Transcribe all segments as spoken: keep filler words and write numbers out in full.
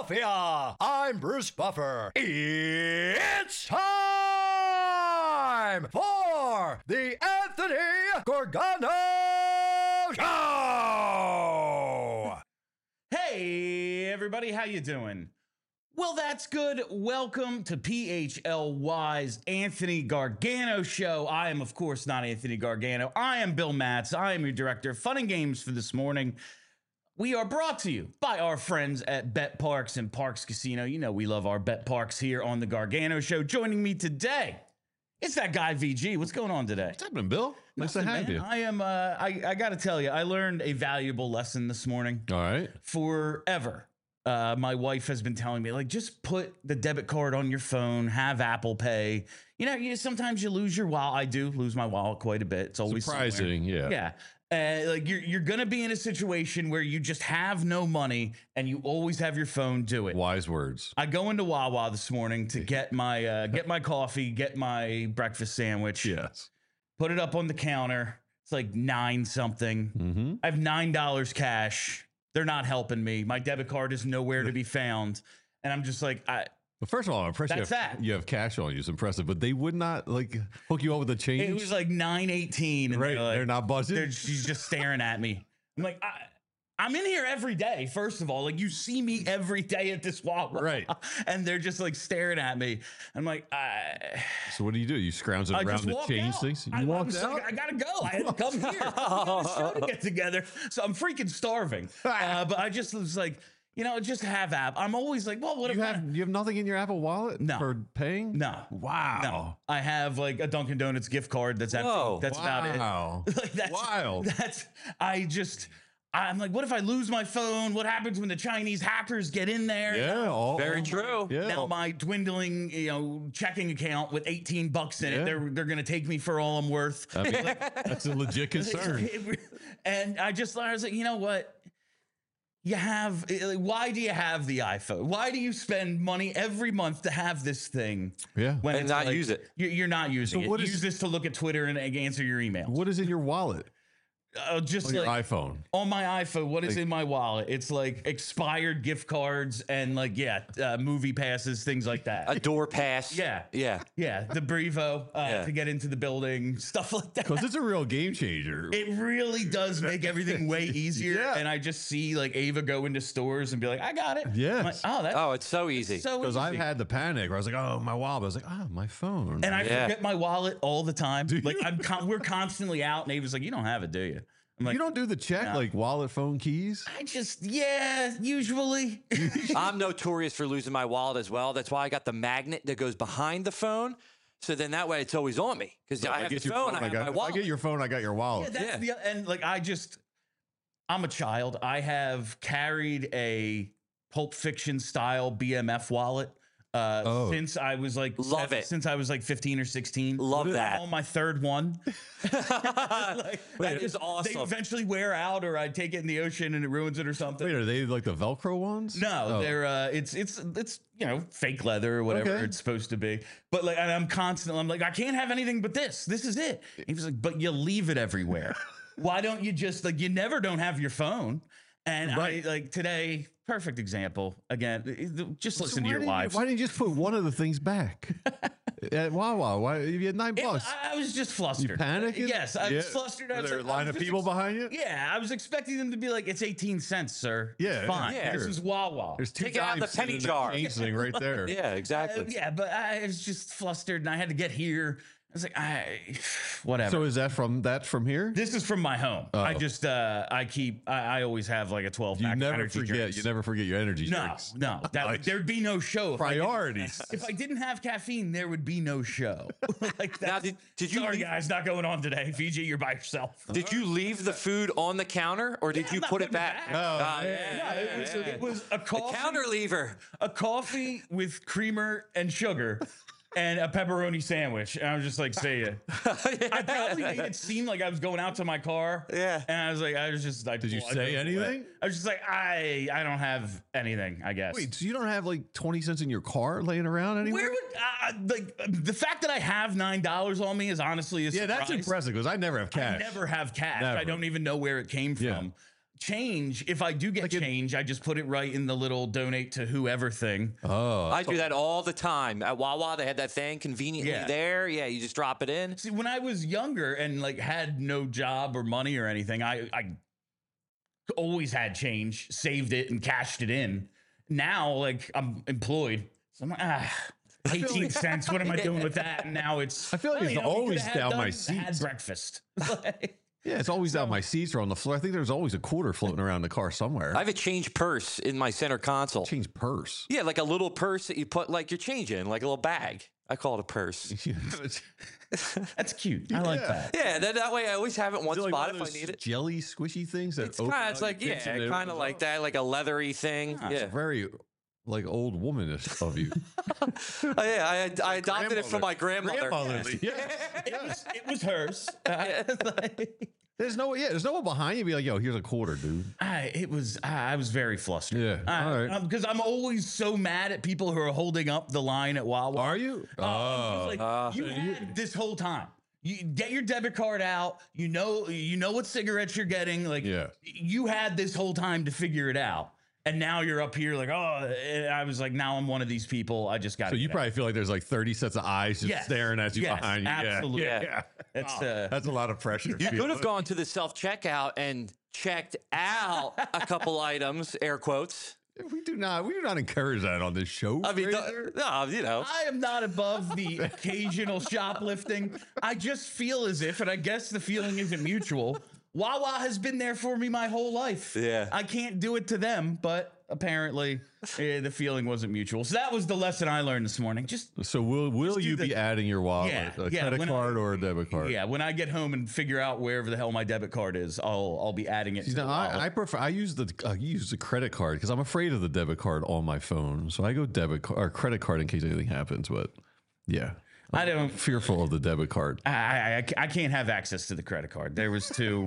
Philadelphia. I'm Bruce Buffer. It's time for the Anthony Gargano Show. Hey, everybody, how you doing? Well, that's good. Welcome to P H L Y's Anthony Gargano Show. I am, of course, not Anthony Gargano. I am Bill Matz. I am your director of fun and games for this morning. We are brought to you by our friends at Bet Parks and Parks Casino. You know we love our Bet Parks here on the Gargano Show. Joining me today, it's that guy V G. What's going on today? What's happening, Bill? Nice Nothing, to have man. you. I am. Uh, I, I got to tell you, I learned a valuable lesson this morning. All right. Forever, uh, my wife has been telling me, like, just put the debit card on your phone, have Apple Pay. You know, you sometimes you lose your wallet. I do lose my wallet quite a bit. It's always Surprising, somewhere. yeah. Yeah. Uh, like you're you're gonna be in a situation where you just have no money and you always have your phone do it. Wise words. I go into Wawa this morning to get my uh, get my coffee, get my breakfast sandwich. Yes. Put it up on the counter. It's like nine something. Mm-hmm. I have nine dollars cash. They're not helping me. My debit card is nowhere to be found, and I'm just like, I. Well, first of all, I'm impressed you That's have, that. you have cash on you. It's impressive, but they would not like hook you up with a change. It was like nine eighteen, and right. they're, like, They're not buzzing. they're- she's just staring at me. I'm like, I, I'm in here every day. First of all, like you see me every day at this Wawa, Right. And they're just like staring at me. I'm like, I. So what do you do? You scrounge it I around just to walk change out. things. You I, I walked was out. like, I gotta go. I had to come here. We got a show to get together, so I'm freaking starving. Uh, but I just was like, you know, just have app. I'm always like, well, what you if have I, you have nothing in your Apple Wallet No. for paying? no, Wow. no. I have like a Dunkin' Donuts gift card that's empty. Whoa. That's about it. Wow. Like that's Wild. That's I just. I'm like, what if I lose my phone? What happens when the Chinese hackers get in there? Yeah. All, Very all- true. Yeah. Now my dwindling, you know, checking account with eighteen bucks in Yeah. it, they're they're gonna take me for all I'm worth. I mean, that's a legit concern. And I just I was like, you know what? You have like, why do you have the iPhone? Why do you spend money every month to have this thing? Yeah. When And it's not like- use it. You're, you're not using So it. what Use is- this to look at Twitter and answer your emails. What is in your wallet? Uh, just On your like iPhone. on my iPhone, what is Like- in my wallet? It's like expired gift cards and like yeah, uh, movie passes, things like that. A door pass. Yeah. Yeah. Yeah, the Brevo uh, Yeah. to get into the building, stuff like that. Because it's a real game changer. It really does make everything way easier. Yeah. And I just see like Ava go into stores and be like, I got it. Yes. I'm like, oh, that's Oh, it's so easy. so Because easy. I've had the panic where I was like, oh, my wallet. I was like, oh, my phone. and I Yeah. forget my wallet all the time. Do Like you? I'm con- we're constantly out, and Ava's like, you don't have it, do you? I'm like, you don't do the check, No. like wallet, phone, keys? I just yeah, usually. I'm notorious for losing my wallet as well. That's why I got the magnet that goes behind the phone. So then that way it's always on me. Because I have the get your phone, I have got, my if I wallet. get your phone, I got your Yeah, wallet. that's Yeah. the and like I just I'm a child. I have carried a Pulp Fiction style B M F wallet uh Oh. since I was like Love seven- it. since I was like fifteen or sixteen. Love I'm that. on my third one. Like, I That is just- They awesome. eventually wear out, or I take it in the ocean and it ruins it or something. Wait, are they like the Velcro ones? No, Oh. they're uh, it's it's it's you know fake leather or whatever Okay. it's supposed to be. But like, and I'm constantly, I'm like, I can't have anything but this. This is it. He was like, but you leave it everywhere. Why don't you just like you never don't have your phone? And Right. I like today, perfect example. Again, just So listen why to your didn't you- wives. Why didn't you just put one of the things back at Wawa? Why if you had nine It- bucks? I, I was just flustered. You panicking? Yes, I was Yeah. flustered. I Were was there a like- I line was of just people ex- behind you? Yeah, I was expecting them to be like, "It's eighteen cents, sir. Yeah, It's fine. yeah, This sure. is Wawa." There's two Take it out of the dimes penny in jar. change thing right there. Yeah, Uh, exactly. yeah, but I was just flustered, and I had to get here. I was like, I, whatever. So is that from that from here? This is from my home. I Oh. just, uh, I keep, I, I always have like a twelve You pack. never of energy forget. drinks. You never forget your energy No, drinks. no, that, Nice. there'd be no show. If I didn't- Priorities. If I didn't have caffeine, there would be no show. Like that. Now, did- did you Sorry, leave- guys, not going on today. V G, you're by yourself. Did you leave the food on the counter or did Yeah, you I'm not put it putting it back? back. Oh, Ah, yeah. yeah, No, it was, yeah, it yeah. was a The coffee, counter lever. a coffee with creamer and sugar. And a pepperoni sandwich. And I was just like, see ya. I probably made it seem like I was going out to my car. Yeah. And I was like, I was just like, Did you well, I say drove away. anything? I was just like, I I don't have anything, I guess. Wait, so you don't have like twenty cents in your car laying around anywhere? Where would uh, like the fact that I have nine dollars on me is honestly a yeah, that's surprise. impressive because I never have cash. I never have cash. Never. I don't even know where it came from. Yeah. change, if I do get Like it- change, I just put it right in the little donate to whoever thing. Oh, I do that all the time. At Wawa, they had that thing conveniently Yeah. there. Yeah, you just drop it in. See, when I was younger and like had no job or money or anything, I, I always had change, saved it and cashed it in. Now, like I'm employed. So I'm like, ah, eighteen cents. What am I doing with that? And now it's, I feel like well, it's you know, we always could've had down my done- seats. Had breakfast. Like, yeah, it's always down my seats or on the floor. I think there's always a quarter floating around the car somewhere. I have a change purse in my center console. Change purse. Yeah, like a little purse that you put like your change in, like a little bag. I call it a purse. that's cute. I like Yeah. that. Yeah, then that way I always have it in one Is it like spot one if of I those need it. Jelly squishy things that It's open kind out, of, it's you like, pinch yeah, it, it kind of opens like up. that, like a leathery thing. Ah, Yeah. Very like old womanish of you. Oh, yeah, I, I adopted it from my grandmother. Grandmotherly. Yeah. It was, it was hers. Uh, like, There's no yeah. There's no one behind you. Be like, yo, here's a quarter, dude. I, it was. I, I was very flustered. Yeah, all right. Because I'm always so mad at people who are holding up the line at Wawa. Are you? Oh, I'm just like, Uh, you had this whole time. You get your debit card out. You know, you know what cigarettes you're getting. Like, Yeah. you had this whole time to figure it out, and now you're up here like, oh. And I was like, now I'm one of these people. I just got. So you probably feel like there's like thirty sets of eyes just Yes. staring at you Yes, behind you. Yeah, absolutely. Yeah, yeah. That's Oh, uh, that's a lot of pressure. You could have gone to the self checkout and checked out a couple items, air quotes. We do not. We do not encourage that on this show. I mean, Fraser. no, you know. I am not above the occasional shoplifting. I just feel as if, and I guess the feeling isn't mutual. Wawa has been there for me my whole life. Yeah. I can't do it to them, but apparently eh, the feeling wasn't mutual. So that was the lesson I learned this morning. Just So will will do you the- be adding your wallet, Yeah, a yeah, credit when I- card or a debit card? yeah, when I get home and figure out wherever the hell my debit card is, I'll I'll be adding it. See, to the now, I, wallet. I prefer I use the I use the credit card because I'm afraid of the debit card on my phone. So I go debit card or credit card in case anything happens. But yeah, I don't. fearful of the debit card. I, I, I I can't have access to the credit card. There was too.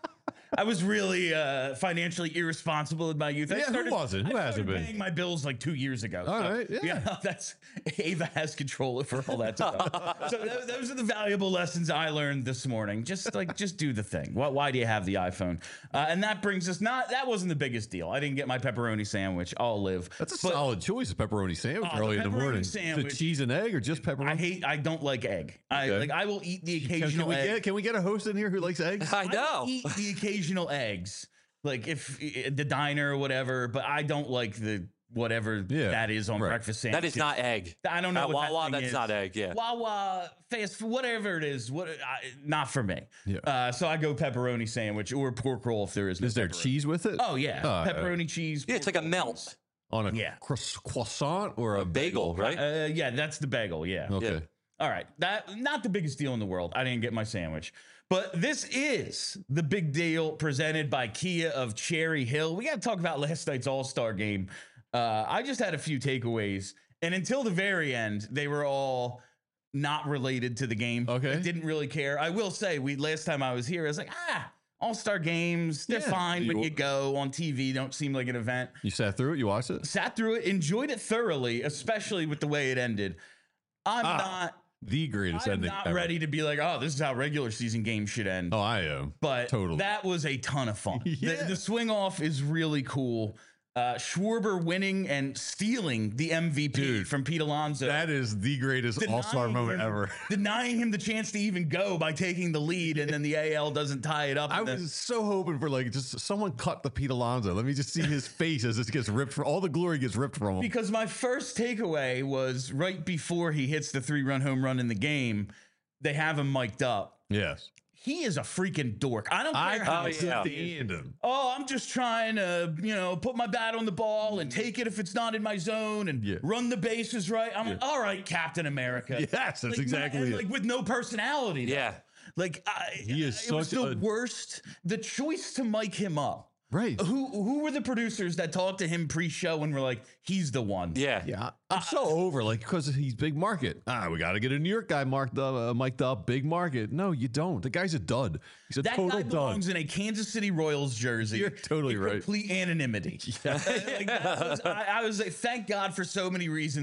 I was really uh, financially irresponsible in my youth. I Yeah, who started, wasn't? Who I hasn't started been? paying my bills like two years ago. All so, right, yeah. that's Ava has control over all that stuff. So th- those are the valuable lessons I learned this morning. Just like, just do the thing. Why, why do you have the iPhone? Uh, and that brings us not. That wasn't the biggest deal. I didn't get my pepperoni sandwich. I'll live. That's a But solid choice, a pepperoni sandwich Oh, the early in the pepperoni morning. sandwich. The cheese and egg or just pepperoni? I hate. I don't like egg. I Okay. like. I will eat the can, occasional can we egg. get can we get a host in here who likes eggs? I I know. will eat the occasional eggs, like if the diner or whatever, but I don't like the whatever Yeah, that is on right. breakfast That sandwiches. is not egg. I don't know At what that Wawa, thing that's is. not egg. Yeah. Wawa, fast food, whatever it is, what I, not for me. Yeah. Uh, so I go pepperoni sandwich or pork roll if there is. No Is there pepperoni. cheese with it? Oh yeah, Uh, pepperoni cheese. Yeah, it's like pork a roll, melt. cheese. On a Yeah. croiss- croissant or a Bagel, right? Uh, yeah, that's the bagel. Yeah. Okay. Yeah. All right, that not the biggest deal in the world. I didn't get my sandwich, but this is the big deal presented by Kia of Cherry Hill. We got to talk about last night's All Star game. Uh, I just had a few takeaways, and until the very end, they were all not related to the game. Okay. I didn't really care. I will say, we last time I was here, I was like, ah, All Star games, they're Yeah. fine when You- you go on T V. Don't seem like an event. You sat through it. You watched it. Sat through it, enjoyed it thoroughly, especially with the way it ended. I'm Ah. not. The greatest I'm ending. not ever. ready to be like, oh, this is how regular season games should end. Oh, I am. but totally. that was a ton of fun. Yeah. the, the swing off is really cool. Uh, Schwarber winning and stealing the M V P Dude, from Pete Alonso. That is the greatest Denying All Star moment him- ever. Denying him the chance to even go by taking the lead, and then the A L doesn't tie it up. I and then- was so hoping for like just someone cut the Pete Alonso. Let me just see his face as this gets ripped from all the glory gets ripped from him. Because my first takeaway was right before he hits the three run home run in the game, they have him mic'd up. Yes. He is a freaking dork. I don't I care how Oh, can't yeah. stand him. oh, I'm just trying to, you know, put my bat on the ball and take it if it's not in my zone and Yeah. run the bases right. I'm like, all right, Captain America. Yes, that's Like, exactly and, it. Like with no personality. though. Yeah. Like I, He is it was such the a- worst. The choice to mic him up. Right. Who who were the producers that talked to him pre-show and were like, he's the one? Yeah. Yeah, I'm so over like because he's big market. Ah, we got to get a New York guy marked up, uh, mic'd up, big market. No, you don't. The guy's a dud. He's a That total guy dud. belongs in a Kansas City Royals jersey. You're totally in right. Complete anonymity. Like, that was, I, I was like, thank God for so many reasons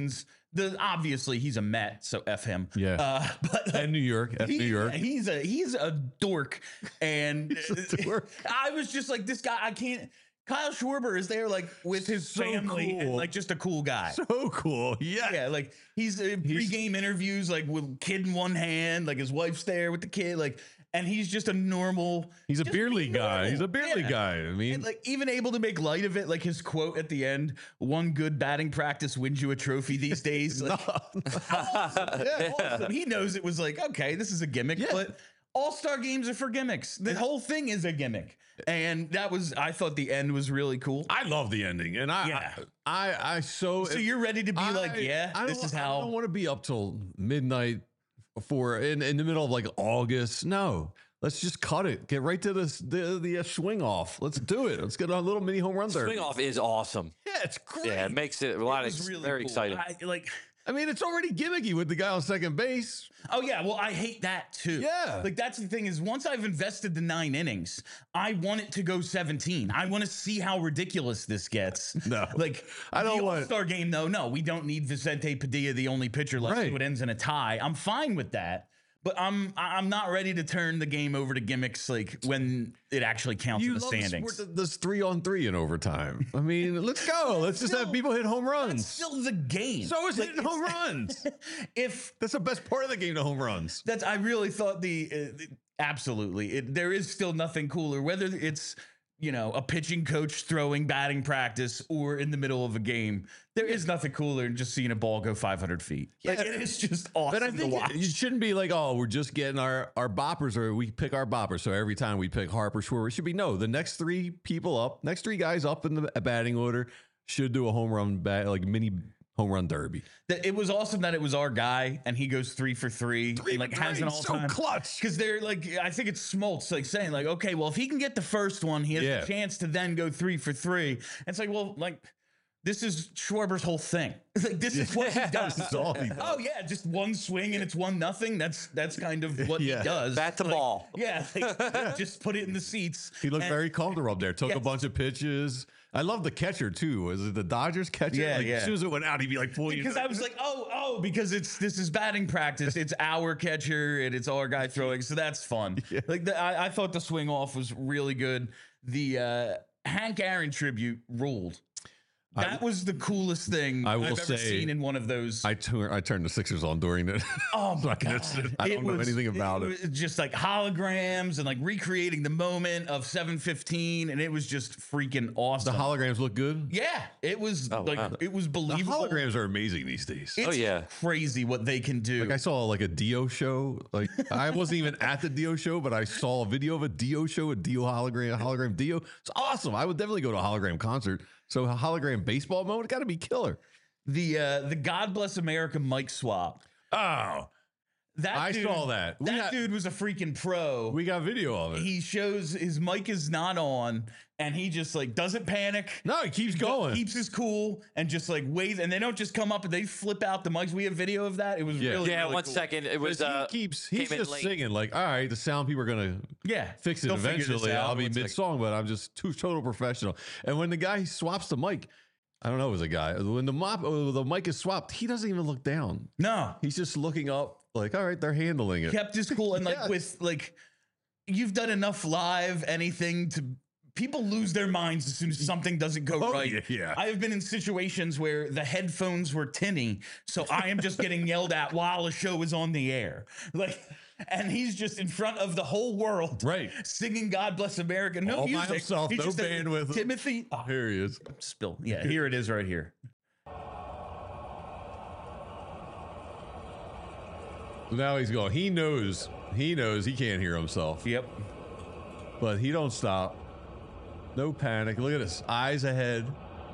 The obviously he's a Met, so F him. Yeah. Uh, but And New York, F he- New York. He's a he's a dork, and a dork. I was just like, this guy. I can't. Kyle Schwarber is there like with his So family, and cool. like just a cool guy. So cool. Yeah. Yeah, like he's uh, pre-game interviews, like with kid in one hand, like his wife's there with the kid, like, and he's just a normal. He's a just beer be league guy. normal. He's a beer league Yeah. guy. I mean, And like even able to make light of it, like his quote at the end: "One good batting practice wins you a trophy these days." Like, awesome. Yeah, awesome. He knows it was like, okay, this is a gimmick, Yeah. but all-star games are for gimmicks. The whole thing is a gimmick, and that was. I thought the end was really cool. I love the ending, and I, Yeah. I, I, I so. So you're ready to be I- like, yeah, I this don't- is I how. don't want to be up till midnight for in in the middle of like August. No. Let's just cut it. Get right to this, the the uh, swing off. Let's do it. Let's get a little mini home run there. Swing off is awesome. Yeah, it's great. Yeah, it makes it a lot It of was really very cool. exciting. I, like, I mean, it's already gimmicky with the guy on second base. oh yeah, well, I hate that too. Yeah. like that's the thing is once I've invested the nine innings, I want it to go seventeen. I want to see how ridiculous this gets. No. like I don't the want- All-Star game though. No, we don't need Vicente Padilla, the only pitcher left, Right. so it ends in a tie. I'm fine with that. But I'm I'm not ready to turn the game over to gimmicks like when it actually counts in the love standings. sport that does three on three in overtime. I mean, let's go. Let's just have Still- people hit home That's runs. still the game. So is Like, hitting home runs. if That's the best part of the game, the home runs. That's I really thought the uh, absolutely it, there is still nothing cooler whether it's you know a pitching coach throwing batting practice or in the middle of a game. There is nothing cooler than just seeing a ball go five hundred feet. Like, Yeah. it is just awesome But I to think watch. it, you shouldn't be like, oh, we're just getting our, our boppers or we pick our boppers. So every time we pick Harper, Schwarber, it should be no. The next three people up, next three guys up in the batting order should do a home run, bat, like mini home run derby. That it was awesome that it was our guy and he goes three for three, Three and like for has three, an all so time clutch. because they're like I think it's Smoltz like saying like okay well if he can get the first one he has Yeah. a chance to then go three for three. And it's like well like this is Schwarber's whole thing. Like this is what he does. This is all he does. Oh yeah, just one swing and it's one nothing. That's that's kind of what Yeah. he does. Bat to Like, ball. Yeah, like, just put it in the seats. He looked And- very comfortable up there. Took a Yes. bunch of pitches. I love the catcher too. Was it the Dodgers catcher? Yeah, like, yeah. As soon as it went out, he'd be like pulling. Because I was like, oh, oh, because it's this is batting practice. It's our catcher and it's our guy throwing, so that's fun. Like the, I, I thought the swing off was really good. The uh, Hank Aaron tribute ruled. That was the coolest thing I will I've ever say, seen in one of those. I, tur- I turned the Sixers on during it. Oh my I god! missed it. I don't know was- anything about it. was just like holograms and like recreating the moment of seven fifteen, and it was just freaking The awesome. holograms look good. yeah, it was Oh, like wow. it was The believable. holograms are amazing these days. It's Oh, yeah. crazy what they can do. Like I saw like a Dio show. Like I wasn't even at the Dio show, but I saw a video of a Dio show, a Dio hologram, a hologram Dio. It's awesome. I would definitely go to a hologram concert. So a hologram baseball mode got to be killer. the uh, the God Bless America mic swap. Oh, That I dude, saw that. We That got- dude was a freaking pro. we got video of it. He shows his mic is not on, and he just like doesn't panic. No, he keeps going. Keeps his cool and just like waves, and they don't just come up and they flip out the mics. We have video of that. It was Yeah. really Yeah, really one cool. second. It was he uh, keeps he's came in just late. singing like, all right, the sound people are gonna Yeah, fix it they'll figure this eventually. out. I'll be One second. mid song, but I'm just too total professional. And when the guy swaps the mic, I don't know, it was a guy. When the mop, oh, the mic is swapped, he doesn't even look down. No, He's just looking up, like, all right, they're handling it. kept his cool and like Yes. with like you've done enough live anything to people lose their minds as soon as something doesn't go Oh, right. yeah, yeah. I have been in situations where the headphones were tinny, so I am just getting yelled at while a show is on the air. Like and he's just in front of the whole world, Right. singing "God Bless America." No All by music, himself, He no just said, band with him. Timothy. Oh, Here he is. spill. Yeah, here it is, right here. Now he's going. He knows. He knows he can't hear himself, Yep. but he don't stop. No panic. Look at this. Eyes ahead.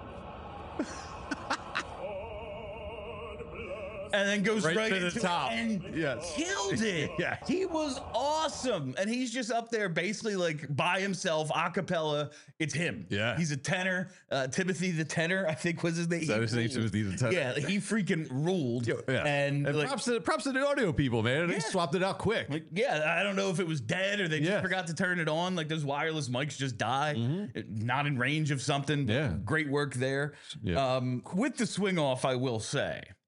And then goes Right right, to the into top. it and Yes. killed it. Yes. He was awesome. And he's just up there basically like by himself, a cappella. It's him. Yeah. He's a tenor. Uh, Timothy the tenor, I think was his name. Is that his name? He ruled. Timothy the tenor? Yeah, he freaking ruled. Yeah. And, And like, props, to, props to the audio people, man. They Yeah. swapped it out quick. like, yeah, I don't know if it was dead or they just Yeah. forgot to turn it on. Like those wireless mics just die, It- not in range of something. but Yeah. Great work there. Yeah. Um, with the swing off, I will say,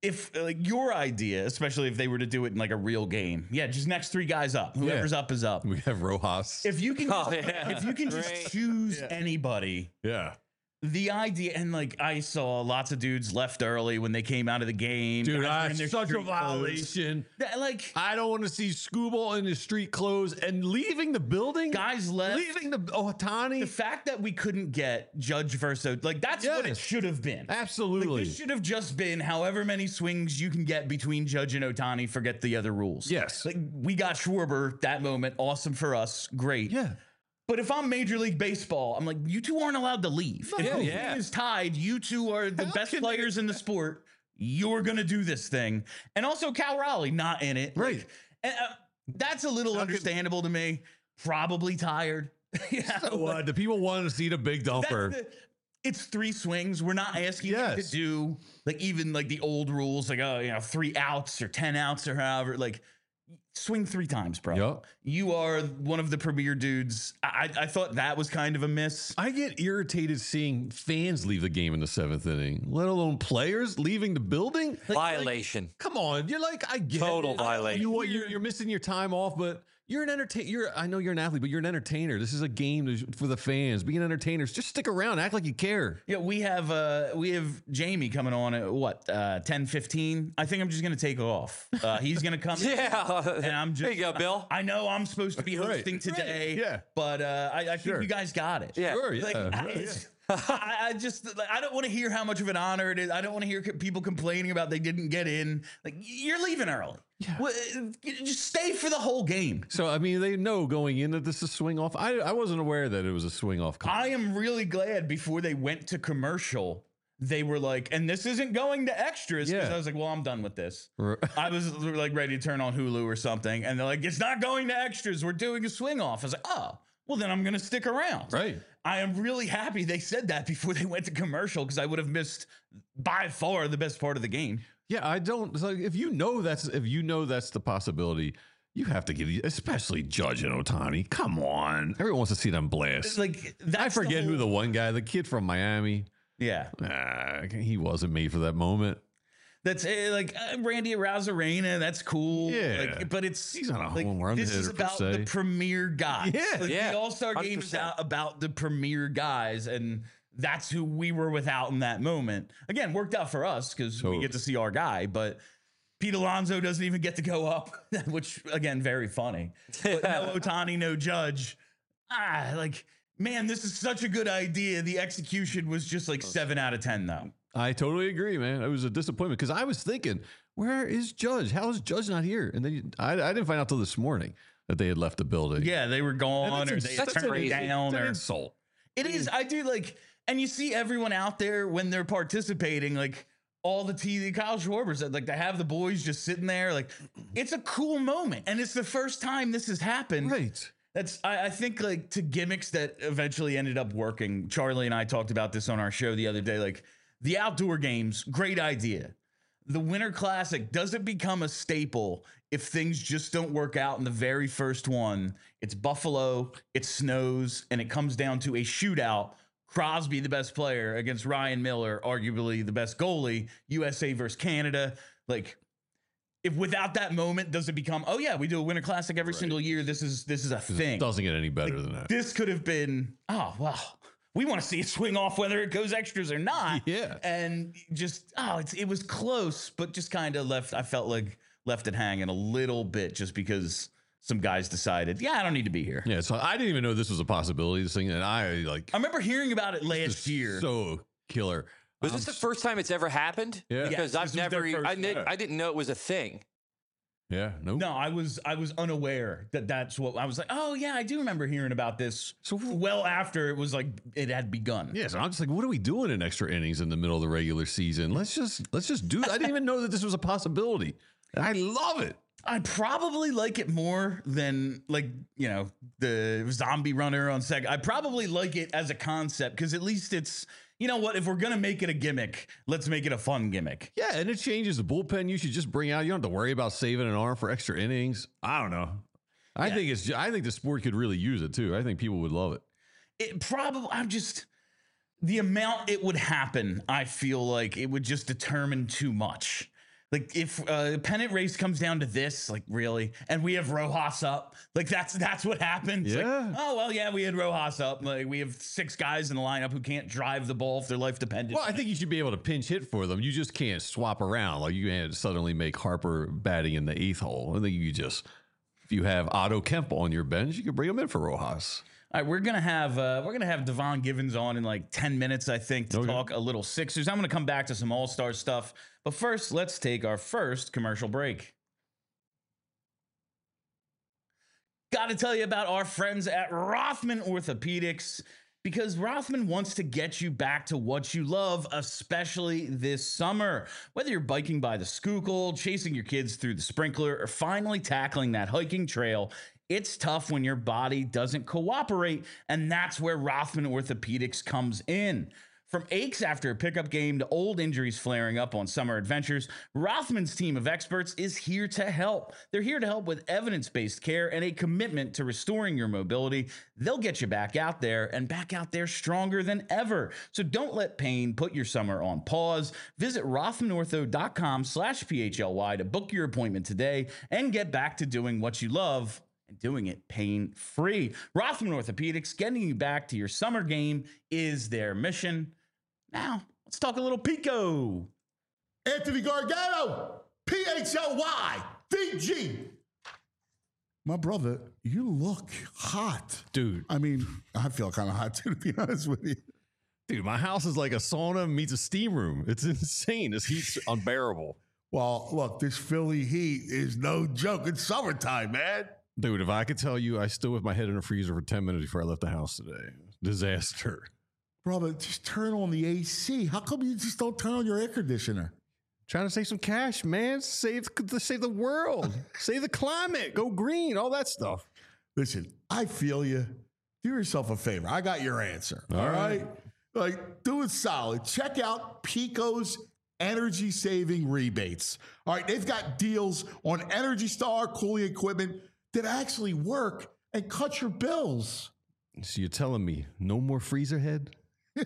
if like your idea, especially if they were to do it in like a real game, yeah, just next three guys up. Whoever's Yeah. up is up. We have Rojas. If you can, Oh, yeah. if you can just Great. choose anybody. yeah. The idea, and like I saw lots of dudes left early when they came out of the game. Dude, Guys were in their that's such a street clothes. violation. That, like I don't want to see Scooble in his street clothes and leaving the building. guys left. leaving the Otani. The fact that we couldn't get Judge versus like that's what it Yes. should have been. Absolutely. Like, this should have just been however many swings you can get between Judge and Otani. Forget the other rules. Yes. Like we got Schwarber that moment. Awesome for us. Great. yeah. But if I'm Major League Baseball, I'm like, you two aren't allowed to leave. If Yeah, the yeah. game is tied, you two are the How best can players in the sport. You're gonna do this thing. And also Cal Raleigh not in it. Right. Like, and, uh, that's a little How can- understandable to me. Probably tired. yeah. So what? The people want to see the big That's dumper. the- it's three swings. We're not asking you Yes. to do like even like the old rules, like oh, you know, three outs or ten outs or however. Like swing three times, bro. Yup. You are one of the premier dudes. I, I thought that was kind of a miss. I get irritated seeing fans leave the game in the seventh inning, let alone players leaving the building. Like, Violation. come on, you're like I get Total it. I- violation. You what? You're, you're missing your time off, but you're an entertainer. You're I know you're an athlete, but you're an entertainer. This is a game to- for the fans. Being entertainers, just stick around, act like you care. Yeah, we have uh we have Jamie coming on at what uh ten fifteen. I think I'm just gonna take off. Uh he's gonna come. Yeah. And I'm just There you go, Bill. I know I'm supposed to be Right. hosting today. Yeah. But uh I, I think Sure. you guys got it. Yeah. Sure, yeah. Like, I, Right, it's- I, I just like, I don't want to hear how much of an honor it is. I don't want to hear co- people complaining about they didn't get in. Like you're leaving early. Yeah. Well, uh, just stay for the whole game. So I mean, they know going in that this is swing off. I I wasn't aware that it was a swing off. call. I am really glad before they went to commercial, they were like, and this isn't going to extras. Because Yeah. I was like, well, I'm done with this. R- I was like ready to turn on Hulu or something. And they're like, it's not going to extras. We're doing a swing off. I was like, oh, well, then I'm going to stick around. Right. I am really happy they said that before they went to commercial because I would have missed by far the best part of the game. Yeah, I don't. It's like if you know that's if you know that's the possibility, you have to give, especially Judge and Otani. Come on, everyone wants to see them blast. Like that's I forget the who the whole- one guy, the kid from Miami. yeah. Ah, he wasn't made for that moment. That's uh, like uh, Randy Arozarena. That's cool. Yeah. Like, but it's He's not a like, home run This is hitter, per about se. the premier guys. Yeah. Like, Yeah. The All Star game is one hundred percent. out about the premier guys, and that's who we were without in that moment. Again, worked out for us because we Totally. get to see our guy, but. Pete Alonso doesn't even get to go up, which again, very funny. But no Otani, no Judge. Ah, like man, this is such a good idea. The execution was just like seven out of ten, though. I totally agree, man. It was a disappointment because I was thinking, where is Judge? How is Judge not here? And then you, I, I didn't find out till this morning that they had left the building. Yeah, they were gone, or ins- they that's turned crazy. it down, It's an or insult. it is. I do like, and you see everyone out there when they're participating, like all the T V. Kyle Schwarber said, like, to have the boys just sitting there, like, it's a cool moment, and it's the first time this has happened. Right. That's I, I think like to gimmicks that eventually ended up working. Charlie and I talked about this on our show the other day. Like the outdoor games, great idea. The Winter Classic doesn't become a staple if things just don't work out in the very first one. It's Buffalo, it snows, and it comes down to a shootout. Crosby, the best player, against Ryan Miller, arguably the best goalie. U S A versus Canada. Like, if without that moment, does it become, oh yeah, we do a Winter Classic every single year. This is this is a thing. It doesn't get any better than that. This could have been, oh well, we want to see it swing off whether it goes extras or not. Yeah. And just oh, it's it was close, but just kind of left. I felt like left it hanging a little bit just because some guys decided, yeah, I don't need to be here. Yeah, so I didn't even know this was a possibility. This thing, and I like I remember hearing about it last this year. so killer. Was I'm this the s- first time it's ever happened? Yeah. Because Yes, I've this was their never, e- first- I, did, yeah. I didn't know it was a thing. Yeah, nope. No, I was I was unaware that that's what I was like. Oh yeah, I do remember hearing about this. So- well after it was like it had begun. Yeah, so I'm just like, what are we doing in extra innings in the middle of the regular season? Let's just let's just do. I didn't even know that this was a possibility. And I love it. I probably like it more than like, you know, the zombie runner on second. I probably like it as a concept because at least it's, you know what, if we're going to make it a gimmick, let's make it a fun gimmick. Yeah, and it changes the bullpen. You should just bring out. You don't have to worry about saving an arm for extra innings. I don't know. I Yeah. think it's. I think the sport could really use it too. I think people would love it. It probably, I'm just, the amount it would happen, I feel like it would just determine too much. Like if uh, pennant race comes down to this, like really, and we have Rojas up, like that's that's what happens. Yeah. Like, oh well, yeah, we had Rojas up. Like we have six guys in the lineup who can't drive the ball if their life depended. Well, I think you should be able to pinch hit for them. You just can't swap around. Like you can't suddenly make Harper batting in the eighth hole. I think you just, if you have Otto Kemp on your bench, you can bring him in for Rojas. All right, we're gonna have uh, we're gonna have Devon Givens on in like ten minutes, I think, to Okay. talk a little Sixers. I'm gonna come back to some All Star stuff, but first, let's take our first commercial break. Got to tell you about our friends at Rothman Orthopedics, because Rothman wants to get you back to what you love, especially this summer. Whether you're biking by the Schuylkill, chasing your kids through the sprinkler, or finally tackling that hiking trail, it's tough when your body doesn't cooperate, and that's where Rothman Orthopedics comes in. From aches after a pickup game to old injuries flaring up on summer adventures, Rothman's team of experts is here to help. They're here to help with evidence-based care and a commitment to restoring your mobility. They'll get you back out there and back out there stronger than ever. So don't let pain put your summer on pause. Visit rothmanortho.com slash PHLY to book your appointment today and get back to doing what you love and doing it pain-free. Rothman Orthopedics, getting you back to your summer game is their mission. Now, let's talk a little Pico. Anthony Gargano, P H L Y, D G. My brother, you look hot. Dude. I mean, I feel kind of hot too, to be honest with you. Dude, my house is like a sauna meets a steam room. It's insane. This heat's unbearable. Well, look, this Philly heat is no joke. It's summertime, man. Dude, if I could tell you, I stood with my head in a freezer for ten minutes before I left the house today. Disaster. Brother, just turn on the A C. How come you just don't turn on your air conditioner? Trying to save some cash, man. Save, save the world. Save the climate. Go green. All that stuff. Listen, I feel you. Do yourself a favor. I got your answer. All, all right? right? Like, do it solid. Check out Pico's energy saving rebates. All right, they've got deals on Energy Star cooling equipment that actually work and cut your bills. So you're telling me no more freezer head?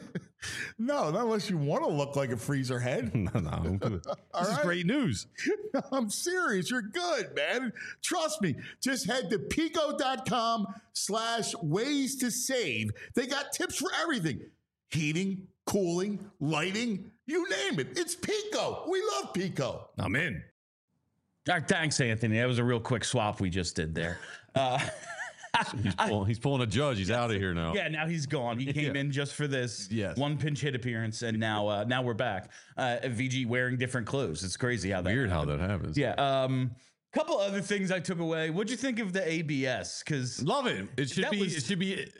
No, not unless you want to look like a freezer head. no, no. I'm good. This All is right. great news. I'm serious. You're good, man. Trust me. Just head to pico.com slash ways to save. They got tips for everything. Heating, cooling, lighting, you name it. It's Pico. We love Pico. I'm in. All right, thanks, Anthony. That was a real quick swap we just did there. Uh, He's pulling, he's pulling a judge. He's out of here now. yeah, now he's gone. He came Yeah. in just for this Yes. one pinch hit appearance, and now uh, now we're back. Uh, V G wearing different clothes. It's crazy how that Weird how that happens. Yeah. Um, couple other things I took away. What'd you think of the A B S? Because Love it. It should That be. was- it should be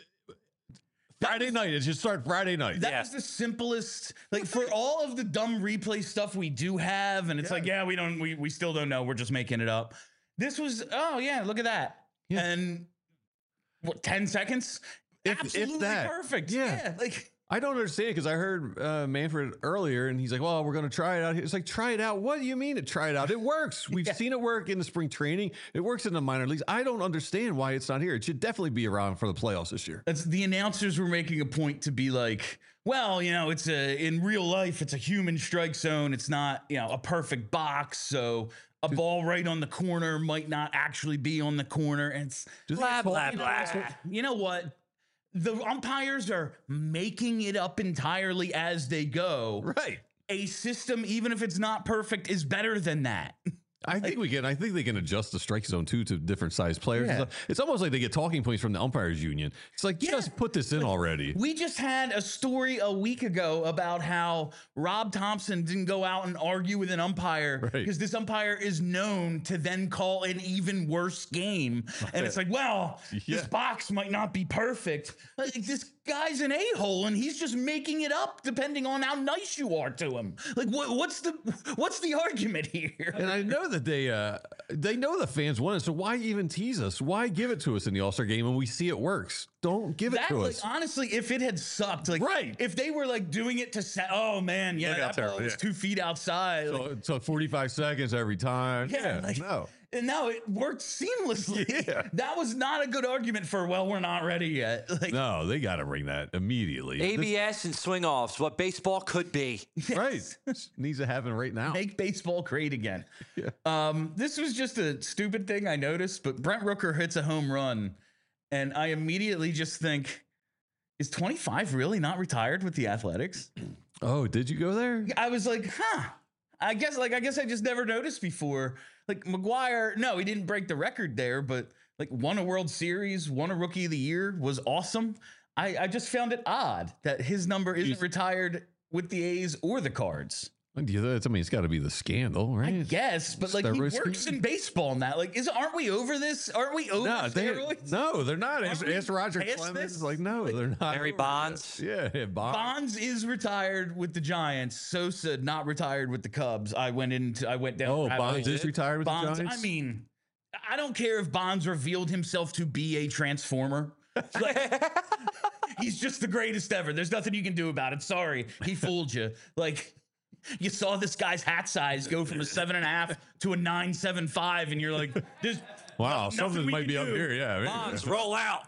Friday night. It should start Friday night. that Yeah. was the simplest. Like for all of the dumb replay stuff we do have, and it's like, yeah, we don't, we we still don't know. We're just making it up. This was, oh yeah, look at that. Yeah. And what, ten seconds? If- if Absolutely that. perfect. Yeah. Yeah. Like. I don't understand because I heard uh, Manfred earlier and he's like, well, we're going to try it out here. It's like, try it out. What do you mean to try it out? It works. We've Yeah. seen it work in the spring training. It works in the minor leagues. I don't understand why it's not here. It should definitely be around for the playoffs this year. That's the announcers were making a point to be like, well, you know, it's a in real life, it's a human strike zone. It's not, you know, a perfect box. So a ball right on the corner might not actually be on the corner. And it's Do they Blah, talk blah, about blah. this? you know what? The umpires are making it up entirely as they go. Right. A system, even if it's not perfect, is better than that. I think we can. I think they can adjust the strike zone too to different size players. Yeah. and stuff. It's almost like they get talking points from the umpires union. It's like Yeah. just put this in already. We just had a story a week ago about how Rob Thompson didn't go out and argue with an umpire Right. because this umpire is known to then call an even worse game. And it's like, well, Yeah. this box might not be perfect. Like, this guy's an a-hole and he's just making it up depending on how nice you are to him. Like, what, what's the what's the argument here? And I know that they uh, they know the fans want it, so why even tease us? Why give it to us in the All Star game when we see it works? Don't give it That, to like, us. honestly, if it had sucked, like, Right. if they were like doing it to say, oh man, yeah, Look that out there, ball was yeah. two feet outside. like, So, so forty-five seconds every time. Yeah, Yeah, like- no. And now it worked seamlessly. Yeah. That was not a good argument for, well, we're not ready yet. Like, No, they got to bring that immediately. A B S and swing offs, what baseball could be. This- right. Needs to happen right now. make baseball great again. Um, this was just a stupid thing I noticed, but Brent Rooker hits a home run, and I immediately just think, is twenty-five really not retired with the Athletics? Oh, did you go there? I was like, huh. I guess like I guess I just never noticed before. Like McGuire, no, he didn't break the record there, but like won a World Series, won a Rookie of the Year, was awesome. I, I just found it odd that his number isn't He's- retired with the A's or the Cards. I mean, it's got to be the scandal, right? I guess, but like he Steroid works scandal? in baseball now. Like, is aren't we over this? Aren't we over No, they, steroids? no, they're not. Ask, we ask Roger past Clemens. this? Like, no, they're not. Barry over Bonds. it. Yeah, yeah, Bonds. Bonds is retired with the Giants. Sosa not retired with the Cubs. I went into I went down. Oh, rabbit Bonds hole. is retired with Bonds. the Giants. I mean, I don't care if Bonds revealed himself to be a transformer. Like, he's just the greatest ever. There's nothing you can do about it. Sorry, he fooled you. Like, you saw this guy's hat size go from a seven and a half to a nine seven five, and you're like, "There's wow, nothing something we might can be up do." here. Yeah, Bonds, roll out.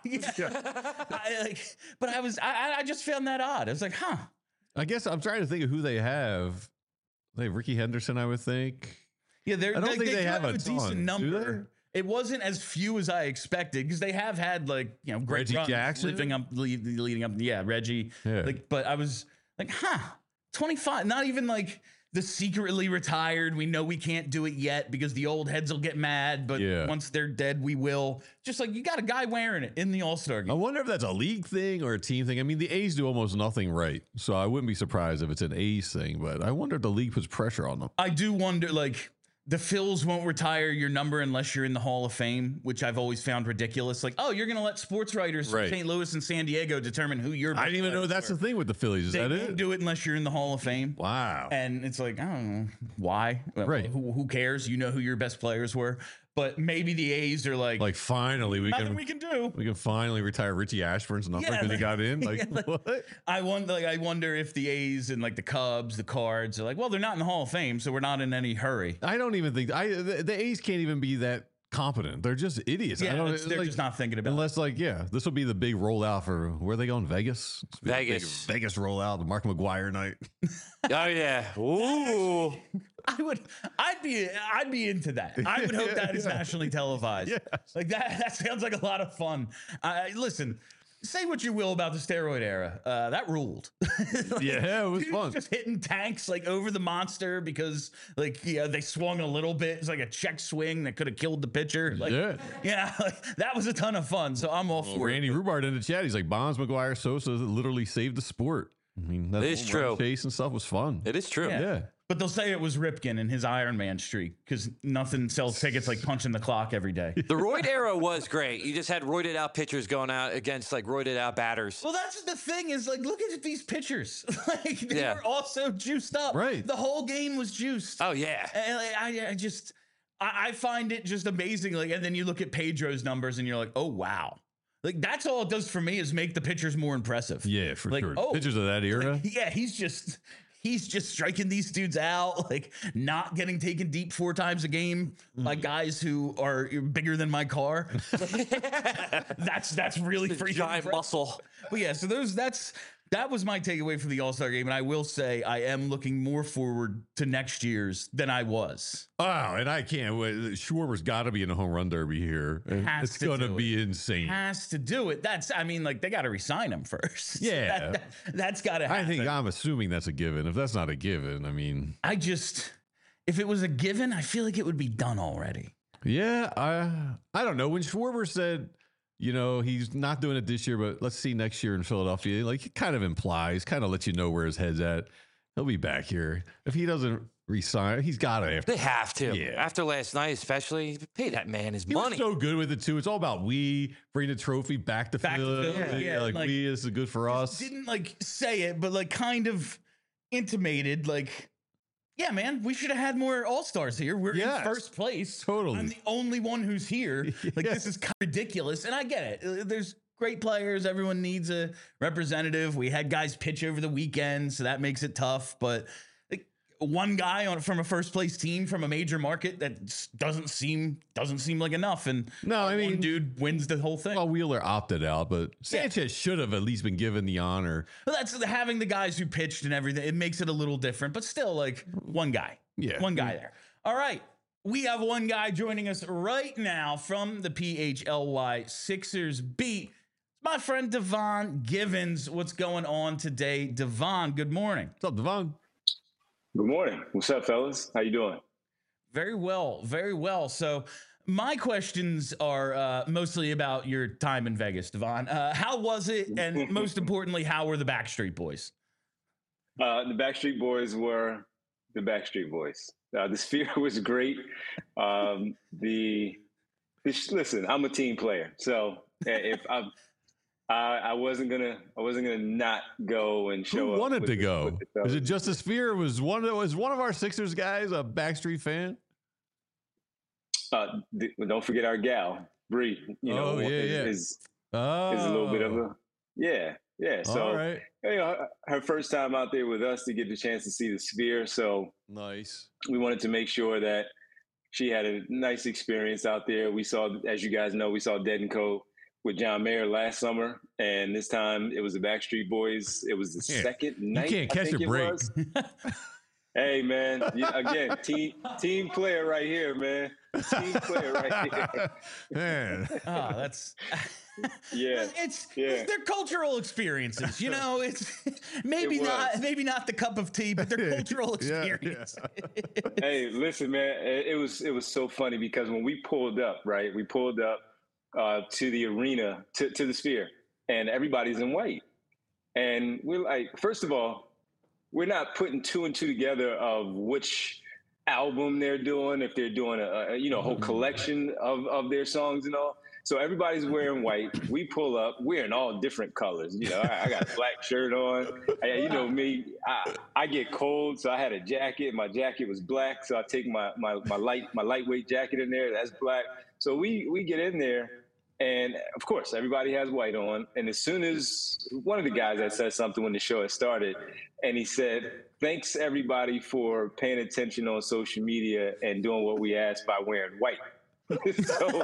I, like, but I was, I, I just found that odd. I was like, huh. I guess I'm trying to think of who they have. They have Ricky Henderson, I would think. Yeah, they're, I don't they, think they, they do have a decent ton, do number. It wasn't as few as I expected because they have had like you know great Reggie runs Jackson? leading up, lead, leading up. Yeah, Reggie. Yeah. Like, but I was like, huh, twenty-five. Not even like the secretly retired. We know we can't do it yet because the old heads will get mad. But Yeah. once they're dead, we will. Just like you got a guy wearing it in the All Star I game. wonder if that's a league thing or a team thing. I mean, the A's do almost nothing right, so I wouldn't be surprised if it's an A's thing. But I wonder if the league puts pressure on them. I do wonder, like, the Phils won't retire your number unless you're in the Hall of Fame, which I've always found ridiculous. Like, oh, you're going to let sports writers from Right. Saint Louis and San Diego determine who you're. I didn't even know that's the thing with the Phillies. Is They that won't it? do it unless you're in the Hall of Fame. Wow. And it's like, I don't know why. Well, Right. Who, who cares? You know who your best players were. But maybe the A's are like, Like finally we nothing can we can do. we can finally retire Richie Ashburn's number Yeah, because he like- got in. Like, yeah, like- what? I wonder, like, I wonder if the A's and like the Cubs, the Cards are like, well, they're not in the Hall of Fame, so we're not in any hurry. I don't even think I the, the A's can't even be that competent. They're just idiots. I Yeah, don't, it's- they're like, just not thinking about it. unless like yeah, this will be the big rollout for where are they going? Vegas. It's big- Vegas. big Vegas rollout. The Mark McGuire night. Oh yeah. Ooh. I would, I'd be, I'd be into that. I would hope Yeah, that is yeah. nationally televised. Yes. Like that. That sounds like a lot of fun. I listen. Say what you will about the steroid era. Uh, that ruled. Like, Yeah, it was dudes fun. Just hitting tanks like over the monster because like yeah they swung a little bit. It's like a check swing that could have killed the pitcher. Like, Yeah. yeah, like, that was a ton of fun. So I'm all for Randy it. Rhubardt in the chat. He's like Bonds, McGuire, Sosa literally saved the sport. I mean, that It is home run true. chase and stuff was fun. It is true. Yeah. Yeah. But they'll say it was Ripken and his Iron Man streak because nothing sells tickets like punching the clock every day. The roid era was great. You just had roided out pitchers going out against like roided out batters. Well, that's the thing is like, look at these pitchers. Like they Yeah. were also juiced up. Right. The whole game was juiced. Oh yeah. And like, I, I just, I, I find it just amazing. Like, and then you look at Pedro's numbers and you're like, oh wow. Like that's all it does for me is make the pitchers more impressive. Yeah, for Like, sure. oh, Pictures of that era. Like, yeah, he's just he's just striking these dudes out, like not getting taken deep four times a game by guys who are bigger than my car. that's that's really freaking Giant impressive. muscle. But yeah, so those that's that was my takeaway from the All-Star game, and I will say I am looking more forward to next year's than I was. Oh, and I can't wait. Schwarber's got to be in a home run derby here. And Has it's to going to do be insane. Has to do it. That's I mean, like they got to resign him first. Yeah. that, has got to I happen. think I'm assuming that's a given. If that's not a given, I mean, I just if it was a given, I feel like it would be done already. yeah, I I don't know. When Schwarber said, you know, he's not doing it this year, but let's see next year in Philadelphia, like it kind of implies, kind of lets you know where his head's at. He'll be back here. If he doesn't resign, he's got to after. They have to. Yeah. After last night, especially, pay that man his He money. was so good with it too. It's all about we bring the trophy back to Back to Philly. Philly, Yeah, yeah, like, like- we is good for us. Didn't like say it, but like kind of intimated, like, yeah, man, we should have had more All Stars here. We're Yes. in first place. Totally. I'm the only one who's here. Like, Yeah. this is kind of ridiculous. And I get it. Uh, There's great players. Everyone needs a representative. We had guys pitch over the weekend, so that makes it tough. But like, one guy on from a first place team from a major market that just doesn't seem doesn't seem like enough. And No, I one mean- dude wins the whole thing. Well, Wheeler opted out, but Sanchez should have at least been given the honor. Well, that's having the guys who pitched and everything. It makes it a little different, but still, like one guy. Yeah. One guy there. All right. We have one guy joining us right now from the P H L Y Sixers beat. My friend Devon Givens. What's going on today? Devon, good morning. What's up, Devon? Good morning. What's up, fellas? How you doing? Very well. Very well. So my questions are uh, mostly about your time in Vegas, Devon. Uh, how was it? And most importantly, how were the Backstreet Boys? Uh, the Backstreet Boys were the Backstreet Boys. Uh, the Sphere was great. Um, the, the listen, I'm a team player, so if I'm, I, I wasn't gonna, I wasn't gonna not go and show Who up. wanted with to the- go? with the Is it fellas. just a Sphere? Was one of was one of our Sixers guys a Backstreet fan? Uh, the, don't forget our gal, Bree. You know, Oh, yeah, is, yeah. is Oh, is a little bit of a yeah, yeah. So all right, you know, her, her first time out there with us to get the chance to see the Sphere. So nice. we wanted to make sure that she had a nice experience out there. We saw, as you guys know, we saw Dead and Co. with John Mayer last summer, and this time it was the Backstreet Boys. It was the Yeah. second You night. can't I catch think a it break. was. Hey man, you- again, team team player right here, man. Team player right here. Man, Oh, that's Yeah, it's, yeah. it's their cultural experiences, you know. It's maybe It not was. maybe not the cup of tea, but their cultural Yeah, yeah. experience. Hey, listen, man. It, it was it was so funny because when we pulled up, right, we pulled up uh, to the arena, to, to the Sphere, and everybody's in white, and we're like, first of all, we're not putting two and two together of which album they're doing, if they're doing a, a you know a whole collection of of their songs and all. So everybody's wearing white. We pull up. We're in all different colors. You know, I, I got a black shirt on. I, you know me. I, I get cold, so I had a jacket. My jacket was black, so I take my my my light my lightweight jacket in there. That's black. So we we get in there, and of course everybody has white on. And as soon as one of the guys that said something when the show had started, and he said, "Thanks everybody for paying attention on social media and doing what we asked by wearing white." so,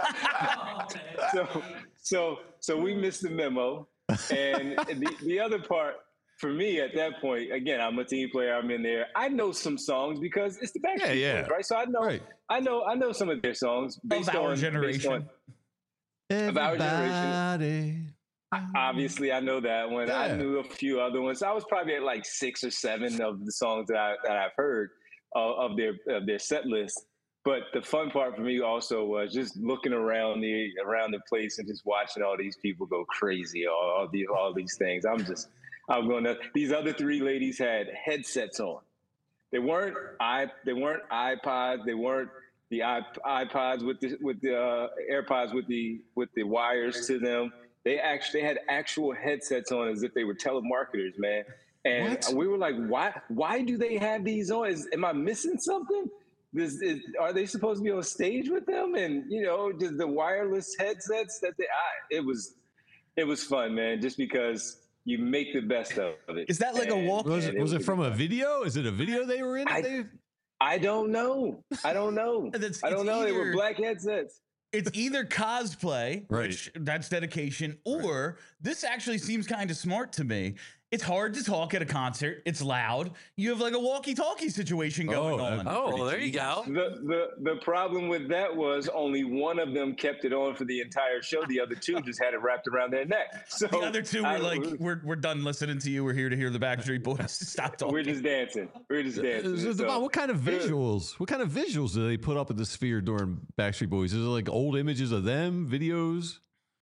so, so, so we missed the memo. And the, the other part for me at that point, again, I'm a team player. I'm in there. I know some songs because it's the Backstreet Yeah, yeah. Boys, right? So I know, Right. I know, I know some of their songs based Of our on based generation. on- Of our generation. Everybody. Obviously, I know that one. I Yeah. knew a few other ones. I was probably at like six or seven of the songs that I that I've heard uh, of their of their set list. But the fun part for me also was just looking around the around the place and just watching all these people go crazy. All, all these all these things. I'm just I'm going to. These other three ladies had headsets on. They weren't i they weren't iPods. They weren't the iP- iPods with the with the uh, AirPods with the with the wires to them. They actually they had actual headsets on as if they were telemarketers, man. And What? we were like, why why do they have these on? Is, am I missing something? This, is, are they supposed to be on stage with them? And you know, just the wireless headsets that they. I, it was, it was fun, man. Just because you make the best of it. Is that like a And- walk- Was it, and was it was from a fun. video? Is it a video they were in? I- They- I don't know. I don't know. That's- I don't it's know. They were either- black headsets. It's either cosplay, Right. which that's dedication, or this actually seems kind of smart to me. It's hard to talk at a concert. It's loud. You have like a walkie-talkie situation going Oh, on. that- Oh, well, there you go. The, the the problem with that was only one of them kept it on for the entire show. The other two just had it wrapped around their neck. So The other two were I- like, "We're we're done listening to you. We're here to hear the Backstreet Boys. Stop talking." we're just dancing. We're just dancing. Is it So- about what kind of visuals? What kind of visuals do they put up at the Sphere during Backstreet Boys? Is it like old images of them, videos?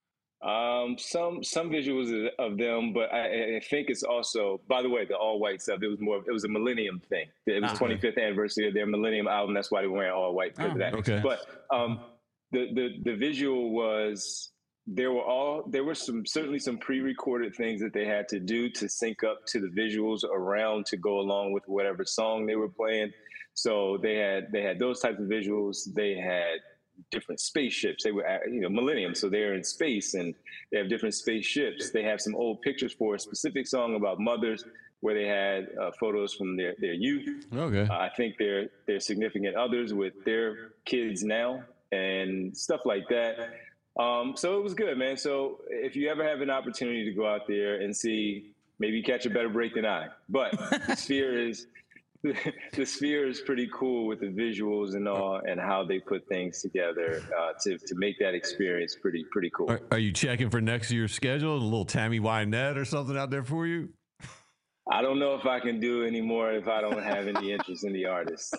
Um, some some visuals of them, but I, I think it's also. By the way, the all white stuff. It was more. It was a Millennium thing. It was Ah. twenty-fifth anniversary of their Millennium album. That's why they were wearing all white because Oh, of that. okay. But um, the the the visual was. There were all. There were some certainly some pre-recorded things that they had to do to sync up to the visuals around to go along with whatever song they were playing. So they had they had those types of visuals. They had different spaceships. They were, at, you know, Millennium, so they're in space and they have different spaceships. They have some old pictures for a specific song about mothers. where they had uh, photos from their, their youth. Okay. Uh, I think their their significant others with their kids now and stuff like that. Um, so it was good, man. So if you ever have an opportunity to go out there and see, maybe catch a better break than I. But the Sphere is the Sphere is pretty cool with the visuals and all, and how they put things together uh, to to make that experience pretty pretty cool. Are, are you checking for next year's schedule? A little Tammy Wynette or something out there for you? I don't know if I can do anymore if I don't have any interest in the artist.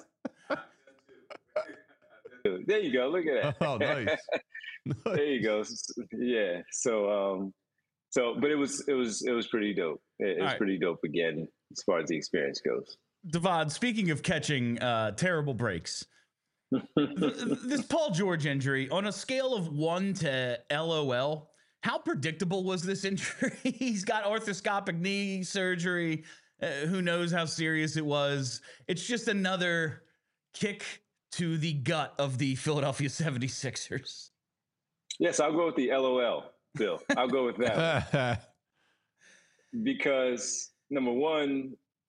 There you go. Look at that. Oh, nice. There you go. Yeah. So, um, so, but it was, it was, it was pretty dope. It, it was right. pretty dope again, as far as the experience goes. Devon, speaking of catching uh, terrible breaks, th- this Paul George injury, on a scale of one to LOL, how predictable was this injury? He's got arthroscopic knee surgery. Uh, who knows how serious it was? It's just another kick to the gut of the Philadelphia seventy-sixers. Yes, I'll go with the LOL, Bill. I'll go with that. Because number one,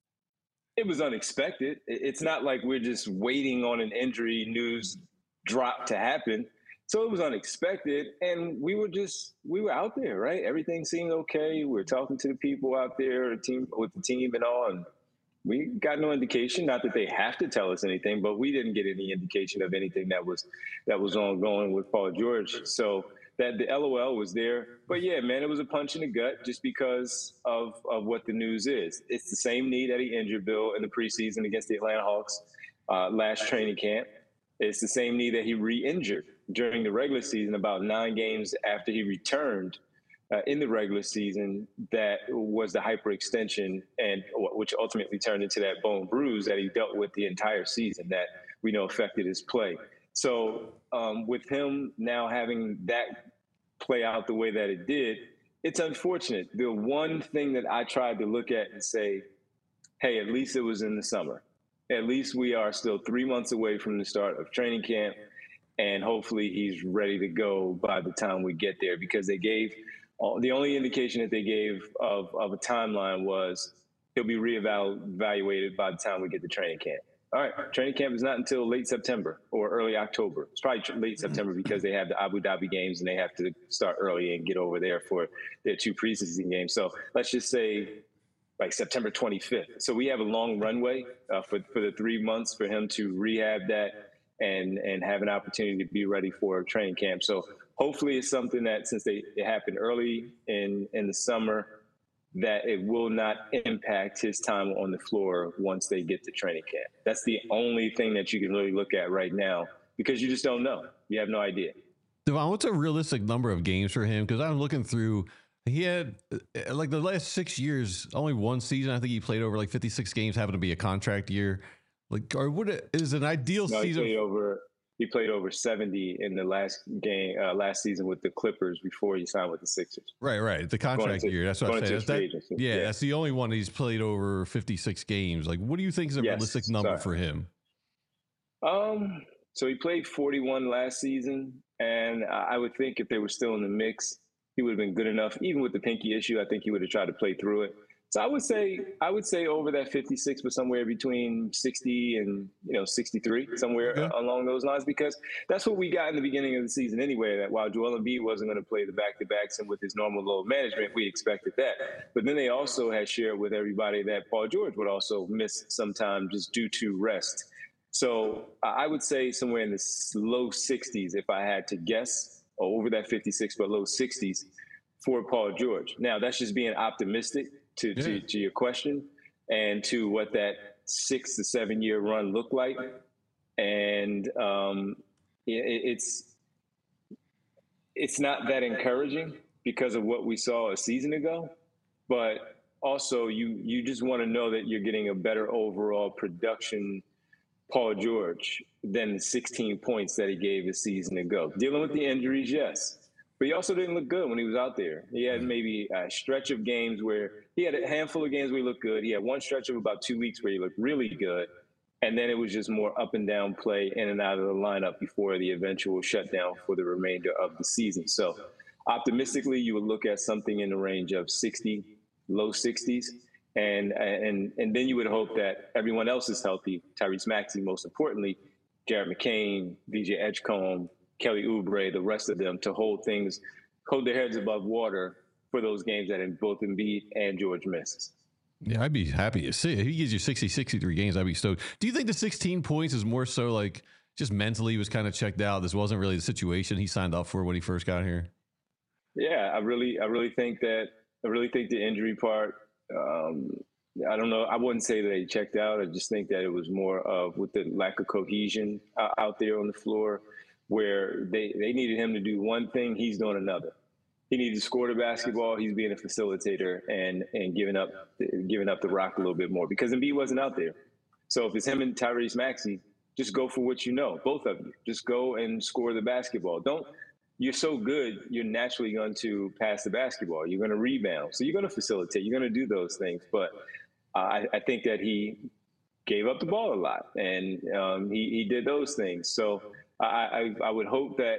it was unexpected. It's not like we're just waiting on an injury news drop to happen. So it was unexpected, and we were just we were out there, right? Everything seemed okay. We were talking to the people out there, the team with the team and all, and we got no indication. Not that they have to tell us anything, but we didn't get any indication of anything that was that was ongoing with Paul George. So that the LOL was there. But yeah, man, it was a punch in the gut just because of of what the news is. It's the same knee that he injured Bill in the preseason against the Atlanta Hawks uh, last training camp. It's the same knee that he re-injured during the regular season, about nine games after he returned uh, in the regular season. That was the hyperextension, and which ultimately turned into that bone bruise that he dealt with the entire season that we know affected his play. So um, with him now having that play out the way that it did, it's unfortunate. The one thing that I tried to look at and say, hey, at least it was in the summer. At least we are still three months away from the start of training camp, and hopefully he's ready to go by the time we get there, because they gave uh, the only indication that they gave of, of a timeline was he'll be reevaluated by the time we get to training camp. All right, training camp is not until late September or early October. It's probably late September because they have the Abu Dhabi games and they have to start early and get over there for their two preseason games. So let's just say like September twenty-fifth. So we have a long runway uh, for, for the three months for him to rehab that and, and have an opportunity to be ready for training camp. So hopefully it's something that, since they, it happened early in, in the summer, that it will not impact his time on the floor once they get to training camp. That's the only thing that you can really look at right now, because you just don't know. You have no idea. Devon, what's a realistic number of games for him? Because I'm looking through, he had like the last six years, only one season. I think he played over like fifty-six games, having to be a contract year. Like, or what is an ideal no, season? He played over, he played over seventy in the last game, uh, last season with the Clippers before he signed with the Sixers. Right, right. The contract to, year. That's what I'm saying. That, yeah, yeah, that's the only one he's played over fifty-six games. Like, what do you think is a yes, realistic number sorry. for him? Um, so he played forty-one last season, and I would think if they were still in the mix, he would have been good enough. Even with the pinky issue, I think he would have tried to play through it. So I would say, I would say over that fifty-six, but somewhere between sixty and, you know, sixty-three, somewhere okay. uh, along those lines, because that's what we got in the beginning of the season anyway, that while Joel Embiid wasn't going to play the back-to-backs and with his normal load management, we expected that. But then they also had shared with everybody that Paul George would also miss some time just due to rest. So I would say somewhere in the low sixties, if I had to guess, or over that fifty-six, but low sixties for Paul George. Now, that's just being optimistic. To, yeah. to, to your question, and to what that six to seven year run looked like. And um, it, it's it's not that encouraging because of what we saw a season ago, but also you you just want to know that you're getting a better overall production Paul George than the sixteen points that he gave a season ago. Dealing with the injuries, yes. But he also didn't look good when he was out there. He had maybe a stretch of games where he had a handful of games where he looked good. He had one stretch of about two weeks where he looked really good. And then it was just more up and down play in and out of the lineup before the eventual shutdown for the remainder of the season. So optimistically, you would look at something in the range of sixty, low sixties. And, and, and then you would hope that everyone else is healthy. Tyrese Maxey, most importantly, Jared McCain, V J Edgecombe, Kelly Oubre, the rest of them to hold things, hold their heads above water for those games that both Embiid and George missed. Yeah, I'd be happy to see it. If he gives you sixty, sixty-three games, I'd be stoked. Do you think the sixteen points is more so like just mentally he was kind of checked out? This wasn't really the situation he signed up for when he first got here? Yeah, I really, I really think that, I really think the injury part, um, I don't know. I wouldn't say that he checked out. I just think that it was more of with the lack of cohesion uh, out there on the floor, where they, they needed him to do one thing, he's doing another. He needed to score the basketball. He's being a facilitator and and giving up giving up the rock a little bit more because Embiid wasn't out there. So if it's him and Tyrese Maxey, just go for what you know, both of you. Just go and score the basketball. Don't. You're so good, you're naturally going to pass the basketball. You're going to rebound. So you're going to facilitate. You're going to do those things. But uh, I, I think that he gave up the ball a lot, and um, he, he did those things. So I, I, I would hope that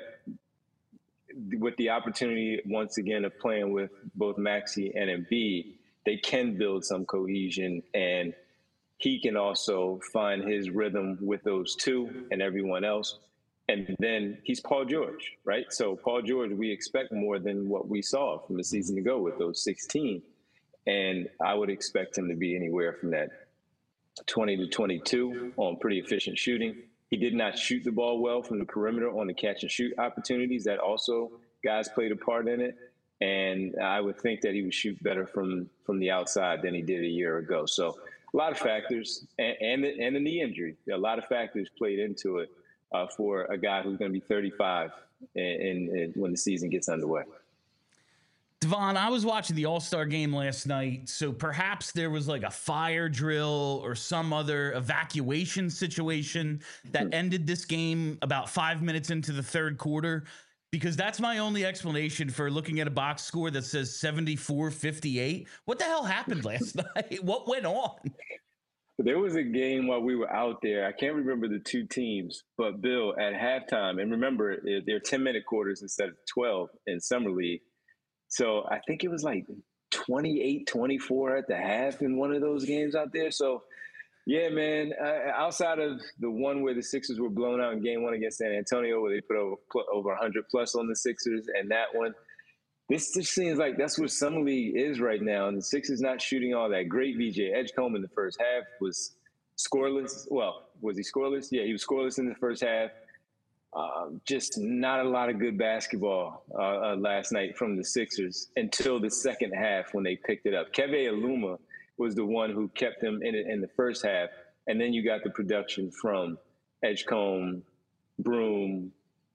with the opportunity, once again, of playing with both Maxey and Embiid, they can build some cohesion, and he can also find his rhythm with those two and everyone else. And then he's Paul George, right? So Paul George, we expect more than what we saw from a season ago with those sixteen. And I would expect him to be anywhere from that twenty to twenty-two on pretty efficient shooting. He did not shoot the ball well from the perimeter on the catch and shoot opportunities. That also, guys played a part in it. And I would think that he would shoot better from, from the outside than he did a year ago. So a lot of factors, and, and, the, and the knee injury, a lot of factors played into it. Uh, for a guy who's going to be thirty-five in, in, in when the season gets underway. Devon, I was watching the All-Star game last night, so perhaps there was like a fire drill or some other evacuation situation that ended this game about five minutes into the third quarter, because that's my only explanation for looking at a box score that says seventy-four fifty-eight. What the hell happened last night? What went on? There was a game while we were out there. I can't remember the two teams, but Bill, at halftime, and remember, they're ten-minute quarters instead of twelve in Summer League. So I think it was like twenty-eight twenty-four at the half in one of those games out there. So, yeah, man, uh, outside of the one where the Sixers were blown out in game one against San Antonio, where they put over, put over one hundred plus on the Sixers, and that one, this just seems like that's what Summer League is right now. And the Sixers not shooting all that great. V J Edgecombe in the first half was scoreless. Well, was he scoreless? Yeah, he was scoreless in the first half. Um, just not a lot of good basketball uh, uh, last night from the Sixers until the second half when they picked it up. Keve Aluma was the one who kept them in it in the first half. And then you got the production from Edgecombe, Broom,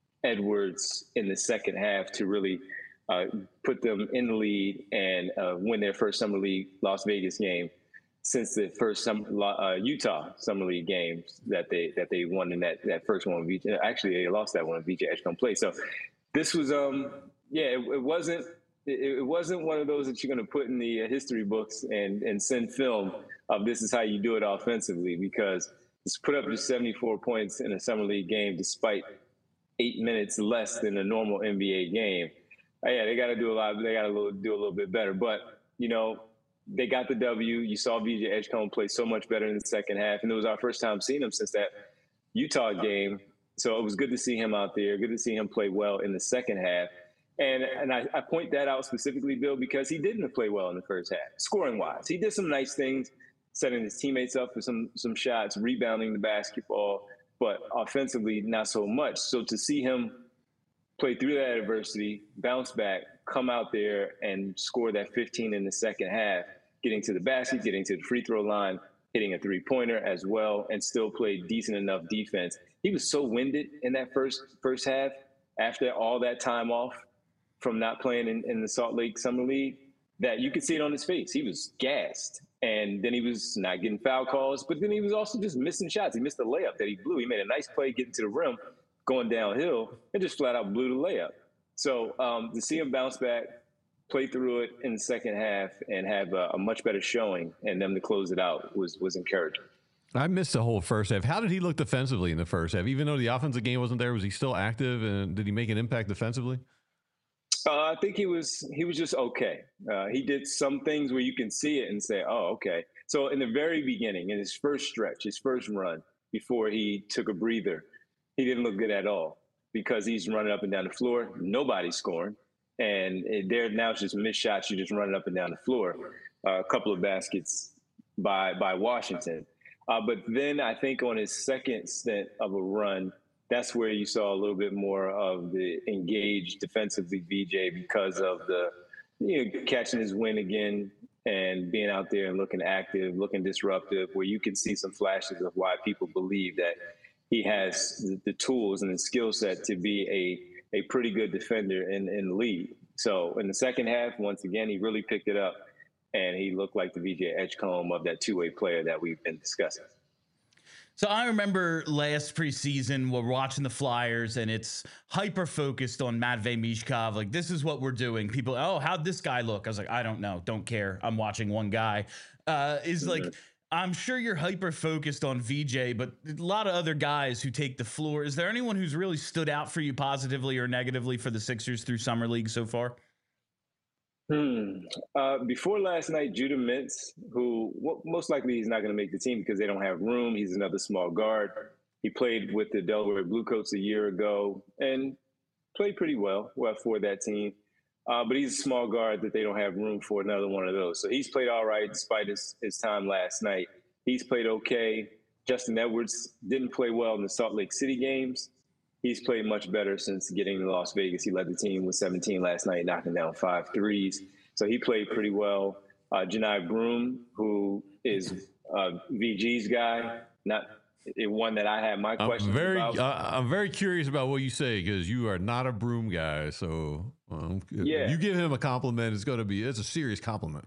Edwards in the second half to really – Uh, put them in the lead and uh, win their first Summer League Las Vegas game since the first some, uh, Utah Summer League games that they that they won in that, that first one. V J, actually, they lost that one. V J Edgecombe played. So this was, um, yeah, it, it wasn't it, it wasn't one of those that you're going to put in the history books and and send film of this is how you do it offensively, because it's put up just seventy-four points in a Summer League game despite eight minutes less than a normal N B A game. Oh, yeah, they got to do a lot. They got to do a little bit better. But, you know, they got the W. You saw V J Edgecombe play so much better in the second half. And it was our first time seeing him since that Utah game. So it was good to see him out there. Good to see him play well in the second half. And and I, I point that out specifically, Bill, because he didn't play well in the first half, scoring-wise. He did some nice things, setting his teammates up for some some shots, rebounding the basketball. But offensively, not so much. So to see him play through that adversity, bounce back, come out there and score that fifteen in the second half, getting to the basket, getting to the free throw line, hitting a three-pointer as well, and still play decent enough defense. He was so winded in that first first half after all that time off from not playing in, in the Salt Lake Summer League that you could see it on his face. He was gassed. And then he was not getting foul calls, but then he was also just missing shots. He missed a layup that he blew. He made a nice play getting to the rim, going downhill, and just flat out blew the layup. So um, to see him bounce back, play through it in the second half, and have a, a much better showing, and them to close it out was was encouraging. I missed the whole first half. How did he look defensively in the first half? Even though the offensive game wasn't there, was he still active, and did he make an impact defensively? Uh, I think he was he was just okay. Uh, he did some things where you can see it and say, "Oh, okay." So in the very beginning, in his first stretch, his first run, before he took a breather, he didn't look good at all because he's running up and down the floor. Nobody's scoring, and it, there now it's just missed shots. You're just running up and down the floor. Uh, a couple of baskets by by Washington, uh, but then I think on his second stint of a run, that's where you saw a little bit more of the engaged defensively V J because of the, you know, catching his wind again and being out there and looking active, looking disruptive, where you can see some flashes of why people believe that he has the tools and the skill set to be a, a pretty good defender in, in the league. So in the second half, once again, he really picked it up and he looked like the V J Edgecombe of that two-way player that we've been discussing. So I remember last preseason, we're watching the Flyers and it's hyper focused on Matvei Mishkov. Like, this is what we're doing. People, oh, how'd this guy look? I was like, I don't know. Don't care. I'm watching one guy. Uh, is like, I'm sure you're hyper focused on V J, but a lot of other guys who take the floor. Is there anyone who's really stood out for you positively or negatively for the Sixers through Summer League so far? Hmm. Uh, before last night, Judah Mintz, who well, most likely he's not going to make the team because they don't have room. He's another small guard. He played with the Delaware Bluecoats a year ago and played pretty well, well for that team. Uh, but he's a small guard that they don't have room for another one of those. So he's played all right despite his, his time last night. He's played okay. Justin Edwards didn't play well in the Salt Lake City games. He's played much better since getting to Las Vegas. He led the team with seventeen last night, knocking down five threes. So he played pretty well. Uh, Janai Broom, who is uh, V G's guy, not one that I had my questions I'm very, about. uh, I'm very curious about what you say because you are not a Broom guy. So um, yeah. if you give him a compliment, it's going to be it's a serious compliment.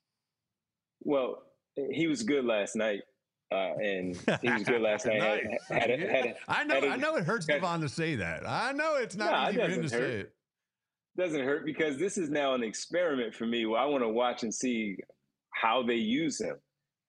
Well, he was good last night. Uh, and he was good last night. Nice. had, had, a, had a, I know, had a, I know it hurts had, Devon to say that. I know it's not nah, easy it for him to hurt. say it. Doesn't hurt because this is now an experiment for me where I want to watch and see how they use him,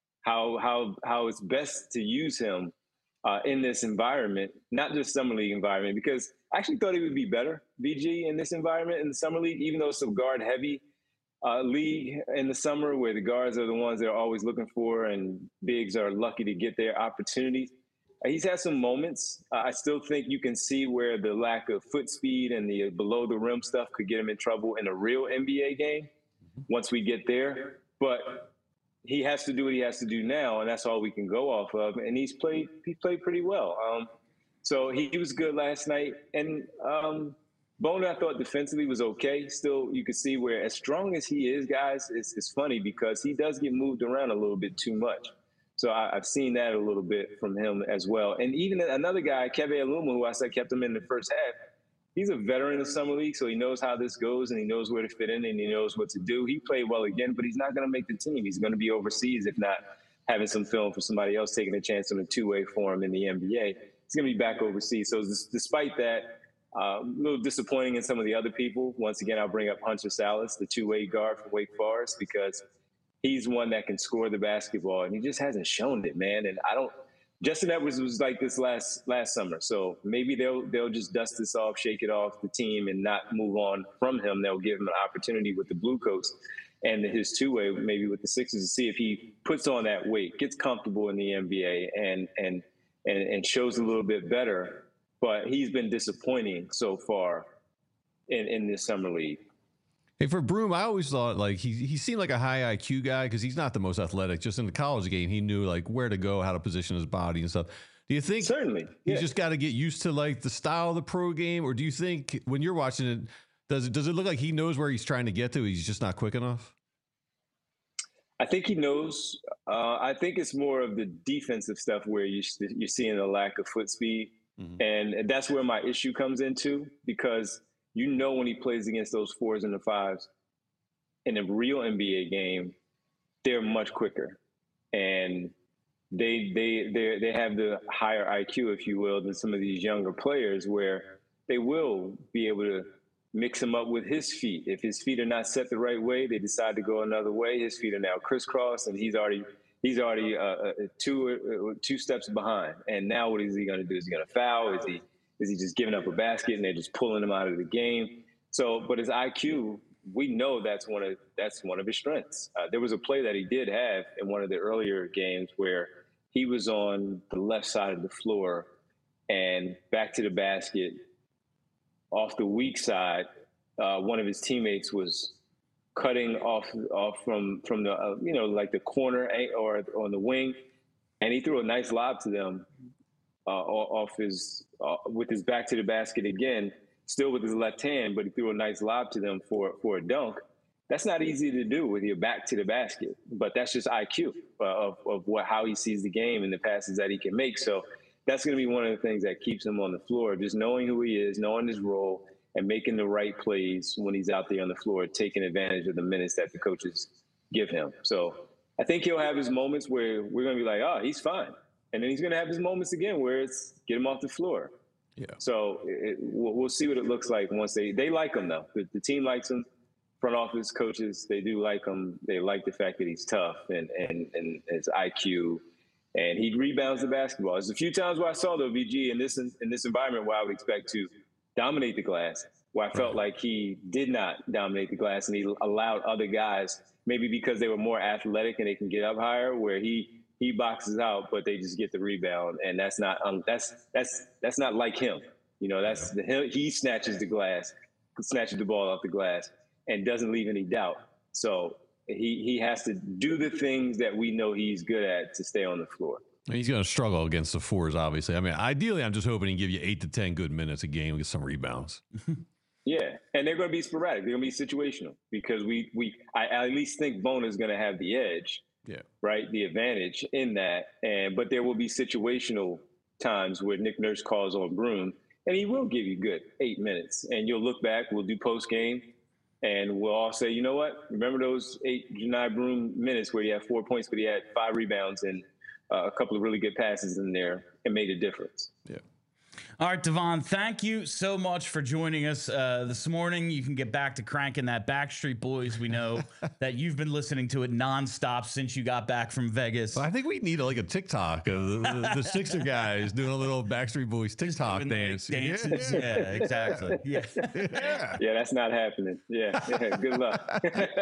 how how how it's best to use him uh, in this environment, not just summer league environment. Because I actually thought he would be better, V G, in this environment in the summer league, even though it's a guard heavy uh, league in the summer where the guards are the ones they're always looking for and bigs are lucky to get their opportunities. He's had some moments. Uh, I still think you can see where the lack of foot speed and the below the rim stuff could get him in trouble in a real N B A game once we get there. But he has to do what he has to do now, and that's all we can go off of. And he's played he played pretty well. Um, so he, he was good last night. And um, Boner, I thought defensively was okay. Still, you could see where as strong as he is, guys, it's, it's funny because he does get moved around a little bit too much. So I, I've seen that a little bit from him as well. And even another guy, Keve Aluma, who I said kept him in the first half, he's a veteran of Summer League, so he knows how this goes and he knows where to fit in and he knows what to do. He played well again, but he's not going to make the team. He's going to be overseas, if not having some film for somebody else taking a chance on a two-way for him in the N B A. He's going to be back overseas. So despite that, uh, a little disappointing in some of the other people. Once again, I'll bring up Hunter Salas, the two-way guard from Wake Forest, because he's one that can score the basketball, and he just hasn't shown it, man. And I don't – Justin Edwards was like this last last summer, so maybe they'll they'll just dust this off, shake it off the team, and not move on from him. They'll give him an opportunity with the Blue Coats and his two-way, maybe with the Sixers, to see if he puts on that weight, gets comfortable in the N B A, and and and, and shows a little bit better. But he's been disappointing so far in, in this summer league. Hey, for Broom, I always thought like he he seemed like a high I Q guy because he's not the most athletic. Just in the college game, he knew like where to go, how to position his body and stuff. Do you think certainly yeah. he's just got to get used to like the style of the pro game, or do you think when you're watching it, does it does it look like he knows where he's trying to get to? He's just not quick enough. I think he knows. Uh, I think it's more of the defensive stuff where you you're seeing a lack of foot speed, mm-hmm. and that's where my issue comes into because. You know when he plays against those fours and the fives in a real N B A game, they're much quicker, and they they they they have the higher I Q, if you will, than some of these younger players, where they will be able to mix him up with his feet. If his feet are not set the right way, they decide to go another way. His feet are now crisscrossed, and he's already he's already uh, two uh, two steps behind. And now what is he going to do? Is he going to foul? Is he Is he just giving up a basket and they're just pulling him out of the game? So, but his I Q, we know that's one of that's one of his strengths. Uh, there was a play that he did have in one of the earlier games where he was on the left side of the floor and back to the basket off the weak side. Uh, one of his teammates was cutting off off from from the uh, you know like the corner or on the wing, and he threw a nice lob to them uh, off his uh, with his back to the basket again. Still with his left hand, but he threw a nice lob to them for, for a dunk. That's not easy to do with your back to the basket, but that's just I Q uh, of, of what how he sees the game and the passes that he can make. So that's going to be one of the things that keeps him on the floor, just knowing who he is, knowing his role, and making the right plays when he's out there on the floor, taking advantage of the minutes that the coaches give him. So I think he'll have his moments where we're going to be like, oh, he's fine. And then he's going to have his moments again where it's get him off the floor. Yeah. So it, we'll, we'll see what it looks like once they they like him though. The, the team likes him. Front office coaches, they do like him. They like the fact that he's tough and and and his I Q, and he rebounds the basketball. There's a few times where I saw though V G in this in, in this environment where I would expect to dominate the glass, where I felt like he did not dominate the glass and he allowed other guys, maybe because they were more athletic and they can get up higher, where he. He boxes out, but they just get the rebound, and that's not um, that's that's that's not like him. You know, that's the, he snatches the glass, snatches the ball off the glass, and doesn't leave any doubt. So he he has to do the things that we know he's good at to stay on the floor. He's going to struggle against the fours, obviously. I mean, ideally, I'm just hoping he give you eight to ten good minutes a game with some rebounds. Yeah, and they're going to be sporadic. They're going to be situational because we we I, I at least think Bona is going to have the edge. Yeah. Right. The advantage in that. And but there will be situational times where Nick Nurse calls on Broome and he will give you good eight minutes. And you'll look back, we'll do post game and we'll all say, you know what? Remember those eight Johni Broome minutes where he had four points, but he had five rebounds and uh, a couple of really good passes in there and made a difference. Yeah. All right, Devon, thank you so much for joining us uh, this morning. You can get back to cranking that Backstreet Boys. We know that you've been listening to it nonstop since you got back from Vegas. Well, I think we need a, like a TikTok of the, the, the Sixer guys doing a little Backstreet Boys TikTok dance. Like dances. Yeah. yeah, exactly. Yeah. yeah, yeah, that's not happening. Yeah, yeah good luck.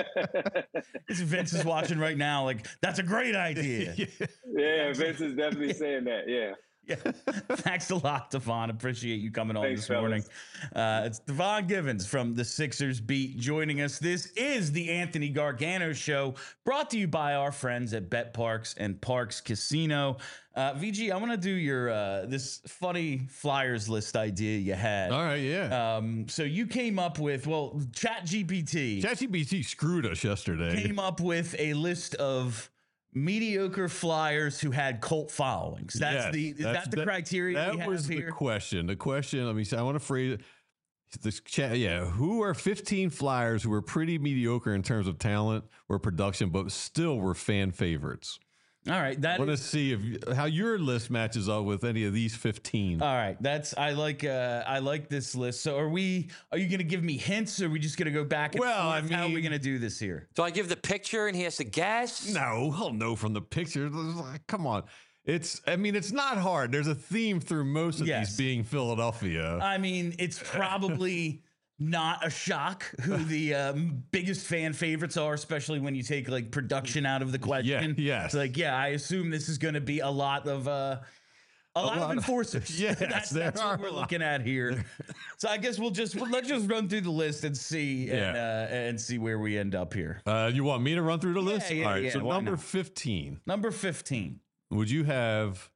Vince is watching right now like, that's a great idea. Yeah, Vince is definitely saying that, yeah. Yeah. Thanks a lot, Devon. Appreciate you coming on Thanks, this fellas. morning. Uh, it's Devon Givens from the Sixers Beat joining us. This is the Anthony Gargano Show, brought to you by our friends at Bet Parks and Parks Casino. Uh, V G, I want to do your uh, this funny Flyers list idea you had. All right, yeah. Um, so you came up with, well, ChatGPT. ChatGPT screwed us yesterday. Came up with a list of mediocre Flyers who had cult followings. That's yes, the is that's, that the that, criteria that we have was here? The question. The question, let me say, I want to phrase it. This chat, yeah. Who are fifteen Flyers who were pretty mediocre in terms of talent or production, but still were fan favorites? All right, that I want to is, see if how your list matches up with any of these fifteen. all right. That's I like. Uh, I like this list. So, are we? Are you going to give me hints, or are we just going to go back? And Well, forth? I how are we mean- going to do this here? So I give the picture and he has to guess? No, he'll know from the picture. Come on. It's, I mean, it's not hard. There's a theme through most of Yes. these being Philadelphia. I mean, it's probably not a shock who the um, biggest fan favorites are, especially when you take like production out of the question. yes. It's like, yeah, I assume this is going to be a lot of uh, a, lot, lot of of- enforcers. Yes, that's, there that's what are we're a lot. looking at here. So I guess we'll just well, let's just run through the list and see and, Yeah. uh, and see where we end up here. Uh, you want me to run through the list? yeah, All right. yeah, so why number not? fifteen. Number fifteen, Would you have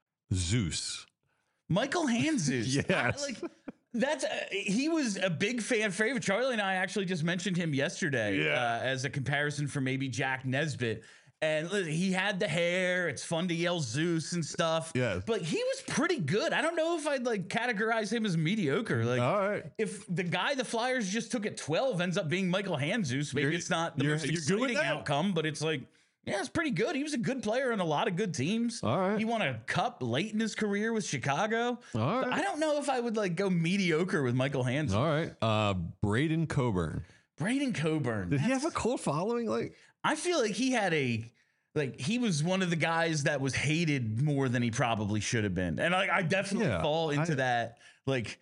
Zeus? Michael Handzus. Yes. I, like that's uh, he was a big fan favorite. Charlie and I actually just mentioned him yesterday Yeah. uh, as a comparison for maybe Jack Nesbitt. And listen, he had the hair. It's fun to yell Zeus and stuff. Yes. But he was pretty good. I don't know if I'd like categorize him as mediocre. Like, All right. if the guy the Flyers just took at twelve ends up being Michael Handzus, maybe You're- it's not the you're- most you're good with exciting that? outcome, but it's like, yeah, it's pretty good. He was a good player on a lot of good teams. All right. He won a cup late in his career with Chicago. All So right. I don't know if I would like go mediocre with Michael Handzus. All right. Uh, Braden Coburn. Braden Coburn. Did he that's- have a cult following? Like, I feel like he had a like he was one of the guys that was hated more than he probably should have been. And like I definitely Yeah, fall into I- that like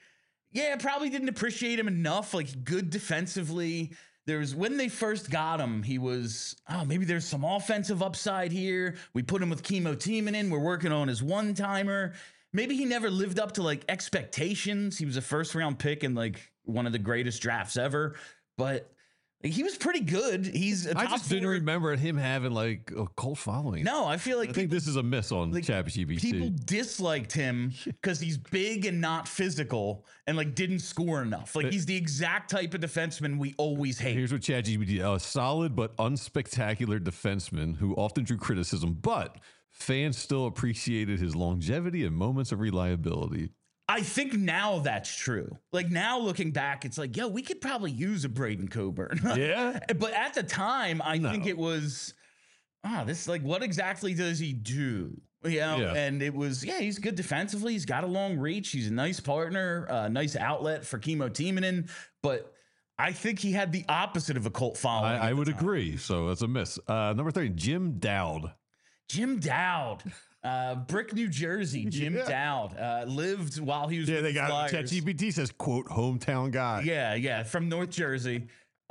Yeah, probably didn't appreciate him enough. Like, good defensively. There's when they first got him, he was, oh, maybe there's some offensive upside here. We put him with Chemo Timonen. We're working on his one timer. Maybe he never lived up to like expectations. He was a first round pick in like one of the greatest drafts ever, but like, he was pretty good. He's a I top just didn't four- remember him having like a cult following. No, I feel like I think people- this is a miss on like, ChatGPT. People disliked him because he's big and not physical and like didn't score enough. Like he's the exact type of defenseman we always hate. Here's what ChatGPT: a solid but unspectacular defenseman who often drew criticism, but fans still appreciated his longevity and moments of reliability. I think now that's true. Like now looking back, it's like, yo, we could probably use a Braden Coburn. Yeah. But at the time, I No. think it was, ah, this like, what exactly does he do? You know, Yeah. and it was, yeah, he's good defensively. He's got a long reach. He's a nice partner, a uh, nice outlet for Chemo Timonen. But I think he had the opposite of a cult following. I, I at would the time. agree. So that's a miss. Uh, number three, Jim Dowd. Jim Dowd, uh, Brick, New Jersey. Jim Yeah. Dowd uh, lived while he was Yeah, with they the got Flyers. ChatGPT says, quote, hometown guy. Yeah, yeah, from North Jersey.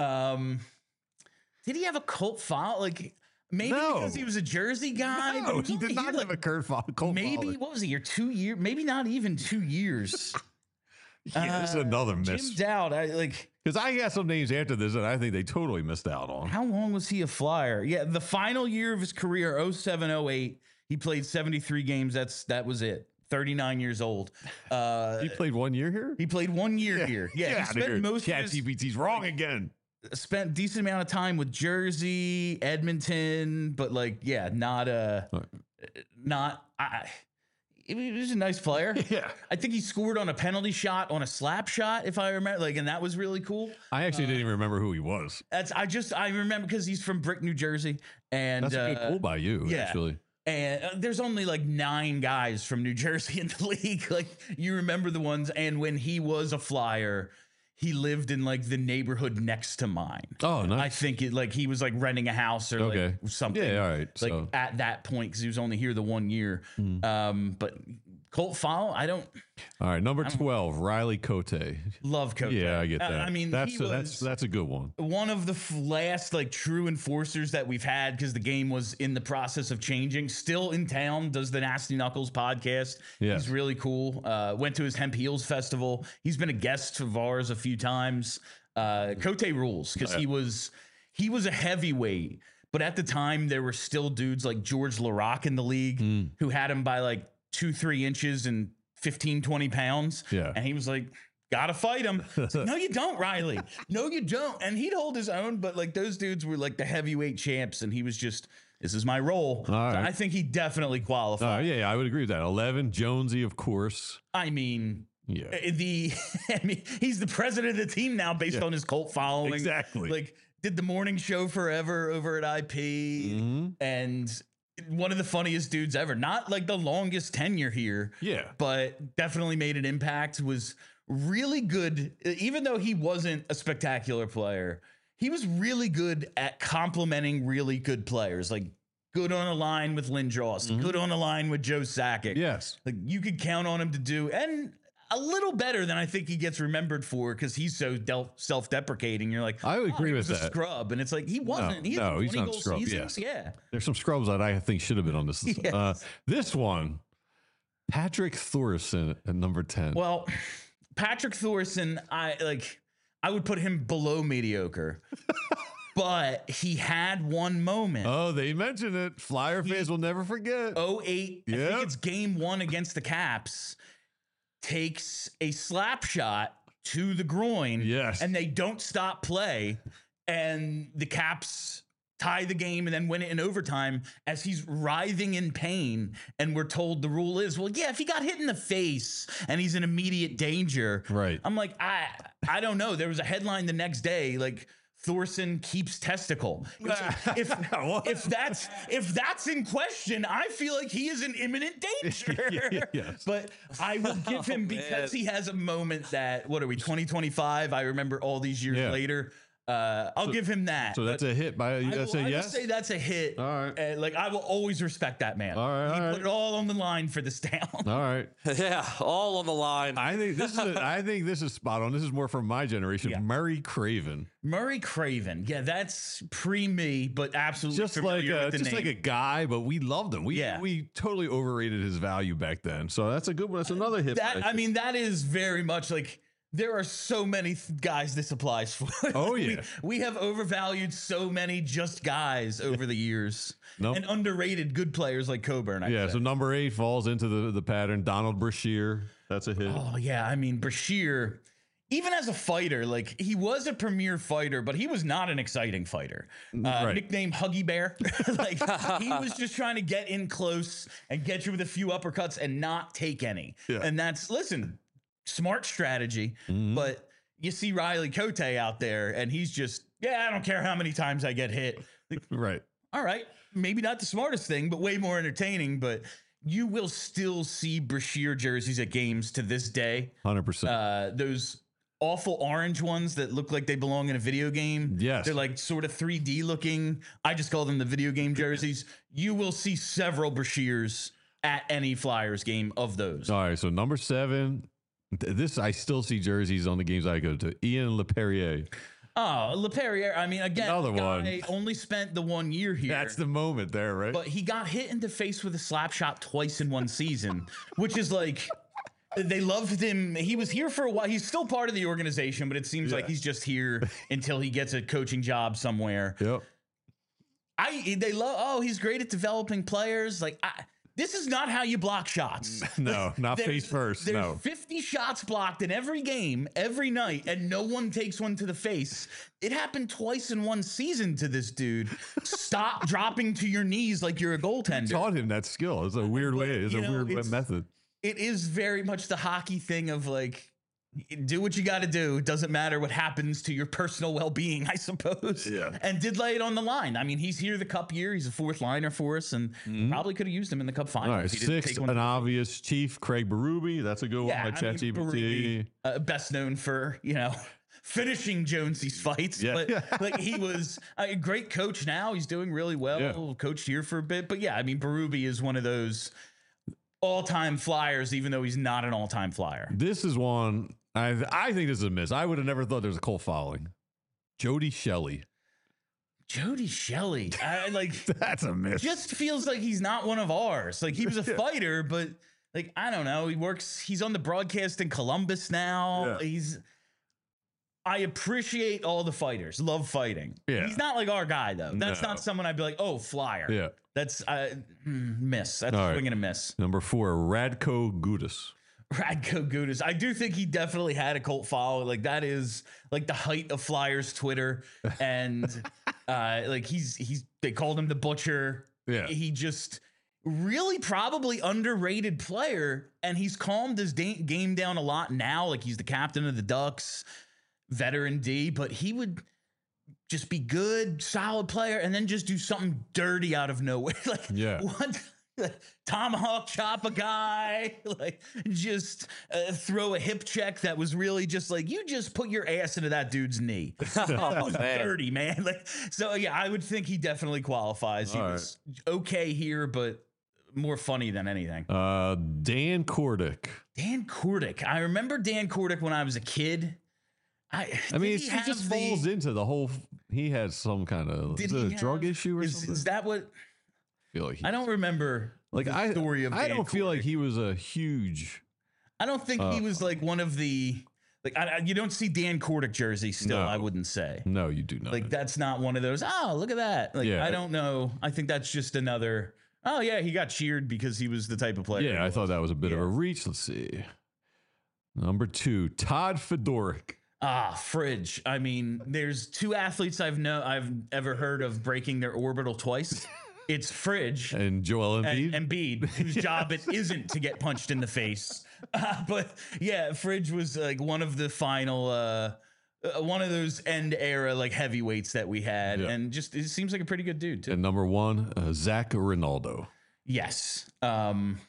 Um, did he have a cult follow? Like maybe No. because he was a Jersey guy. but No, was he only did not here, have like, a cult follow- cult maybe following. what was he? Your two year? Maybe not even two years. Yeah, this is another Jim miss. Dowd. I like. Because I got some names after this that I think they totally missed out on. How long was he a Flyer? Yeah, the final year of his career, oh seven oh eight, he played seventy-three games. That's that was it. thirty-nine years old. Uh, He played one year here? he played one year here. Yeah, Get he outta spent here. most of his ChatGPT's wrong again. spent decent amount of time with Jersey, Edmonton, but like, yeah, not a, not. I, he was a nice player. Yeah. I think he scored on a penalty shot on a slap shot, if I remember. Like, and that was really cool. I actually didn't even remember who he was. That's I just I remember because he's from Brick, New Jersey, and That's a good uh, pull by you, yeah. actually. And uh, there's only like nine guys from New Jersey in the league. Like you remember the ones. And when he was a Flyer, he lived in like the neighborhood next to mine. Oh, nice. I think it like he was like renting a house or Okay. like something. Yeah, all right. Like So- at that point because he was only here the one year. Um, but Colt Fowl, I don't All right, number twelve, Riley Cote. love Coach. Yeah, I get Uh, that. I mean, that's he a, was, that's that's a good one. one of the f- last like true enforcers that we've had because the game was in the process of changing. Still in town, does the Nasty Knuckles podcast. Yes. He's really cool. Uh, went to his Hemp Heels festival. He's been a guest of ours a few times. Uh, Cote rules because he was he was a heavyweight, but at the time there were still dudes like George LaRock in the league Mm. who had him by like two, three inches and fifteen, twenty pounds. Yeah. And he was like, gotta fight him. It's like, no, you don't, Riley. No, you don't. And he'd hold his own, but like those dudes were like the heavyweight champs, and he was just, this is my role. All right. So I think he definitely qualified. Uh, yeah, yeah, I would agree with that. eleven, Jonesy, of course. I mean, Yeah. uh, the I mean, he's the president of the team now based Yeah. on his cult following. Exactly. Like did the morning show forever over at I P, Mhm. and one of the funniest dudes ever. Not like the longest tenure here. Yeah. But definitely made an impact, was really good. Even though he wasn't a spectacular player, he was really good at complimenting really good players. Like good on a line with Lindros, good on a line with Joe Sakic. Yes. Like you could count on him to do, and a little better than I think he gets remembered for because he's so del- self-deprecating. You're like, I would "Oh, agree he with was a that." scrub, and it's like he wasn't. he had no, he's twenty not a goal scrub, seasons. yeah. Yeah. There's some scrubs that I think should have been on this. Uh, Yes. this one, Patrick Thorson at number ten. Well, Patrick Thorson, I like. I would put him below mediocre, but he had one moment. oh, they mentioned it. Flyer fans will never forget. oh eight, I Yep. think it's game one against the Caps, takes a slap shot to the groin. Yes. And they don't stop play. And the Caps tie the game and then win it in overtime as he's writhing in pain. And we're told the rule is, well, yeah, if he got hit in the face and he's in immediate danger. Right. I'm like, I I don't know. There was a headline the next day, like, Thorson keeps testicle. It's like, if, if that's if that's in question, I feel like he is in imminent danger. Yeah, yes. But I will give him Oh, because man. he has a moment that, what are we, twenty twenty-five? I remember all these years Yeah. later. Uh, I'll So- give him that. So that's but a hit by you I gotta will, say I will yes. say that's a hit. All right. Uh, like I will always respect that man. All right, He all put right. it all on the line for this town. All right. Yeah, all on the line. I think this is a, I think this is spot on. This is more from my generation. Yeah. Murray Craven. Murray Craven. Yeah, that's pre me, but absolutely Just like familiar a, with the just name. like a guy, but we loved him. We Yeah. we totally overrated his value back then. So that's a good one. That's another hit. that. by- I mean, that is very much like there are so many th- guys this applies for. Oh, we, yeah. we have overvalued so many just guys over the years, Nope. and underrated good players like Coburn. I'd yeah. say. So number eight falls into the the pattern. Donald Brashear. That's a hit. Oh yeah, I mean Brashear, even as a fighter, like he was a premier fighter, but he was not an exciting fighter. Uh, Right. Nickname Huggy Bear. Like he was just trying to get in close and get you with a few uppercuts and not take any. Yeah. And that's listen, smart strategy. Mhm. But you see Riley Cote out there, and he's just yeah, I don't care how many times I get hit. Like, Right. all right, maybe not the smartest thing, but way more entertaining. But you will still see Brashear jerseys at games to this day. Hundred percent. Uh, those awful orange ones that look like they belong in a video game. Yes. They're like sort of three D looking. I just call them the video game jerseys. You will see several Brashears at any Flyers game of those. All right. So number seven. th- This I still see jerseys on the games I go to. Ian LePerrier. Oh, LePerrier. I mean, again, Another the one. guy only spent the one year here. That's the moment there, right? But he got hit in the face with a slap shot twice in one season, which is like they loved him. He was here for a while. He's still part of the organization, but it seems like he's just here until he gets a coaching job somewhere. Yep. I they love. Oh, he's great at developing players. Like I, this is not how you block shots. No, not There's- face first. There's No. fifty shots blocked in every game, every night, and no one takes one to the face. It happened twice in one season to this dude. Stop dropping to your knees like you're a goaltender. Taught him that skill. It's a weird way. It's you a know, weird it's- method. It is very much the hockey thing of like, do what you got to do. It doesn't matter what happens to your personal well-being, I suppose. Yeah. And did lay it on the line. I mean, he's here the cup year. He's a fourth liner for us, and probably could have used him in the cup final. Mm-hmm. All right, if he didn't six, take one. an obvious chief, Craig Berube. That's a good Yeah, one by I mean, ChatGPT. Berube, uh, best known for, you know, finishing Jonesy's fights. Yeah. But like he was a great coach now. He's doing really well. Yeah. Coached here for a bit. But yeah, I mean, Berube is one of those all-time Flyers, even though he's not an all-time Flyer. This is one I I think this is a miss. I would have never thought there was a Cole following. Jody Shelley. Jody Shelley. I like That's a miss. just feels like he's not one of ours. Like he was a fighter, but like I don't know. He works. He's on the broadcast in Columbus now. Yeah. He's. I appreciate all the fighters. Love fighting. Yeah. He's not like our guy though. That's No. not someone I'd be like, oh, Flyer. Yeah. That's uh, mm, miss. That's All right. swing and a miss. Number four, Radko Gudas. Radko Gudas. I do think he definitely had a cult follow. Like that is like the height of Flyers Twitter, and uh, like he's he's they called him the Butcher. Yeah. He just really probably underrated player, and he's calmed his da- game down a lot now. Like he's the captain of the Ducks, veteran D, but he would just be good, solid player, and then just do something dirty out of nowhere. Like Yeah. what? Tomahawk chop a guy, like just uh, throw a hip check that was really just like you just put your ass into that dude's knee. That was man. dirty, man. Like so, yeah, I would think he definitely qualifies. He All was okay here, but more funny than anything. Uh, Dan Kordick. Dan Kordick. I remember Dan Kordick when I was a kid. I, I mean, did he, have just the- falls into the whole. He had some kind of did is it he a drug have- issue or is, something. is that what? I feel like he, I don't remember. like the I. story of I Dan don't feel like Kordick. he was a huge. I don't think he Uh, was like one of the like. I, I- you don't see Dan Kordick jersey still. No. I wouldn't say No, you do not. like that's not one of those. Oh, look at that! Like Yeah. I don't know. I think that's just another. Oh yeah, he got cheered because he was the type of player. Yeah, he I was. thought that was a bit of Yeah. a reach. Let's see. Number two, Todd Fedoruk. Ah, fridge. I mean, there's two athletes I've know I've ever heard of breaking their orbital twice. It's Fridge And Joel Embiid. and Embiid, whose job it isn't to get punched in the face. Uh, but yeah, Fridge was like one of the final, uh, uh, one of those end era like heavyweights that we had, Yeah. and just it seems like a pretty good dude too. And number one, uh, Zach Ronaldo. Yes. Um,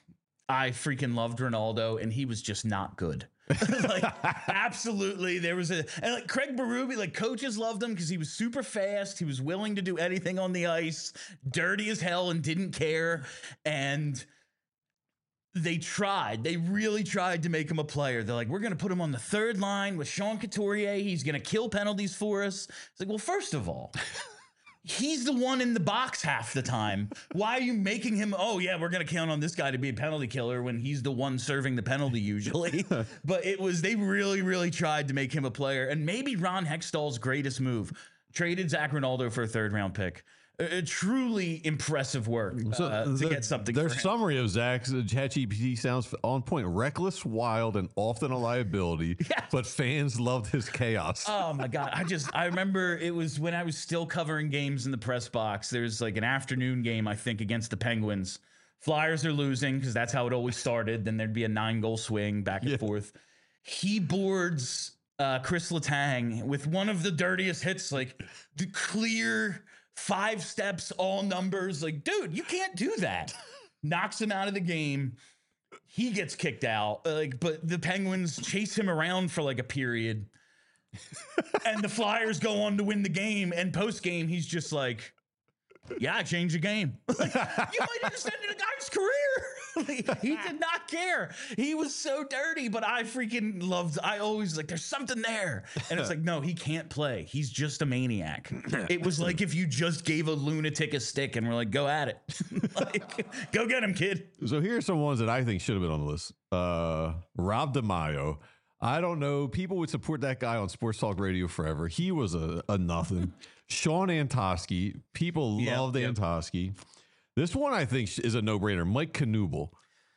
I freaking loved Ronaldo, and he was just not good. Like, absolutely. There was a, and like Craig Berube, like coaches loved him because he was super fast. He was willing to do anything on the ice, dirty as hell, and didn't care. And they tried. They really tried to make him a player. They're like, we're going to put him on the third line with Sean Couturier. He's going to kill penalties for us. It's like, well, first of all, he's the one in the box half the time. Why are you making him, oh, yeah, we're going to count on this guy to be a penalty killer when he's the one serving the penalty usually? But it was, they really, really tried to make him a player. And maybe Ron Hextall's greatest move, traded Zach Ronaldo for a third round pick. A, a truly impressive work So uh, to the- get something Their for him. summary of Zach's uh, ChatGPT sounds on point. Reckless, wild, and often a liability, Yes. but fans loved his chaos. Oh my God. I just, I remember it was when I was still covering games in the press box. There's like an afternoon game, I think, against the Penguins. Flyers are losing because that's how it always started. Then there'd be a nine goal swing back and Yeah. forth. He boards uh, Chris Letang with one of the dirtiest hits, like the clear five steps, all numbers. Like, dude, you can't do that. Knocks him out of the game. He gets kicked out. Like, but the Penguins chase him around for like a period. And the Flyers go on to win the game. And post game, he's just like, yeah, I changed the game. Like, you might have extended a guy's career. Like, he did not care. He was so dirty, but I freaking loved, I always like, there's something there. And it's like, no, he can't play. He's just a maniac. It was like if you just gave a lunatic a stick and we're like, go at it. Like, go get him, kid. So here are some ones that I think should have been on the list. Uh, Rob DeMaio. I don't know. People would support that guy on Sports Talk Radio forever. He was a, a nothing. Sean Antosky. People Yep, loved yep. Antosky. This one I think is a no-brainer. Mike Knuble.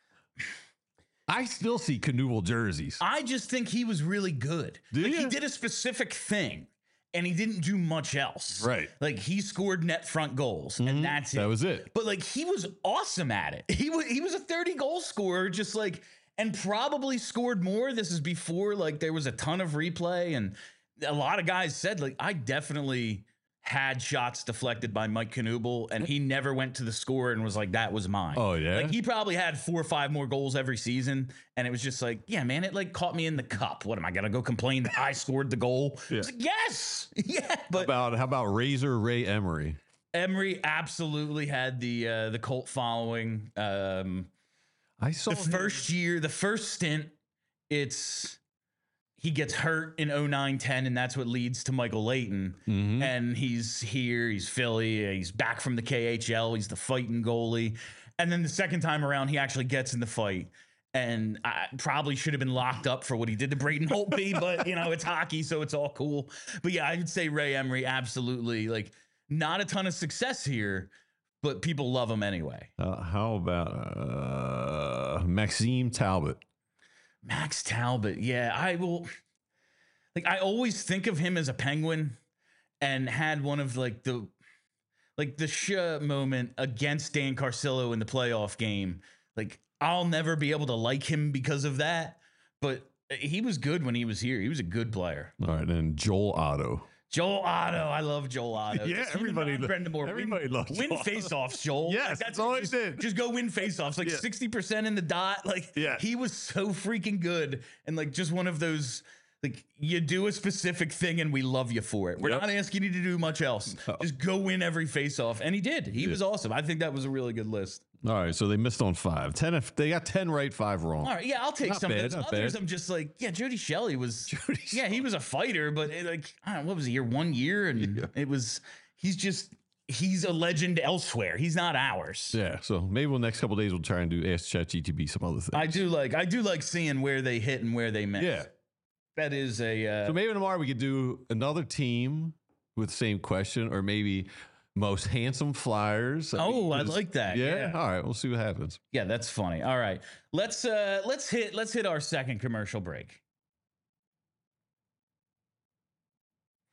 I still see Knuble jerseys. I just think he was really good. Do Like, ya? he did a specific thing and he didn't do much else. Right. Like he scored net front goals and that's it. That was it. But like he was awesome at it. He was he was a thirty goal scorer, just like, and probably scored more. This is before like there was a ton of replay, and a lot of guys said like I definitely had shots deflected by Mike Knuble, and he never went to the score and was like, that was mine. Oh, yeah? Like he probably had four or five more goals every season, and it was just like, yeah, man, it like caught me in the cup. What am I gonna go complain that I scored the goal? Yeah. It's like, yes, yeah, but About how about Razor Ray Emery? Emery absolutely had the uh, the cult following. Um, I saw the him- first year, the first stint, it's he gets hurt in oh nine ten, and that's what leads to Michael Layton. Mhm. And he's here, he's Philly, he's back from the K H L, he's the fighting goalie. And then the second time around, he actually gets in the fight. And I probably should have been locked up for what he did to Braden Holtby, but you know, it's hockey, so it's all cool. But yeah, I would say Ray Emery, absolutely. Like, not a ton of success here, but people love him anyway. Uh, how about uh, Maxime Talbot? Max Talbot, yeah, I will. Like, I always think of him as a Penguin, and had one of like the, like the sh moment against Dan Carcillo in the playoff game. Like, I'll never be able to like him because of that, but he was good when he was here. He was a good player. All right, and Joel Otto. Joel Otto, I love Joel Otto. Yeah, Just him and everybody Ron lo- Brendamore. everybody win, loves win Joel Otto. faceoffs, Joel. Yes, that's all he just, did. Just go win faceoffs, like Yeah. sixty percent in the dot. Like, Yeah. he was so freaking good, and like just one of those. Like, you do a specific thing and we love you for it. We're Yep. not asking you to do much else. Just go win every faceoff, and he did. He was awesome. I think that was a really good list. All right, so they missed on five. Ten. If they got ten right, five wrong. All right, yeah, I'll take Not some bad, of those. not Others, bad. I'm just like, yeah, Jody Shelley was, Jody yeah, he was a fighter, but it, like, I don't know, what was he here? One year, and Yeah. it was, he's just, he's a legend elsewhere. He's not ours. Yeah, so maybe we'll next couple days we'll try and do Ask ChatGPT some other things. I do like, I do like seeing where they hit and where they miss. Yeah. That is a, uh, So maybe tomorrow we could do another team with the same question, or maybe most handsome Flyers. Oh, I just- like that. Yeah? Yeah. All right, we'll see what happens. yeah, that's funny. All right, let's, uh, let's hit, let's hit our second commercial break.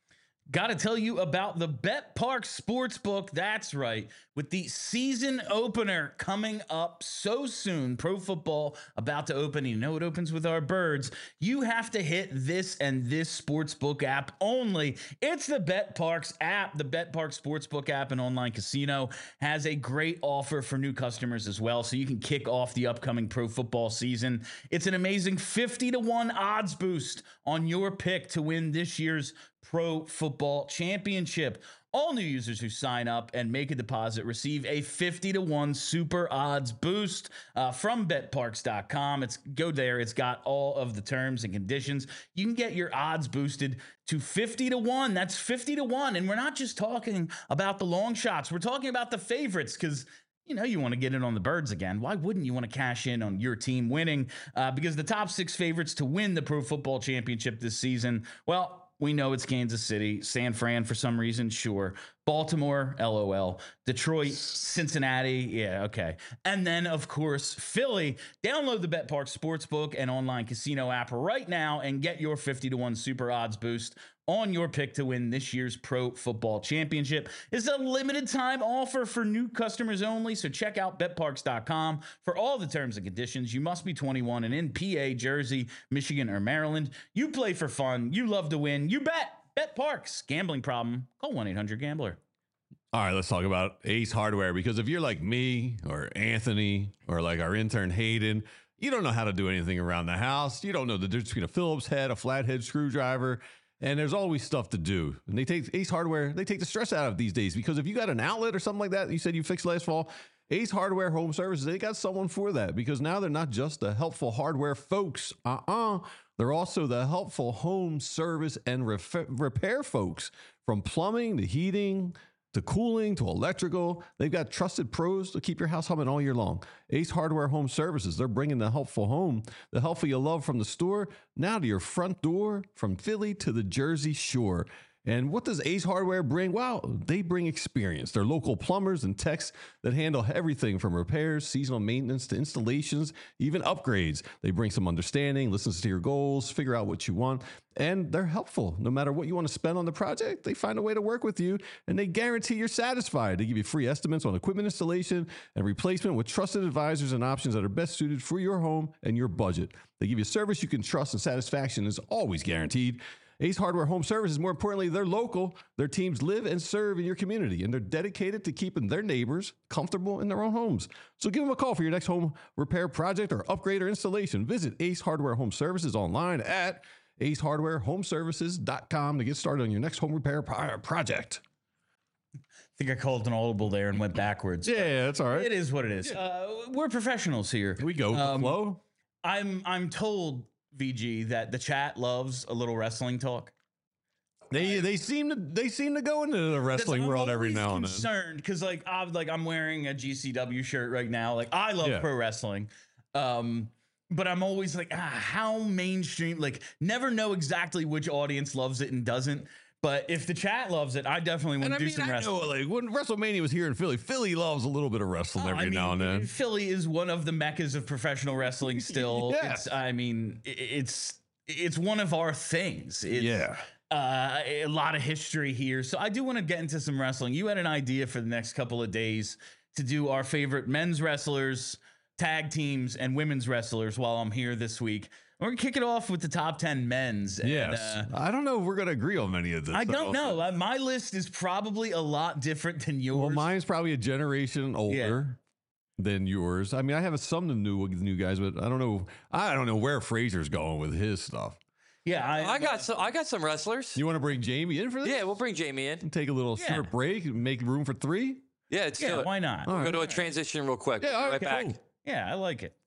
Got to tell you about the BetParx Sportsbook. That's right. With the season opener coming up so soon, pro football about to open. You know it opens with our birds. You have to hit this and this sportsbook app only. It's the BetParx app. The BetParx Sportsbook app and online casino has a great offer for new customers as well, so you can kick off the upcoming pro football season. It's an amazing fifty to one odds boost on your pick to win this year's Pro Football Championship. All new users who sign up and make a deposit receive a fifty to one super odds boost uh, from bet parx dot com. It's go there. It's got all of the terms and conditions. You can get your odds boosted to fifty to one. That's fifty to one. And we're not just talking about the long shots. We're talking about the favorites, because you know, you want to get in on the birds again. Why wouldn't you want to cash in on your team winning? Uh, because the top six favorites to win the Pro Football Championship this season, well, we know it's Kansas City, San Fran for some reason, sure. Baltimore, LOL. Detroit, Cincinnati, yeah, okay. And then, of course, Philly. Download the BetParx Sportsbook and online casino app right now and get your fifty to one super odds boost on your pick to win this year's Pro Football Championship. It's a limited time offer for new customers only, so check out bet parx dot com for all the terms and conditions. You must be twenty-one and in P A, Jersey, Michigan, or Maryland. You play for fun. You love to win. You bet. BetParx. Gambling problem? Call one eight hundred gambler. All right, let's talk about Ace Hardware, because if you're like me or Anthony or like our intern Hayden, you don't know how to do anything around the house. You don't know the difference between a Phillips head, a flathead screwdriver, and there's always stuff to do. And they take Ace Hardware, they take the stress out of these days, because if you got an outlet or something like that, you said you fixed last fall, Ace Hardware Home Services, they got someone for that, because now they're not just the helpful hardware folks. Uh-uh. They're also the helpful home service and ref- repair folks. From plumbing to heating to cooling to electrical, they've got trusted pros to keep your house humming all year long. Ace Hardware Home Services, they're bringing the helpful home, the helpful you love from the store, now to your front door, from Philly to the Jersey Shore. And what does Ace Hardware bring? Well, they bring experience. They're local plumbers and techs that handle everything from repairs, seasonal maintenance to installations, even upgrades. They bring some understanding, listens to your goals, figure out what you want, and they're helpful. No matter what you want to spend on the project, they find a way to work with you, and they guarantee you're satisfied. They give you free estimates on equipment installation and replacement with trusted advisors and options that are best suited for your home and your budget. They give you service you can trust, and satisfaction is always guaranteed. Ace Hardware Home Services, more importantly, they're local. Their teams live and serve in your community, and they're dedicated to keeping their neighbors comfortable in their own homes. So give them a call for your next home repair project or upgrade or installation. Visit Ace Hardware Home Services online at ace hardware home services dot com to get started on your next home repair pro- project. I think I called an audible there and went backwards. Yeah, that's all right. It is what it is. Uh, we're professionals here. Here we go. Um, Flow. I'm I'm told, V G, that the chat loves a little wrestling talk. They they seem to they seem to go into the wrestling I'm world every now and then. Concerned because like I'm like I'm wearing a G C W shirt right now. Like I love Yeah. pro wrestling, um, but I'm always like, ah, how mainstream? Like never know exactly which audience loves it and doesn't. But if the chat loves it, I definitely want And I to do mean, some I wrestling. know, like when WrestleMania was here in Philly, Philly loves a little bit of wrestling Oh, every I mean, now and then. Philly is one of the meccas of professional wrestling. Still, Yes. it's, I mean, i- it's it's one of our things. It's, Yeah. uh, a lot of history here. So I do want to get into some wrestling. You had an idea for the next couple of days to do our favorite men's wrestlers, tag teams, and women's wrestlers while I'm here this week. We're gonna kick it off with the top ten men's. And, Yes. uh, I don't know if we're going to agree on many of this. I don't though. know. Uh, My list is probably a lot different than yours. Well, mine's probably a generation older than yours. I mean, I have some new with new guys, but I don't know. I don't know where Fraser's going with his stuff. Yeah, I, I got some. I got some wrestlers. You want to bring Jamie in for this? Yeah, we'll bring Jamie in. Take a little Yeah. short break and make room for three. Yeah, let's do yeah. it. Why not? All Go right. to a transition real quick. Yeah, all right right, back. cool. Yeah, I like it.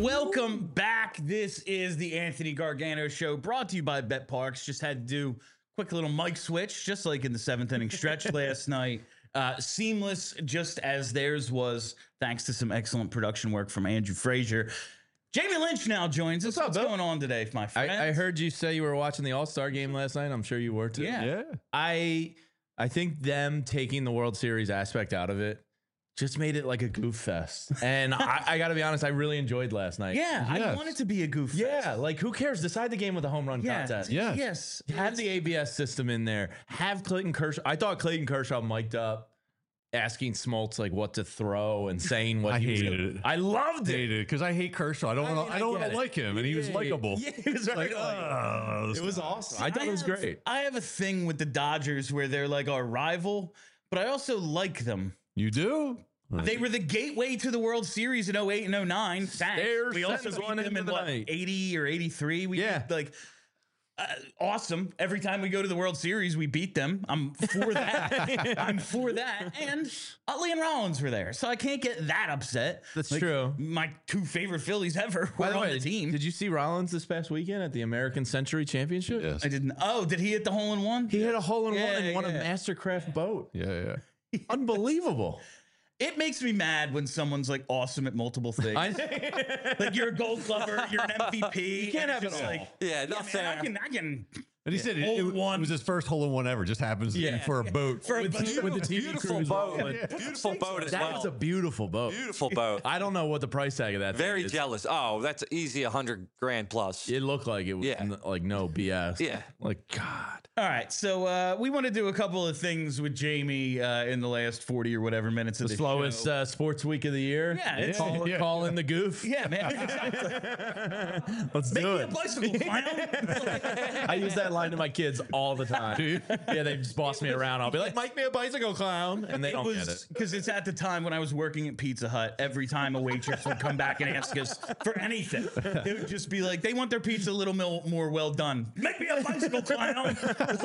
Welcome back. This is the Anthony Gargano Show, brought to you by Bet Parks. Just had to do a quick little mic switch, just like in the seventh inning stretch last night. Uh, seamless, just as theirs was, thanks to some excellent production work from Andrew Frazier. Jamie Lynch now joins us. What's up, What's Bill? going on today, my friend? I, I heard you say you were watching the All-Star game last night. I'm sure you were too. Yeah. Yeah. I I think them taking the World Series aspect out of it just made it like a goof fest. And I, I got to be honest, I really enjoyed last night. Yeah, I Yes. want it to be a goof fest. Yeah, like who cares? Decide the game with a home run Yeah. contest. Yes. Yes. Have the A B S system in there. Have Clayton Kershaw. I thought Clayton Kershaw mic'd up, asking Smoltz like what to throw and saying what I he was hated gonna- it. I loved it. Hated it because I hate Kershaw. I don't I want mean, to. I I don't get want it. to like him, and he was Yeah, likable. Yeah, it was Like, right. oh, It was awesome. I thought it was have- great. I have a thing with the Dodgers where they're like our rival, but I also like them. You do? They were the gateway to the World Series in oh eight and oh nine. Thanks. They're we also sends beat one them into in the what, night. eighty or eighty-three. We Yeah. like uh, awesome. Every time we go to the World Series, we beat them. I'm for that. I'm for that. And Utley and Rollins were there, so I can't get that upset. That's Like, true. My two favorite Phillies ever were By the on way, the team. did you see Rollins this past weekend at the American Century Championship? Yes. I didn't. Oh, did he hit the hole in one? He hit a hole in Yeah, one and won a yeah. Mastercraft boat. Yeah, yeah. Unbelievable. It makes me mad when someone's like awesome at multiple things. I, Like you're a Gold Glover, you're an M V P. You can't and have it's it just all. like, Yeah, yeah, not man, fair. I can, I can. And he said it, Hole it, in one. it was his first hole in one ever. Just happens Yeah. for a boat. For a with, bunch of- with the T V Beautiful crews boat. rolling. Beautiful boat as That well. was a beautiful boat. Beautiful boat. I don't know what the price tag of that Very thing is. jealous. Oh, that's easy. A hundred grand plus. It looked like it was Yeah. n- like no B S. Yeah. Like God. All right, so uh, we want to do a couple of things with Jamie uh, in the last forty or whatever minutes of The the slowest show. uh, sports week of the year. Yeah, it's- call, Yeah. call in the goof. Yeah, man. Let's Make do me a it. bicycle clown. I use that line to my kids all the time. Yeah, they just boss me around. I'll be like, "Make me a bicycle clown," and they It don't get was it. because it's at the time when I was working at Pizza Hut. Every time a waitress would come back and ask us for anything, it would just be like, "They want their pizza a little mil- more well done. Make me a bicycle clown."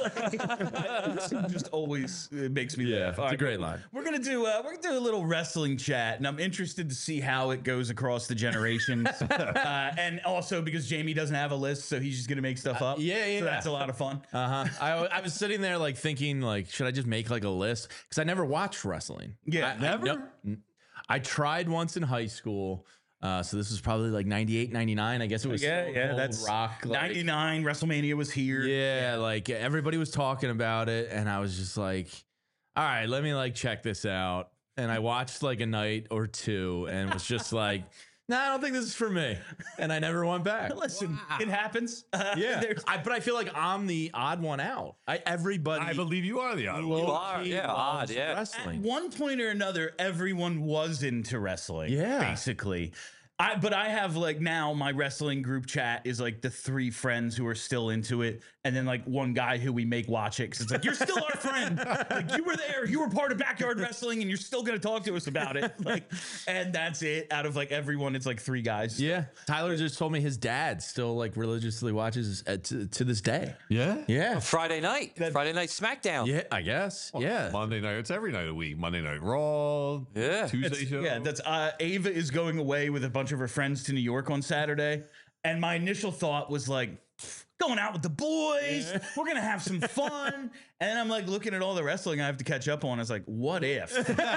It just always it makes me Yeah, laugh. it's All a right, great line. We're gonna do uh, we're gonna do a little wrestling chat, and I'm interested to see how it goes across the generations, uh, and also because Jamie doesn't have a list, so he's just gonna make stuff up. yeah, yeah. So that's a lot of fun. Uh huh. I, I was sitting there like thinking like, should I just make like a list? Because I never watched wrestling. Yeah, I, never? I, no- I tried once in high school. Uh, so this was probably like ninety-eight, ninety-nine. I guess it was Yeah, Stone yeah, Cold that's rock. Like, ninety-nine. WrestleMania was here. Yeah, like everybody was talking about it, and I was just like, all right, let me like check this out. And I watched like a night or two and was just like, no, nah, I don't think this is for me. And I never went back. Listen, it happens. Uh, Yeah, there's- I, but I feel like I'm the odd one out. I everybody. I believe you are the odd one. You are, low-key yeah, loves odd, yeah. At wrestling. one point or another, everyone was into wrestling. Yeah. basically. I, but I have like now my wrestling group chat is like the three friends who are still into it, and then like one guy who we make watch it because it's like you're still our friend, like you were there, you were part of backyard wrestling, and you're still gonna talk to us about it. Like, and that's it. Out of like everyone, it's like three guys. Yeah, Tyler just told me his dad still like religiously watches uh, to, to this day. Yeah. Yeah, Friday night. Friday night SmackDown. yeah, I guess. Yeah, Monday night. It's every night of the week. Monday night Raw. Yeah. Tuesday That's, show. yeah, that's uh, Ava is going away with a bunch of her friends to New York on Saturday, and my initial thought was like, going out with the boys, we're gonna have some fun, and then I'm like looking at all the wrestling I have to catch up on. I was like, what if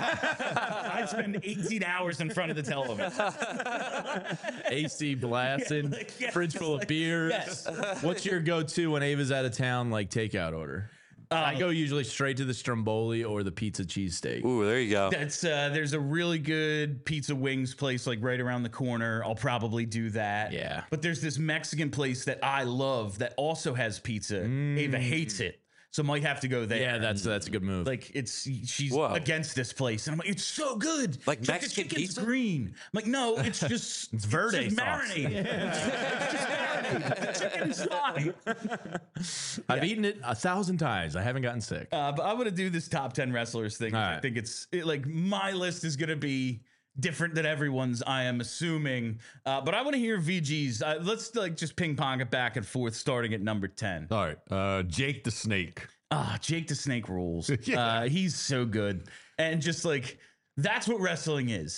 I spend eighteen hours in front of the television? A C blasting, Yeah, like, yeah, fridge full like, of beers. yes. What's your go-to when Ava's out of town? Like takeout order? I go usually straight to the Stromboli or the pizza cheesesteak. Ooh, there you go. That's uh, there's a really good pizza wings place like right around the corner. I'll probably do that. Yeah. But there's this Mexican place that I love that also has pizza. Ava hates it, so might have to go there. Yeah, that's that's a good move. Like it's she's Whoa. against this place, and I'm like, it's so good. Like She's the Mexican chicken's pizza? green. I'm like, no, it's just it's verde just sauce. marinated. It's just marinated. The chicken's fine. I've eaten it a thousand times. I haven't gotten sick. Uh, but I'm gonna do this top ten wrestlers thing. All I right. think it's it, like my list is gonna be different than everyone's. I am assuming, uh, but I want to hear V G's. Uh, let's like just ping pong it back and forth, starting at number ten. All right. Uh, Jake the Snake. Ah, Jake the Snake rules. Yeah. uh, he's so good, and just like that's what wrestling is.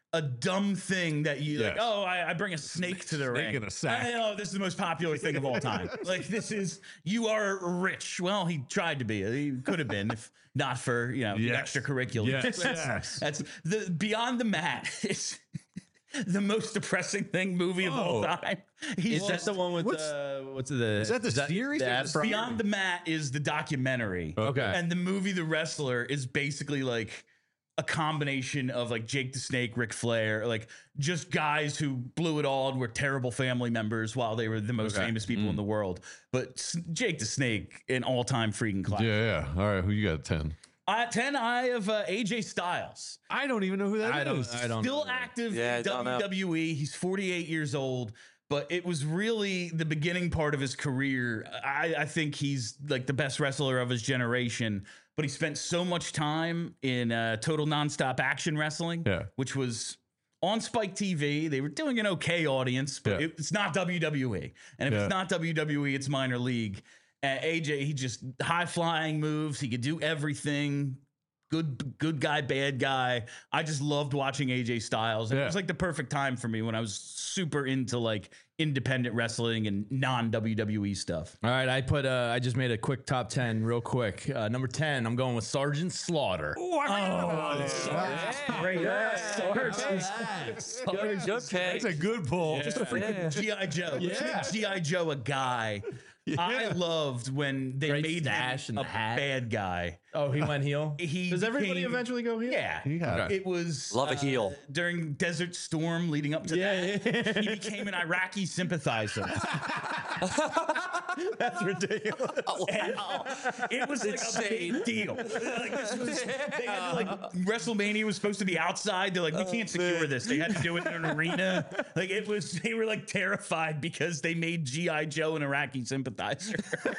a dumb thing that you like, Yes. oh, I, I bring a snake to the Snake ring. in a sack. I know this is the most popular thing of all time. Like this is, you are rich. Well, he tried to be. He could have been if not for, you know, Yes. the extracurricular. Yes. That's, Yes. that's the Beyond the Mat is the most depressing thing movie of all Oh. time. He's Is that the one with What's- uh, what's the? Is that the series? the or ad the- from- Beyond the Mat is the documentary. Okay. And the movie The Wrestler is basically like a combination of like Jake the Snake, Ric Flair, like just guys who blew it all and were terrible family members while they were the most Okay. famous people in the world. But S- Jake the Snake, an all-time freaking classic. Yeah, yeah. All right, who you got at ten? At ten, I have uh, A J Styles. I don't even know who that is. I don't. I don't. Still know. active Yeah, I in don't know. W W E. He's forty-eight years old, but it was really the beginning part of his career. I, I think he's like the best wrestler of his generation, but he spent so much time in uh, Total Nonstop Action Wrestling, Yeah. which was on Spike T V. They were doing an okay audience, but Yeah. it, it's not W W E. And if Yeah. it's not W W E, it's minor league. And A J, he just high flying moves. He could do everything. Good, good guy, bad guy. I just loved watching A J Styles. And It Yeah. was like the perfect time for me when I was super into like independent wrestling and non W W E stuff. All right, I put. Uh, I just made a quick top ten, real quick. Uh, number ten, I'm going with Sergeant Slaughter. Oh, great. Good, good pick. That's a good pull. Just a freaking G I Joe. Yeah. G I Joe, a guy. I loved when they Great made stash him and a the hat. bad guy. Oh, he went heel. He Does everybody became- eventually go heel? Yeah. Yeah. It was Love a uh, heel. during Desert Storm leading up to Yeah, that. He became an Iraqi sympathizer. That's ridiculous. And it was like a big deal. Like this was, they had to, like WrestleMania was supposed to be outside. They're like, we can't secure this. They had to do it in an arena. Like it was, they were like terrified because they made G I Joe an Iraqi sympathizer.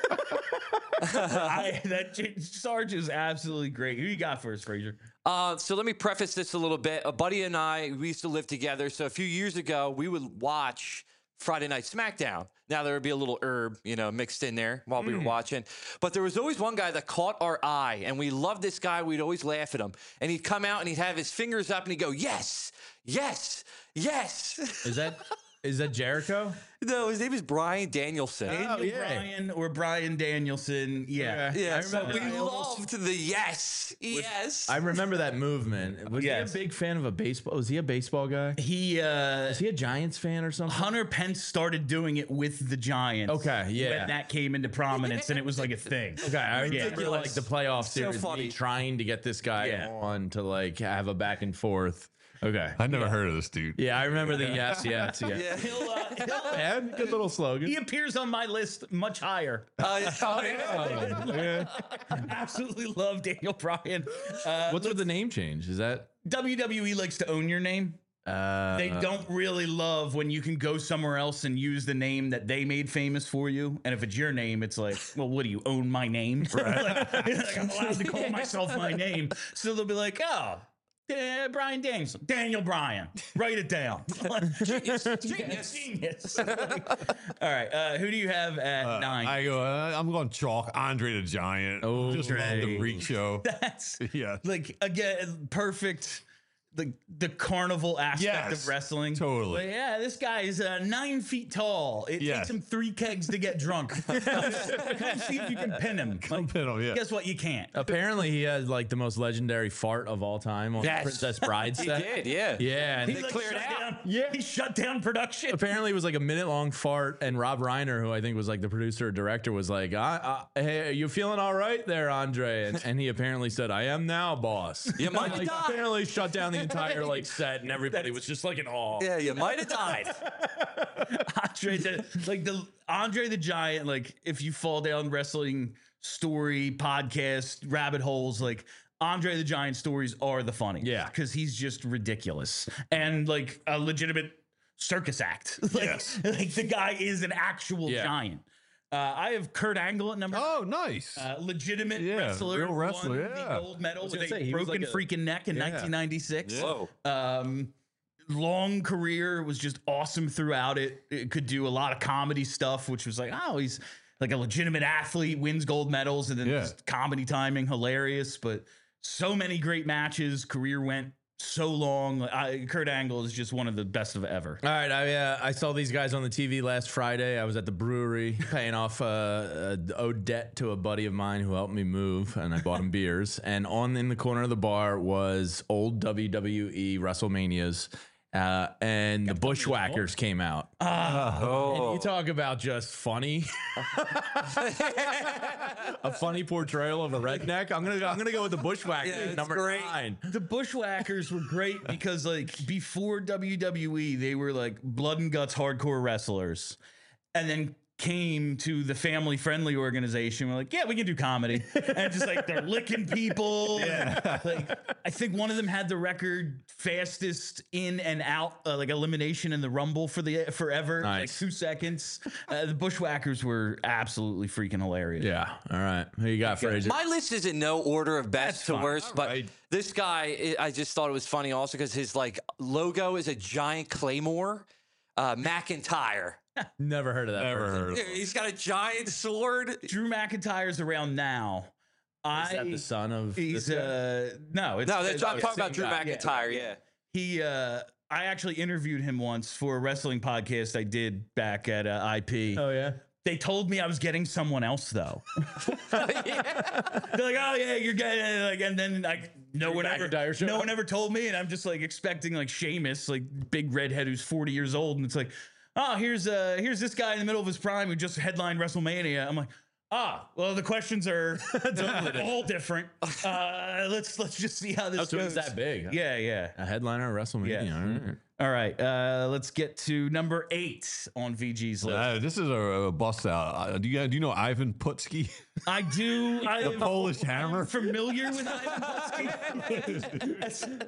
I, that J- Sarge is absolutely great. Who you got for us, Frazier? Uh, so let me preface this a little bit. A buddy and I, we used to live together. So a few years ago, we would watch Friday Night SmackDown. Now there would be a little herb, you know, mixed in there while we were watching. But there was always one guy that caught our eye, and we loved this guy. We'd always laugh at him. And he'd come out and he'd have his fingers up and he'd go, yes, yes, yes. Is that is that Jericho? No, his name is Brian Danielson. Daniel yeah. Bryan or Brian Danielson. Yeah. Okay. Yeah, I so remember- we loved the yes, yes. I remember that movement. Was Yes. he a big fan of a baseball? Was he a baseball guy? He, uh, Was he a Giants fan or something? Hunter Pence started doing it with the Giants. Okay, yeah. When that came into prominence and it was like a thing. Okay, I remember Ridiculous. like the playoff So series, funny. me trying to get this guy Yeah. on to like have a back and forth. Okay, I never heard of this dude. yeah, I remember the yes, yes, yes. Yeah. He'll, uh, he'll- And good little slogan. he appears on my list much higher. Uh, oh, yeah. Absolutely love Daniel Bryan. Uh, What's with the name change? Is that W W E likes to own your name. uh, They don't really love when you can go somewhere else and use the name that they made famous for you. And if it's your name, it's like, well, what do you own my name? like, like, I'm allowed to call myself my name. So they'll be like, oh, uh, Brian Danielson, Daniel Bryan. Write it down. genius, genius, genius. Like, all right, uh, who do you have at Uh, nine? I go. Uh, I'm going chalk. Andre the Giant. Oh, just love the great. freak show. That's Yeah. like again perfect. The, the carnival aspect Yes, of wrestling. totally. But yeah, this guy is uh, nine feet tall. It Yes. takes him three kegs to get drunk. Come see if you can pin him. Like, Pin 'em, yeah. Guess what? You can't. apparently he has like the most legendary fart of all time on Yes. Princess Bride He set. did, yeah. Yeah, and He they like, cleared shut out. down. Yeah, he shut down production. apparently it was like a minute long fart, and Rob Reiner, who I think was like the producer or director, was like, I, I, "Hey, you feeling all right there, Andre?" And, and he apparently said, "I am now, boss." You might like, have died. apparently shut down the entire like set, and everybody was just like in awe. Yeah, you might have died. Andre, the, like the Andre the Giant. Like if you fall down wrestling story podcast rabbit holes, like Andre the Giant stories are the funny. Yeah. because he's just ridiculous and like a legitimate circus act. like, Yes. like the guy is an actual Yeah. giant. Uh, I have Kurt Angle at number. Oh, nice. Uh, legitimate Yeah, wrestler, real wrestler, won yeah. the gold medal was with a gonna say, he was broken like a- freaking neck in Yeah. nineteen ninety-six. Whoa. Um, long career, was just awesome throughout it. It could do a lot of comedy stuff, which was like, oh, he's like a legitimate athlete, wins gold medals, and then Yeah. just comedy timing, hilarious. But so many great matches. Career went so long. I, Kurt Angle is just one of the best of ever. All right, I uh, I saw these guys on the T V last Friday. I was at the brewery paying off uh, a owed debt to a buddy of mine who helped me move, and I bought him beers. And on in the corner of the bar was old W W E WrestleManias. Uh, and the Bushwhackers came out. Ah. And you talk about just funny, a funny portrayal of a redneck. I'm gonna, I'm gonna go with the Bushwhackers, Yeah, it's number great. nine. The Bushwhackers were great because, like, before W W E, they were like blood and guts hardcore wrestlers, and then came to the family friendly organization. We're like, yeah, we can do comedy, and just like they're licking people. Yeah, like I think one of them had the record fastest in and out, uh, like elimination in the Rumble for the forever, Nice. like two seconds. Uh, the Bushwhackers were absolutely freaking hilarious. Yeah. All right. Who you got, Fraser? My list is in no order of best That's to fine. worst, but right. this guy, I I just thought it was funny also because his like logo is a giant claymore. Uh, McIntyre. Never heard of that. Never person. heard of it. He's got a giant sword. Drew McIntyre's around now. I, Is that the son of? He's this guy? uh no, it's No, that's, I'm it's talking about same Drew guy. Yeah. McIntyre. Yeah. He uh I actually interviewed him once for a wrestling podcast I did back at uh, I P. Oh yeah. They told me I was getting someone else though. They're like, "Oh yeah, you're getting," like, and then like no one ever, McIntyre showed no up. one ever told me, and I'm just like expecting like Sheamus, like big redhead who's forty years old, and it's like, oh, here's uh here's this guy in the middle of his prime who just headlined WrestleMania. I'm like, ah, well, the questions are all different. Uh, let's let's just see how this Oh, so goes. it's that big, huh? Yeah, yeah. A headliner at WrestleMania. Yeah. All right. All right, uh, let's get to number eight on V G's list. Uh, this is a, a bust out. Uh, do you guys, do you know Ivan Putski? I do. I The am Polish Hammer? familiar with Ivan Putski.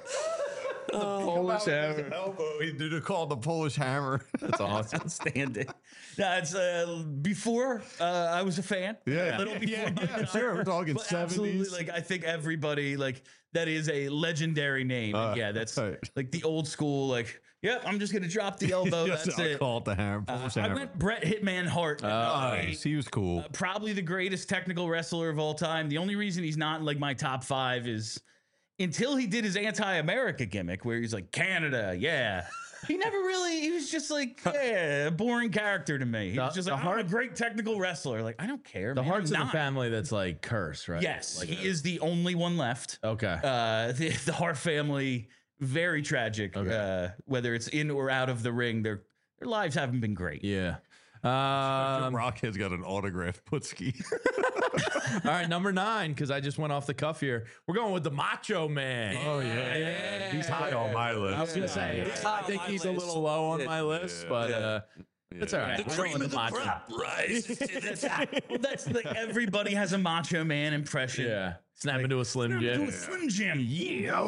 Polish Hammer. Elbow. He did it called the Polish Hammer. That's awesome. Outstanding. No, it's uh, before uh, I was a fan. Yeah, a little before. yeah, my yeah, time. sure. We're talking But absolutely, seventies. like I think everybody like that is a legendary name. And Uh, yeah, that's right. like the old school. Like, yep, I'm just gonna drop the elbow. Yes, That's I it. call it the Hammer. Uh, Polish I Hammer. went Bret Hitman Hart. at number eight. Nice. He was cool. Uh, probably the greatest technical wrestler of all time. The only reason he's not in like my top five is until he did his anti-America gimmick where he's like, Canada, yeah. He never really, he was just like, yeah, a boring character to me. He The- was just the like, I'm Hart- a great technical wrestler. Like, I don't care. The man, Hart's I'm of the not. family that's like cursed, right? Yes, Like, he is the only one left. Okay. Uh, the, the Hart family, very tragic. Okay. Uh, whether it's in or out of the ring, their their lives haven't been great. yeah. Um, Rockhead's got an autograph Putski. all right, number nine, because I just went off the cuff here. We're going with the Macho Man. Oh yeah, he's high on my list. I was gonna say, He's I high on think my he's a list. little low on Yeah. my list, but uh, it's all right. The We're cream going of with the Macho. crop rises to the top. Well, that's like everybody has a Macho Man impression. Yeah, snap into a Slim Jim. Slim Jim. Yeah.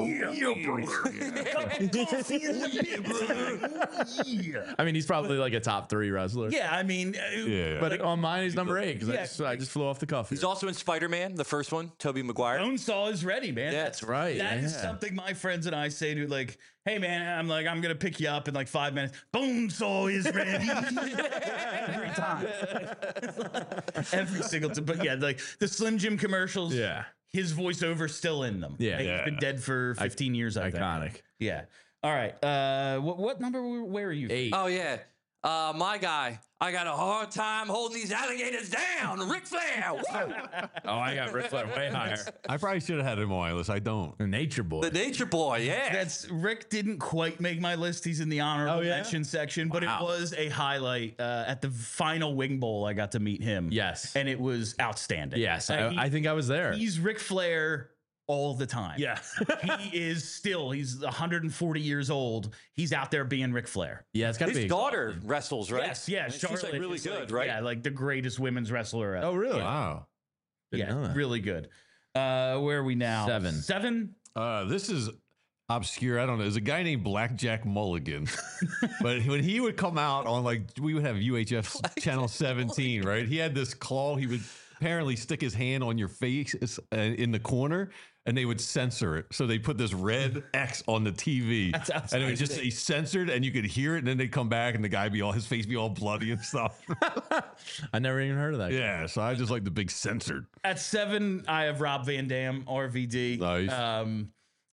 Yeah. I mean, he's probably like a top three wrestler. Yeah, I mean, uh, Yeah. But on mine, he's number eight because Yeah. I just I just flew off the cuff. He's here. also in Spider-Man, the first one, Tobey Maguire. Bonesaw is ready, man. Yeah, That's right. That is yeah. something my friends and I say to like, hey man, I'm like, I'm gonna pick you up in like five minutes. Bonesaw is ready. Every time. Every single time. But yeah, like the Slim Jim commercials, Yeah. his voiceover's still in them. Yeah. Like, Yeah. He's been dead for fifteen years, I think. Iconic. Yeah. All right. Uh what what number were- where are you? Eight. Oh yeah, uh, my guy. I got a hard time holding these alligators down. Ric Flair. Woo! Oh, I got Ric Flair way higher. I probably should have had him on my list. I don't. The Nature Boy. The Nature Boy. Yeah. That's Rick didn't quite make my list. He's in the honorable Oh, yeah? mention section, but Wow. it was a highlight uh, at the final Wing Bowl. I got to meet him. Yes. and it was outstanding. Yes, Uh, I, he- I think I was there. he's Ric Flair all the time. Yeah. he is still. He's one hundred forty years old. He's out there being Ric Flair. Yeah, it's got to His be. daughter wrestles, right? Yes, yeah. And she's Charlotte like really is, good, like, right? Yeah, like the greatest women's wrestler ever. Oh, really? Wow. Didn't yeah, know that. really good. Uh, where are we now? Seven. Seven. Uh, this is obscure. I don't know. There's a guy named Blackjack Mulligan. But when he would come out on, like, we would have U H F channel seventeen, right? He had this claw. He would apparently stick his hand on your face uh, in the corner, and they would censor it. So they put this red X on the T V, That's and it would just say censored, and you could hear it. And then they'd come back, and the guy be all, his face be all bloody and stuff. I never even heard of that. Yeah, so I just like the big censored. At seven, I have Rob Van Dam, R V D. Nice. Um,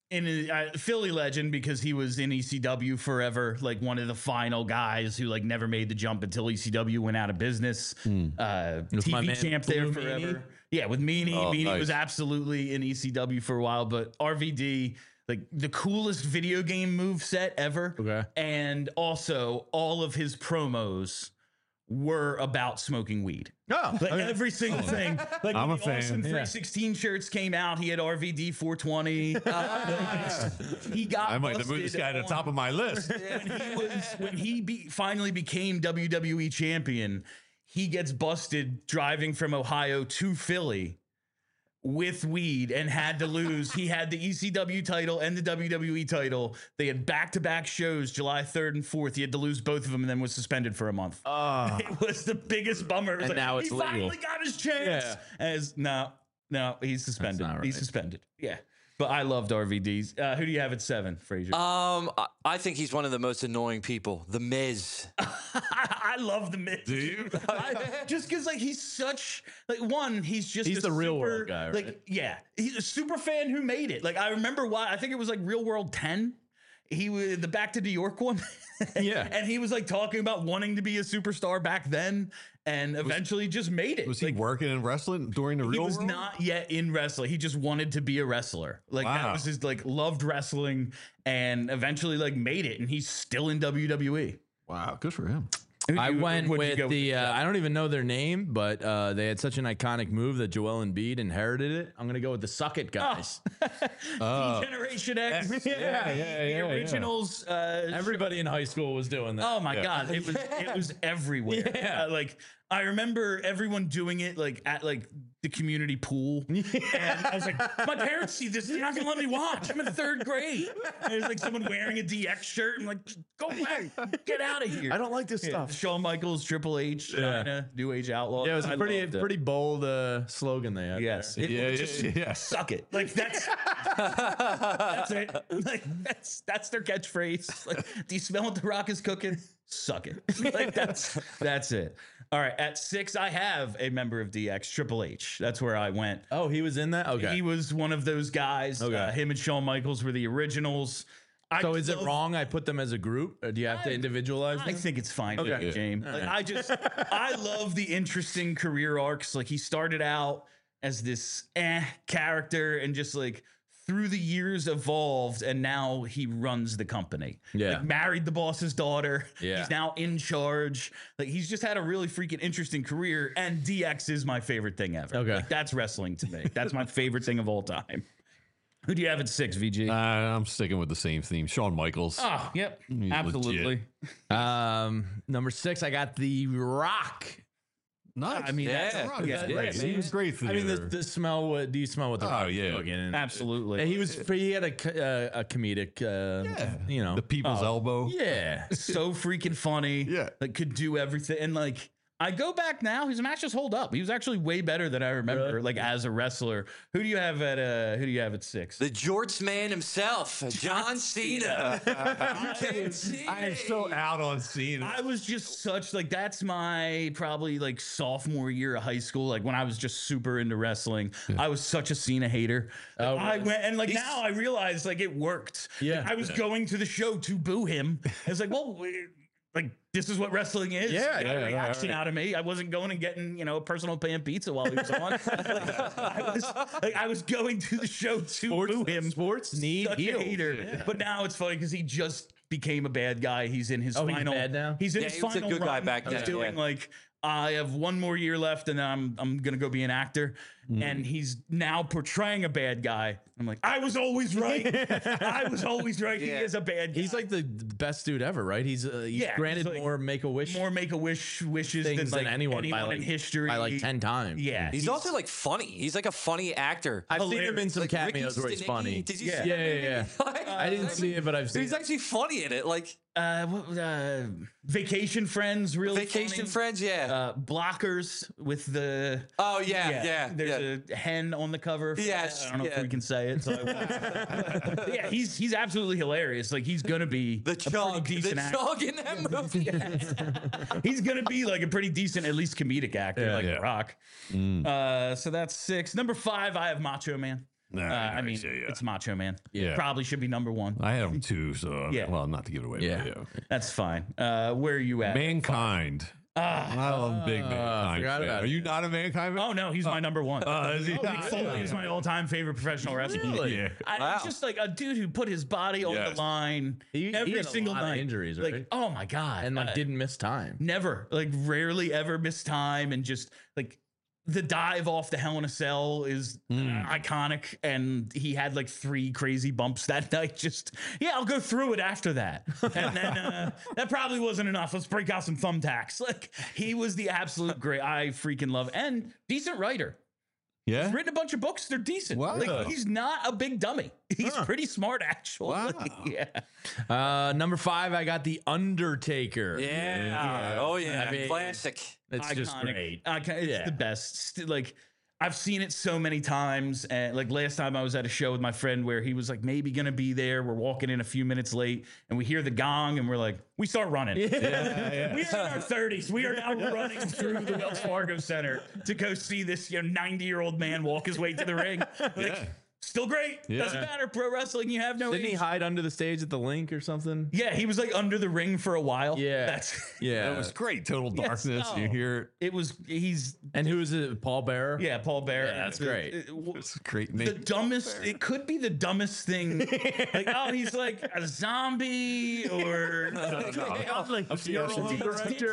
in a, uh, Philly legend because he was in E C W forever, like one of the final guys who like never made the jump until E C W went out of business. Uh, With T my V man champ there Blue forever. Meanie? Yeah, with Meanie. Oh, Meanie nice. was absolutely in E C W for a while, but R V D, like the coolest video game move set ever. Okay. And also all of his promos were about smoking weed. Oh, Like okay. every single thing. Like I'm when a the Awesome fan. three sixteen shirts came out, he had R V D four twenty. Uh, he got I might have moved this busted guy to the on- top of my list. when he was when he be, finally became W W E champion. He gets busted driving from Ohio to Philly with weed and had to lose. He had the E C W title and the W W E title. They had back-to-back shows, July third and fourth. He had to lose both of them and then was suspended for a month. Oh. It was the biggest bummer. It was And now it's he legal. finally got his chance. Yeah. As no, no, he's suspended. not He's right. suspended. Yeah. But I loved R V D's. Uh, who do you have at seven, Frazier? Um, I, I think he's one of the most annoying people. The Miz. I love the Miz. Do you? I, just because, like, he's such like one. He's just He's a the real super- world guy, right? Like, yeah, he's a super fan who made it. Like, I remember why. I think it was like Real World ten. He was the Back to New York one. Yeah. and he was like talking about wanting to be a superstar back then, and eventually just made it. Was he Like, working in wrestling during the he real was world? not yet in wrestling. He just wanted to be a wrestler. Like that Wow. was his like loved wrestling, and eventually like made it. And he's still in W W E. Wow, good for him. Who'd I you- went what'd you with go the. Uh, I don't even know their name, but uh, they had such an iconic move that Joel Embiid inherited it. I'm gonna go with the Suck It guys. Oh. Generation X. Yeah, yeah, the yeah, yeah. originals. Uh, Everybody in high school was doing that. oh my god, it was it was everywhere. Yeah. Uh, like I remember everyone doing it like at like the community pool, and I was like, my parents see this, they're not gonna let me watch. I'm in third grade. And there's like someone wearing a D X shirt. I'm like, go away, get out of here. I don't like this Yeah, stuff. Shawn Michaels, Triple H, Yeah. China, New Age Outlaw. Yeah, it was I a pretty loved it. pretty bold uh, slogan they had. Yes. there. It- Yeah, just yeah, yeah. Suck it. Like that's that's it. Like that's that's their catchphrase. Like, do you smell what the Rock is cooking? Suck it. Like that's that's it. All right. At six, I have a member of D X, Triple H. That's where I went. Oh, he was in that. Okay. He was one of those guys. Okay. Uh, him and Shawn Michaels were the originals. I so is it love- wrong? I put them as a group, or do you have to I- individualize I them? think it's fine, Okay. okay. James. All Like, right. I just, I love the interesting career arcs. Like he started out as this eh character, and just like through the years evolved, and now he runs the company. Yeah. like, married the boss's daughter. Yeah. he's now in charge. Like he's just had a really freaking interesting career. And D X is my favorite thing ever. Okay. like, that's wrestling to me. That's my favorite thing of all time. Who do you have at six, V G? Uh, I'm sticking with the same theme. Shawn Michaels. oh, yep, He's absolutely. Um, number six, I got the Rock. nice. I mean, Yeah. that's, Rock is yeah, great. yeah, He was great I mean, the, theater. the smell. What do you smell? What the Oh, Rock is yeah. cooking? And- absolutely. and he was. He had a co- uh, a comedic. Uh, Yeah. You know. the people's Oh. elbow. Yeah. so freaking funny. Yeah. Like could do everything. And like I go back now, his matches hold up. He was actually way better than I remember, Really? like as a wrestler. Who do you have at uh who do you have at six? The Jorts man himself, John Cena. I am so out on Cena. I was just such like that's my probably like sophomore year of high school, like when I was just super into wrestling. I was such a Cena hater. Oh, I really? went and like now I realize like it worked. Yeah. Like, I was going to the show to boo him. I was like, well, we- like this is what wrestling is. Yeah, Get a yeah, right, reaction right. out of me. I wasn't going and getting you know a personal pan pizza while he was on. like, I was like I was going to the show to Sports, boo him. sports need Such a heels. hater. But now it's funny because he just became a bad guy. He's in his Oh, he's final. bad now? He's in Yeah, his he was a final good guy run. back He's then, doing yeah. like I have one more year left, and then I'm I'm gonna go be an actor. And he's now portraying a bad guy. I'm like, I was always right. I was always right. He Yeah. is a bad guy. He's like the best dude ever, right? He's uh, he's Yeah, granted he's like more Make a Wish more make a wish wishes things than, than like, anyone, by like in history by like ten times. Yeah, He's also like funny. He's like a funny actor. I've seen him in some Like Ricky cameos where he's Stenicki. funny. Did you Yeah. see Yeah, that yeah, movie? yeah. I didn't see it, but I've seen. He's it. actually funny in it. Like uh, what, uh, Vacation Friends, really Vacation funny. Friends, yeah. Uh, Blockers with the oh yeah, yeah, There's yeah. a hen on the cover. for Yes, that. I don't know yeah. if we can say it. So I won't. yeah, he's he's absolutely hilarious. Like he's gonna be the a pretty chug, the decent actor. chug in that movie. He's gonna be like a pretty decent, at least comedic actor, Yeah, like yeah. The Rock. Uh, so that's six. Number five, I have Macho Man. Nah, Uh, I mean, yeah, yeah. it's Macho Man. Yeah. Probably should be number one. I had him too, so Yeah. well, not to give it away. Yeah. But yeah. That's fine. Uh, where are you at? Mankind. Ah. I'm a big Mankind forgot fan. about Are it. you not a Mankind fan? Oh no, he's my number one. Uh, is he? Mick Foley is my all-time favorite professional wrestler. Really? Yeah. I, Wow. It's just like a dude who put his body on Yes. the line He- he every had a single lot of night. injuries, like, right? oh my god, And like Uh, didn't miss time. never, like rarely ever missed time, and just like the dive off the Hell in a Cell is uh, iconic, and he had like three crazy bumps that night. Just yeah, I'll go through it after that, and then uh, that probably wasn't enough. Let's break out some thumbtacks. Like he was the absolute great. I freaking love and decent writer. Yeah. He's written a bunch of books. They're decent. Wow. Like, he's not a big dummy. He's Huh. pretty smart, actually. Wow. yeah. Uh, number five, I got the Undertaker. Yeah. Oh yeah. I mean- Classic. It's just Iconic. great. Icon- it's Yeah. the best. St- Like, I've seen it so many times. And like last time I was at a show with my friend where he was like maybe going to be there. We're walking in a few minutes late and we hear the gong and we're like, we start running. We are in our thirties. We are now running through the Wells Fargo Center to go see this you know ninety year old man walk his way to the ring. Like, still great. Yeah. Doesn't matter. Pro wrestling, you have no Didn't he age. hide under the stage at the link or something? Yeah, he was like under the ring for a while. Yeah. That's Yeah. That was great. Total Yes, darkness. no. You hear it was he's And who is it? Paul Bearer? yeah, Paul Bear. Yeah, that's The- great. it- w- it's a great the name. dumbest it could be the dumbest thing. Like, oh, he's like a zombie or like A funeral director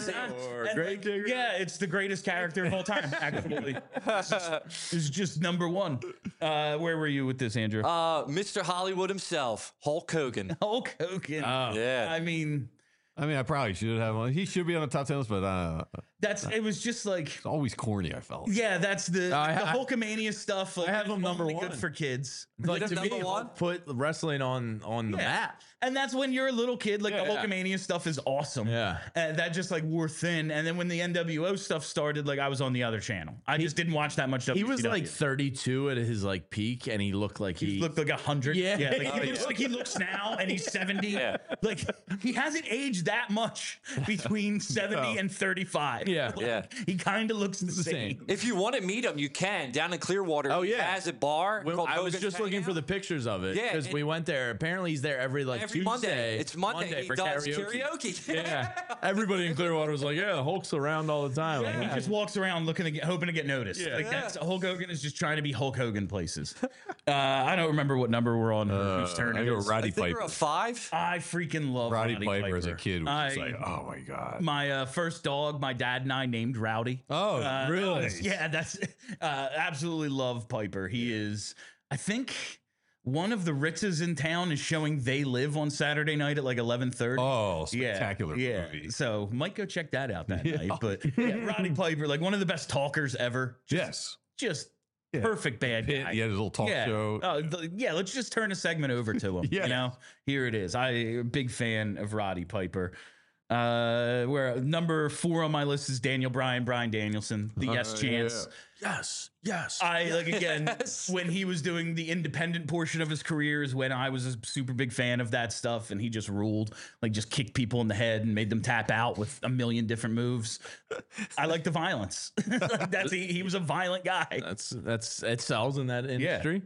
or And, grave like, digger. yeah, it's the greatest character of all time, actually. It's just, it's just number one. Uh, where were you with this, Andrew? Uh, Mister Hollywood himself, Hulk Hogan. Hulk Hogan. Yeah. I mean, I mean, I probably should have one. He should be on the top ten list, but uh, that's it was just like it's always corny. I felt. yeah, that's the, I the ha- Hulkamania stuff. Like, I have him it's number only one. good for kids. Like That's to me, number one? put wrestling on on the Yeah. map. And that's when you're a little kid, like the Yeah. Hulkamania stuff is awesome. Yeah. And that just like wore thin. And then when the N W O stuff started, like I was on the other channel. I just didn't watch that much W He C W. was like thirty-two at his like peak, and he looked like he, He looked like a hundred. Yeah. yeah. Like, Oh, he looks yeah. like he looks now, and he's seventy. Yeah. Like he hasn't aged that much between seventy and thirty-five. Yeah. Like, Yeah. He kind of looks the, the same. same. If you want to meet him, you can down in Clearwater. Oh, he yeah. has a bar. Well, called I was Hogan's just looking for Hangout. the pictures of it Yeah, because and- we went there. Apparently, he's there every like every Tuesday. Monday. It's Monday. he for does karaoke. karaoke. Yeah, everybody in Clearwater was like, "Yeah, Hulk's around all the time." Like, He yeah. just walks around looking to get, hoping to get noticed. Yeah. Like that's Hulk Hogan is just trying to be Hulk Hogan places. Uh, I don't remember what number we're on. Uh, whose turn I it go is. Roddy I think Piper. we're a five. I freaking love Roddy, Roddy, Piper, as a kid was just I- like, oh my god. My uh, first dog, my dad and I named Rowdy. Oh, Uh, really? Yeah, that's uh, absolutely love Piper. He is, I think, one of the Ritzes in town is showing They Live on Saturday night at like eleven thirty. Oh, Yeah, spectacular yeah. movie. So might go check that out that night. But yeah, Roddy Piper, like one of the best talkers ever. Yes. Just Yeah. perfect bad Pitt, guy. he had his little talk yeah. show. Oh, th- yeah, let's just turn a segment over to him. Yeah. You know, here it is. I a big fan of Roddy Piper. Uh, where number four on my list is Daniel Bryan, Bryan Danielson, the Yes Chance. yes, yes. I like again Yes. when he was doing the independent portion of his career is when I was a super big fan of that stuff, and he just ruled, like just kicked people in the head and made them tap out with a million different moves. I like the violence. Like, that's he, he was a violent guy. that's that's it sells in that industry.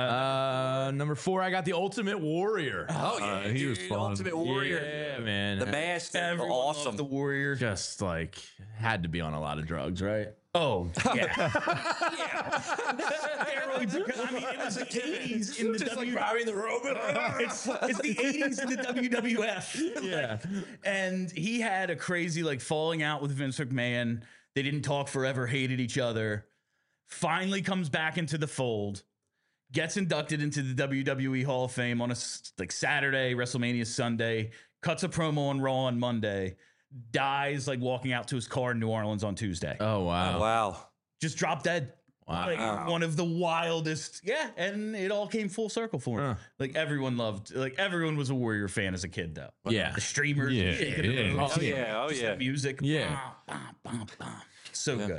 Uh, number four, I got the Ultimate Warrior. Oh yeah, Uh, he was dude, fun. Ultimate Warrior. Yeah, man. The mask, Everyone awesome. loved the Warrior. Just like had to be on a lot of drugs, right? Oh yeah, yeah. Steroids. are- I mean, it was the eighties in the W. the robot. it's, it's the eighties in the W W F. Yeah. And he had a crazy like falling out with Vince McMahon. They didn't talk forever, hated each other. Finally comes back into the fold, gets inducted into the W W E Hall of Fame on a s- like Saturday, WrestleMania Sunday, cuts a promo on Raw on Monday, dies like walking out to his car in New Orleans on Tuesday. Oh wow. Wow. Just dropped dead. Wow. Like one of the wildest, yeah, and it all came full circle for him. Huh. Like everyone loved, like everyone was a Warrior fan as a kid, though. Yeah. The streamers, Yeah, shaking the yeah. ropes, Oh yeah. Oh just yeah. the music, Yeah. Bam, bam, bam, bam. So good.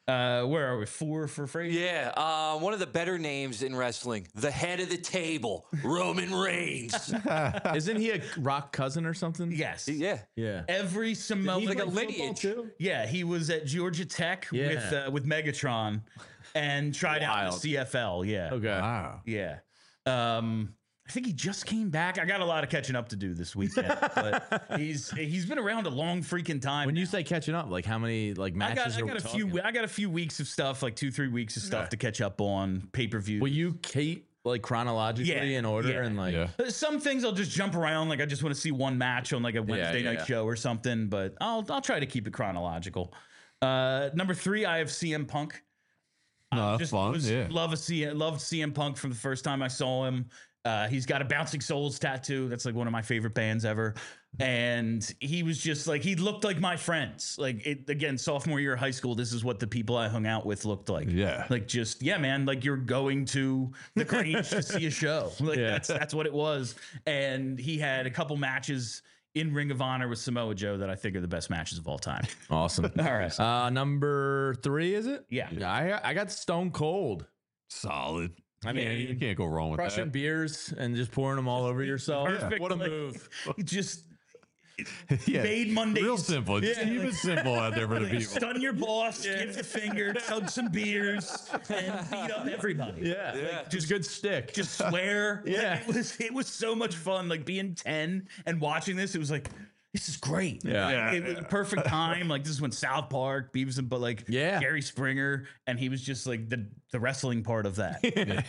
Uh, where are we? Four for Frazier? Yeah, uh, one of the better names in wrestling, the head of the table, Roman Reigns. Isn't he a Rock cousin or something? Yes. Yeah. Yeah. Every Samoan. Like a Football lineage. too? Yeah, he was at Georgia Tech Yeah. with uh, with Megatron and tried out in the Wild. C F L. Yeah. Okay. Wow. Yeah. Um, I think he just came back. I got a lot of catching up to do this weekend, but he's he's been around a long freaking time. When you now. say catching up, like how many like I matches got I are got we a few talking? I got a few weeks of stuff, like two three weeks of stuff to catch up on pay per view. Will you keep like chronologically Yeah, in order yeah. and like Yeah. Some things I'll just jump around, like I just want to see one match on like a Wednesday yeah, night yeah. show or something. But I'll I'll try to keep it chronological. Uh, number three, I have C M Punk. No, that's Just fun. was- Yeah. love a C loved C M Punk from the first time I saw him. Uh, he's got a Bouncing Souls tattoo. That's like one of my favorite bands ever. And he was just like, he looked like my friends. Like it again, sophomore year of high school, this is what the people I hung out with looked like. Yeah. Like just, yeah, man, like you're going to the Grange to see a show. Like Yeah. that's that's what it was. And he had a couple matches in Ring of Honor with Samoa Joe that I think are the best matches of all time. awesome. All right. Uh, number three is it? Yeah. I I got Stone Cold. Solid. I mean, Yeah, you can't go wrong with crushing that. beers and just pouring them all over yourself. Perfect. What a like, move. He just Yeah. made Mondays. Real simple. Just Yeah, keep like- it simple out there for the Like, people. stun your boss, give the finger, chug some beers, and beat up everybody. Yeah. Yeah. Like, just good stick. Just swear. Like, Yeah. it was it was so much fun. Like being ten and watching this, it was like, this is great. Yeah. Like, it was a perfect time. Like this is when South Park, Beavis and but like Yeah. Jerry Springer, and he was just like the the wrestling part of that.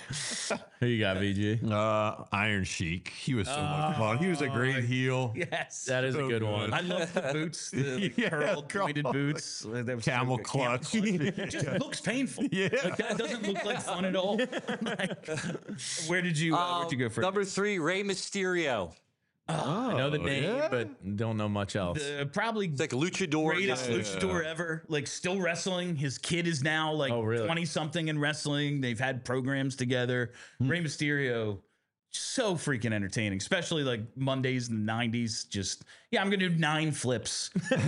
Who you got, V G? Uh, Iron Sheik. He was so much fun. He was a great heel. Yes. That is a So good good. one. I love the boots, the like, Yeah, curled, pointed curled. boots. That was so Camel good. clutch. It just looks painful. Yeah. Like, that doesn't look like fun at all. Like, where did you uh, where'd you go for Number three, Rey Mysterio. I know the Oh, name, yeah? but don't know much else. the probably It's like a luchador. greatest guy. luchador ever. Like still wrestling. His kid is now like Oh, really? twenty something in wrestling. They've had programs together. Hmm. Rey Mysterio, so freaking entertaining, especially like Mondays in the nineties. Just yeah, I'm gonna do nine flips. all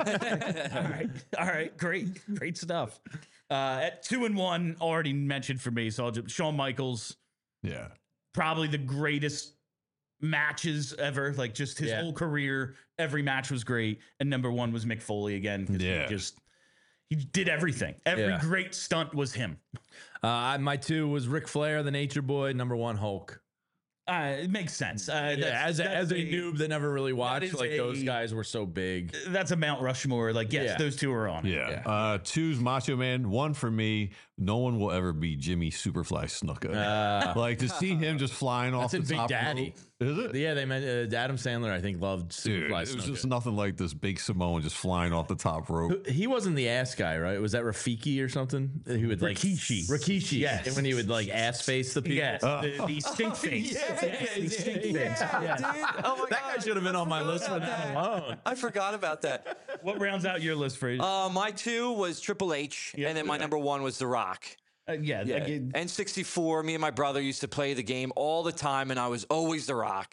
right, all right, great, great stuff. Uh, at two and one, already mentioned for me. So I'll just Shawn Michaels, Yeah. probably the greatest matches ever. Like just his Yeah. whole career, every match was great. And number one was Mick Foley again. 'Cause Yeah. he just he did everything. Every Yeah. great stunt was him. Uh, my two was Ric Flair, the Nature Boy. Number one, Hulk. Uh, it makes sense. Uh, Yeah, that's- as a, that's as a noob that never really watched, is like those a- guys were so big. That's a Mount Rushmore. Like yes, Yeah. those two are on. it. Yeah. Uh, two's Macho Man. One for me. No one will ever be Jimmy Superfly Snuka. Uh, like to see him just flying off That's the in Big top Daddy. rope. Is it? Yeah, they meant uh, Adam Sandler. I think loved Dude, Superfly it was Snuka. just nothing like this big Samoan just flying off the top rope. He wasn't the ass guy, right? Was that Rafiki or something? He would like Rikishi. Rikishi. Yes. And when he would like ass face the people. Yes, the, the stink face. yeah, Yes, the stink yeah, face. yeah. Yes. Dude, oh my That guy God. should have been on my list for that alone. I forgot about that. What rounds out your list, Fraser? Uh, my two was Triple H, Yeah. and then my number one was The Rock. Uh, yeah, Yeah. like, it- N sixty-four, me and my brother used to play the game all the time, and I was always The Rock.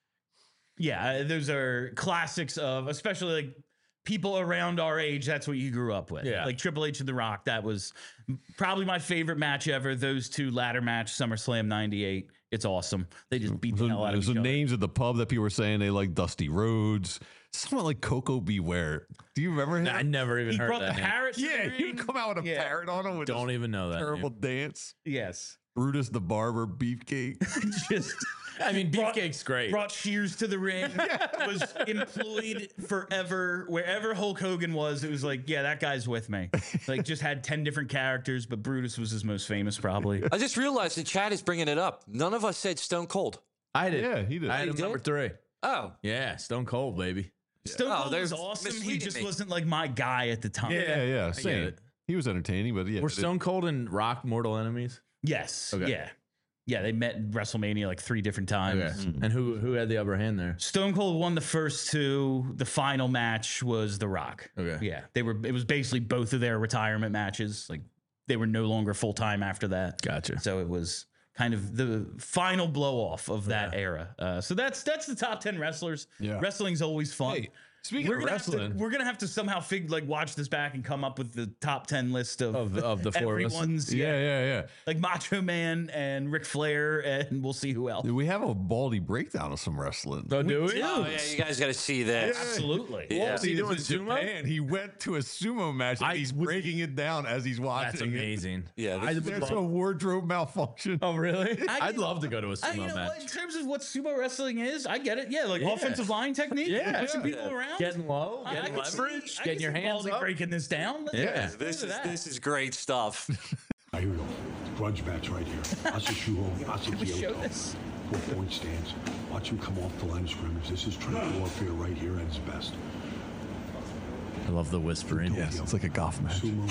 yeah. uh, Those are classics of, especially like people around our age. That's what you grew up with. Yeah. Like Triple H and The Rock. That was probably my favorite match ever. Those two ladder match, SummerSlam ninety-eight. It's awesome. They just beat the There's hell out of there's each the other. names of the pub that people were saying they like Dusty Rhodes. Someone like Coco Beware. Do you remember him? I never even He heard brought the that. name. parrot. to the yeah, he ring. would come out with a Yeah. parrot on him with Don't this even know that. terrible name. dance. Yes. Brutus the Barber Beefcake. Just I mean, Brought- Beefcake's great. brought Shears to the ring. Was employed forever. Wherever Hulk Hogan was, it was like, yeah, that guy's with me. Like, just had ten different characters, but Brutus was his most famous, probably. I just realized the chat is bringing it up. None of us said Stone Cold. I did. Yeah, he did. I had You him did? number three. Oh, Yeah, Stone Cold, baby. Stone Oh, Cold they're was awesome. He misleading just me. wasn't like my guy at the time. yeah, yeah, get same. it. He was entertaining, but yeah. Were it- Stone Cold and Rock mortal enemies? Yes. Okay. Yeah. Yeah. They met in WrestleMania like three different times. Okay. And who who had the upper hand there? Stone Cold won the first two. The final match was The Rock. Okay. Yeah. They were. It was basically both of their retirement matches. Like they were no longer full time after that. Gotcha. So it was kind of the final blow off of that era. Uh, so that's that's the top ten wrestlers. Yeah. Wrestling's always fun. Hey, Speaking we're of gonna have to, wrestling, we're gonna have to somehow fig like watch this back and come up with the top ten list of Of, of the four of us. everyone's yeah, yeah, yeah. like Macho Man and Ric Flair, and we'll see who else. We have a baldy breakdown of some wrestling. Oh, do we? Oh yeah, you guys got to see this. Absolutely. Yeah. Was he He doing was in sumo? Japan. He went to a sumo match and I he's would- breaking it down as he's watching. That's it. amazing. Yeah, I this- would There's love- a wardrobe malfunction. Oh, really? I- I'd love to go to a I, sumo you know what, in match. terms of what sumo wrestling is, I get it. Yeah, like Yeah. offensive line technique, Yeah. pushing Yeah. people around, Getting low, I- I getting could see- leverage, I getting could your see hands Baldy up. breaking this down. Let's Yeah. let's do This is that. this is great stuff. Right, here we go. Grudge match right here. Asa Shuho, Asa Can we show Kyoto. this? Four point stance. Watch him come off the line of scrimmage. This is trench warfare right here at its best. I love the whispering. Yes, it's like a golf match. Sumo.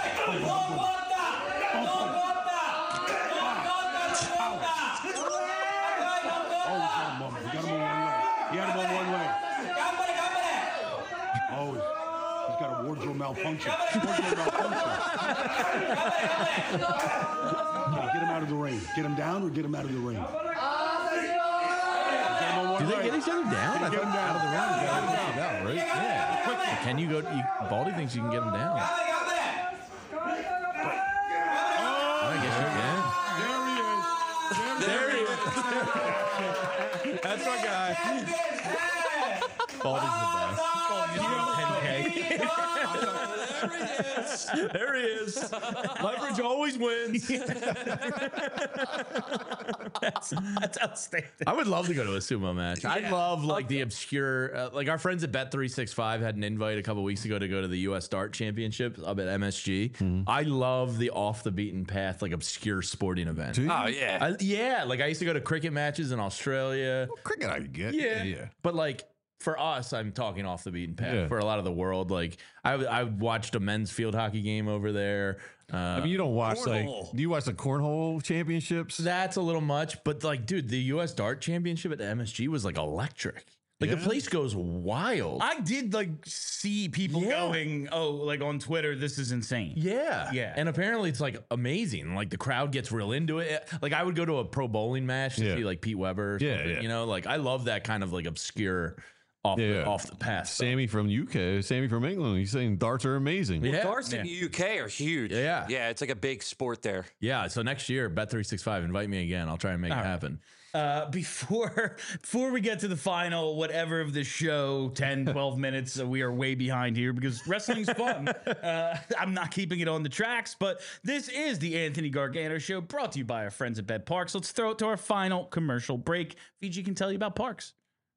Oh, he's got him on. He got him on one leg. He had him on one leg. Oh, he's, he's got a wardrobe malfunction. Wardrobe malfunction. Okay, get him out of the ring. Get him down or get him out of the ring. Get him on one Do they leg. get each other down? I Get thought him down. out of the ring. Get him down. Out, right? Yeah. Can you go? You, Baldy thinks you can get him down. I guess you can. There he is. There he is. That's my guy. Baldy's the best. There he is. Leverage always wins. that's, that's outstanding. I would love to go to a sumo match. I Yeah. love like the obscure, uh, like our friends at Bet three sixty-five had an invite a couple weeks ago to go to the U S Dart Championship up at M S G. I love the off the beaten path, like obscure sporting event. Oh yeah. I, yeah, like I used to go to cricket matches in Australia. Cricket, I could get. Yeah. yeah. But like for us, I'm talking off the beaten path. Yeah. For a lot of the world, like I, I watched a men's field hockey game over there. Uh, I mean, you don't watch cornhole. like. Do you watch the cornhole championships? that's a little much, but like, dude, the U S Dart Championship at M S G was like electric. Like the Yeah. place goes wild. I did like see people Yeah. going, oh, like on Twitter, this is insane. Yeah. Yeah. And apparently it's like amazing. Like the crowd gets real into it. Like I would go to a pro bowling match to Yeah. see like Pete Weber. Or Yeah, something, yeah. You know, like I love that kind of like obscure off, Yeah, the, yeah. off the path. stuff. Sammy from U K, Sammy from England. He's saying darts are amazing. Yeah. Darts in the U K are huge. Yeah. Yeah, it's like a big sport there. Yeah. So next year, Bet three sixty-five, invite me again. I'll try and make it happen. Uh, before before we get to the final whatever of the show, ten, twelve minutes, uh, we are way behind here because wrestling's fun. Uh, I'm not keeping it on the tracks, but this is the Anthony Gargano Show brought to you by our friends at Bet Parks. Let's throw it to our final commercial break. Fiji can tell you about Parks.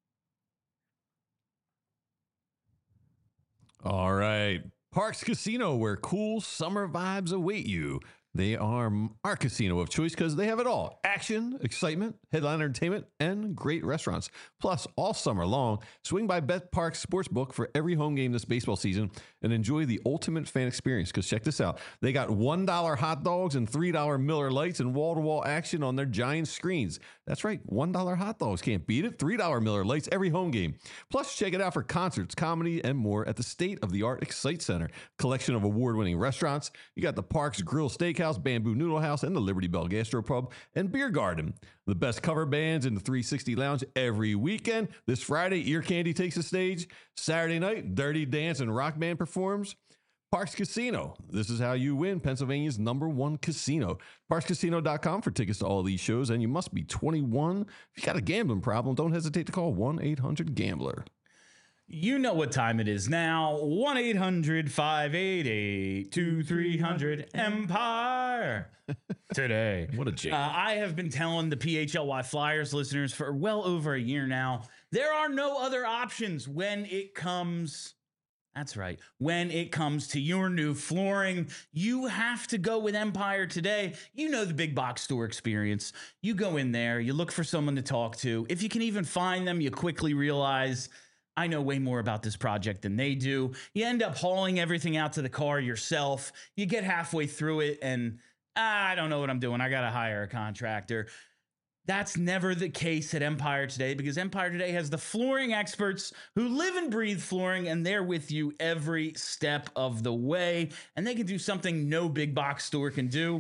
All right. Parks Casino, where cool summer vibes await you. They are our casino of choice because they have it all. Action, excitement, headline entertainment, and great restaurants. Plus, all summer long, swing by Bet Parks Sportsbook for every home game this baseball season and enjoy the ultimate fan experience. Because check this out. They got one dollar hot dogs and three dollar Miller Lights and wall-to-wall action on their giant screens. That's right, one dollar hot dogs. Can't beat it. three dollar Miller Lights every home game. Plus, check it out for concerts, comedy, and more at the state-of-the-art Excite Center. Collection of award-winning restaurants. You got the Parks Grill Steakhouse, Bamboo Noodle House, and the Liberty Bell Gastropub and Beer Garden. The best cover bands in the three sixty Lounge every weekend. This Friday, Ear Candy takes the stage. Saturday night, Dirty Dance and Rock Band performs. Parks Casino. This is how you win Pennsylvania's number one casino. Parks Casino dot com for tickets to all these shows, and you must be twenty-one. If you got a gambling problem, don't hesitate to call one eight hundred gambler. You know what time it is now. one eight hundred five eight eight two three hundred Empire. Today. What a jig. Uh, I have been telling the P H L Y Flyers listeners for well over a year now, there are no other options when it comes... That's right. When it comes to your new flooring, you have to go with Empire today. You know the big box store experience. You go in there, you look for someone to talk to. If you can even find them, you quickly realize... I know way more about this project than they do. You end up hauling everything out to the car yourself. You get halfway through it and ah, I don't know what I'm doing. I got to hire a contractor. That's never the case at Empire Today because Empire Today has the flooring experts who live and breathe flooring and they're with you every step of the way. And they can do something no big box store can do.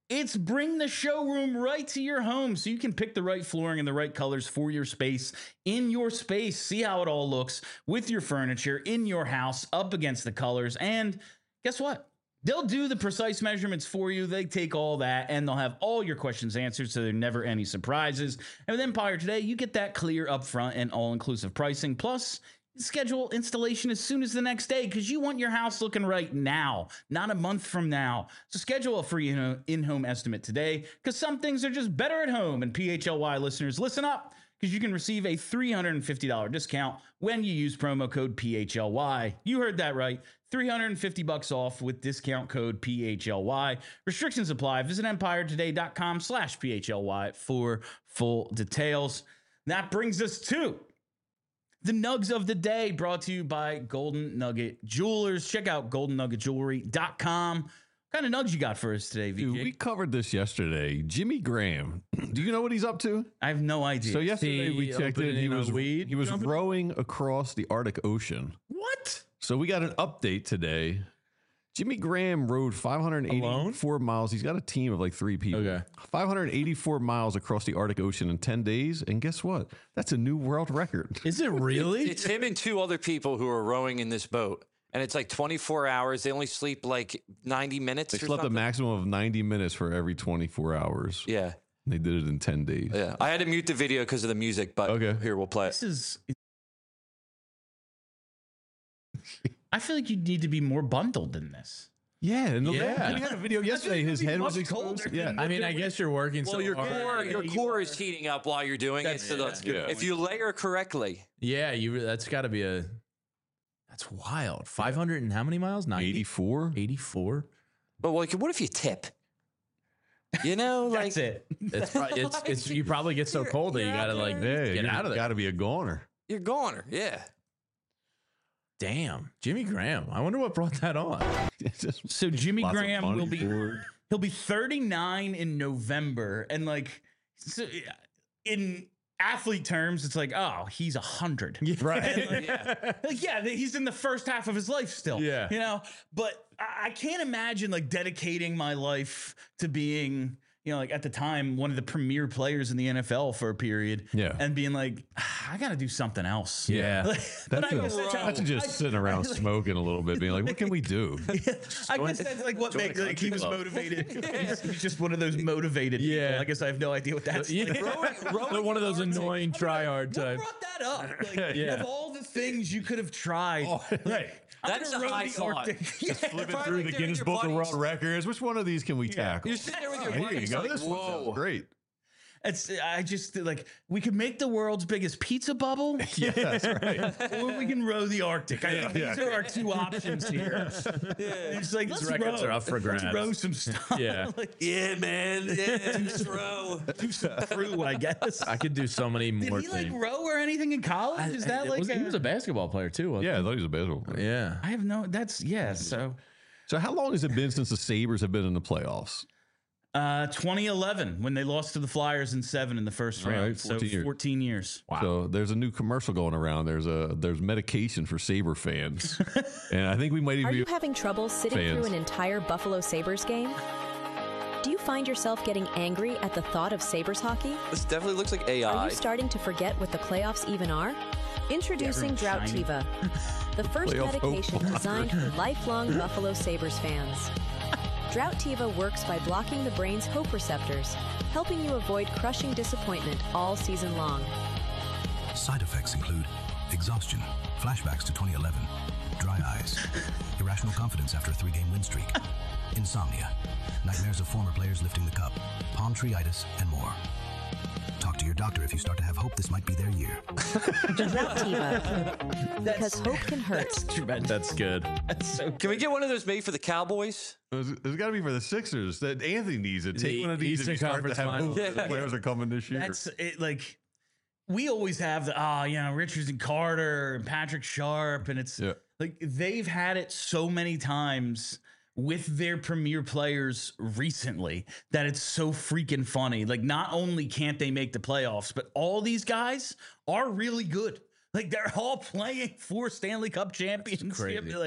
It's bring the showroom right to your home so you can pick the right flooring and the right colors for your space in your space. See how it all looks with your furniture in your house up against the colors. And guess what? They'll do the precise measurements for you. They take all that and they'll have all your questions answered so there are never any surprises. And with Empire Today, you get that clear upfront and all-inclusive pricing. Plus, schedule installation as soon as the next day because you want your house looking right now, not a month from now. So schedule a free in-home estimate today because some things are just better at home. And P H L Y listeners, listen up because you can receive a three hundred fifty dollars discount when you use promo code P H L Y. You heard that right. three hundred fifty bucks off with discount code P H L Y. Restrictions apply. Visit empiretoday.com slash PHLY for full details. That brings us to the Nugs of the Day, brought to you by Golden Nugget Jewelers. Check out golden nugget jewelry dot com. What kind of nugs you got for us today, V J? Dude, we covered this yesterday. Jimmy Graham. Do you know what he's up to? I have no idea. So yesterday we checked it. He was weed. He was rowing across the Arctic Ocean. What? So we got an update today. Jimmy Graham rode five hundred eighty-four miles. He's got a team of like three people. Okay. five hundred eighty-four miles across the Arctic Ocean in ten days. And guess what? That's a new world record. Is it really? It's him and two other people who are rowing in this boat. And it's like twenty-four hours. They only sleep like ninety minutes. They or slept something. a maximum of ninety minutes for every twenty-four hours. Yeah. They did it in ten days. Yeah. I had to mute the video because of the music, but Okay. here, we'll play it. This is... I feel like you need to be more bundled than this. Yeah, and the Yeah. he had a video yesterday. His head was exposed. colder. Yeah, I mean, I guess you're working Well, so your hard. core, your you core are. is heating up while you're doing That's- it. So that's yeah. good. If you layer correctly, Yeah, you. That's got to be a. That's wild. five hundred and how many miles? ninety? eighty-four. eighty-four. but like, what if you tip? You know, like That's it. It's, pro- it's it's you probably get so cold that you You're got to out like Yeah, get you out of there. Got to be a goner. you're goner. Yeah. Damn, Jimmy Graham. I wonder what brought that on. It's just So Jimmy lots of Graham money will be for it. he'll be thirty-nine in November, and like so in athlete terms, it's like, oh, he's a hundred, Right. like, Yeah. like, yeah, he's in the first half of his life still. Yeah. you know. But I, I can't imagine like dedicating my life to being, you know, like at the time one of the premier players in the N F L for a period. Yeah. and being like, ah, I got to do something else. Yeah. Like, when That's, I a, was such a- that's just I- sitting around smoking a little bit, being like, what can we do? I guess that's like what makes like he was motivated. He's, he's just one of those motivated people. Yeah. I guess I have no idea what that's Yeah. like. They're one of those annoying try-hard What types. brought that up? Like, Yeah. Of all the things you could have tried, Right. I'm That's gonna a row high the thought. Arctic. Flipping Right through there the with Guinness your Book of buddies. World Records. Which one of these can we tackle? You're sitting there with your Here you buddies. go. Like, This one sounds whoa. great. It's I just like we could make the world's biggest pizza bubble, Yeah, that's right. or we can row the Arctic. I think Yeah. these are our two options here. It's like let's records row. are up for Let's grabs. row some stuff. Yeah. like, Yeah, man. Yeah, just row. do some crew, I guess. I could do so many Did more he like things. row or anything in college? Is that It like was- he a- was a basketball player too. Wasn't Yeah, I thought he was a baseball player. he? Yeah. I have no. That's yeah. So, So how long has it been since the Sabres have been in the playoffs? uh, twenty eleven when they lost to the Flyers in seven in the first All round. right, so fourteen years. fourteen years. So there's a new commercial going around. There's a there's medication for Sabre fans, and I think we might Are even you be having trouble sitting fans. through an entire Buffalo Sabres game? Do you find yourself getting angry at the thought of Sabres hockey? This definitely looks like A Are I. you starting to forget what the playoffs even are? Introducing everyone's shiny. Droughtiva, the first Playoff medication hope. designed for lifelong Buffalo Sabres fans. Droughtiva works by blocking the brain's hope receptors, helping you avoid crushing disappointment all season long. Side effects include exhaustion, flashbacks to twenty eleven, dry eyes, irrational confidence after a three-game win streak, insomnia, nightmares of former players lifting the cup, palm tree-itis, and more. Talk to your doctor if you start to have hope this might be their year. Droughtiva, because hope can hurt. That's good. That's so. Can we get one of those made for the Cowboys? There's, there's got to be for the Sixers. That Anthony needs it. Take The one of these Eastern if you start to Conference have Finals. hope that the Yeah. players are coming this year. That's it. Like we always have the ah, you know, Richards and Carter and Patrick Sharp, and it's Yeah. like they've had it so many times with their premier players recently that it's so freaking funny. Like, not only can't they make the playoffs, but all these guys are really good. Like, they're all playing for Stanley Cup championships. crazy. Like,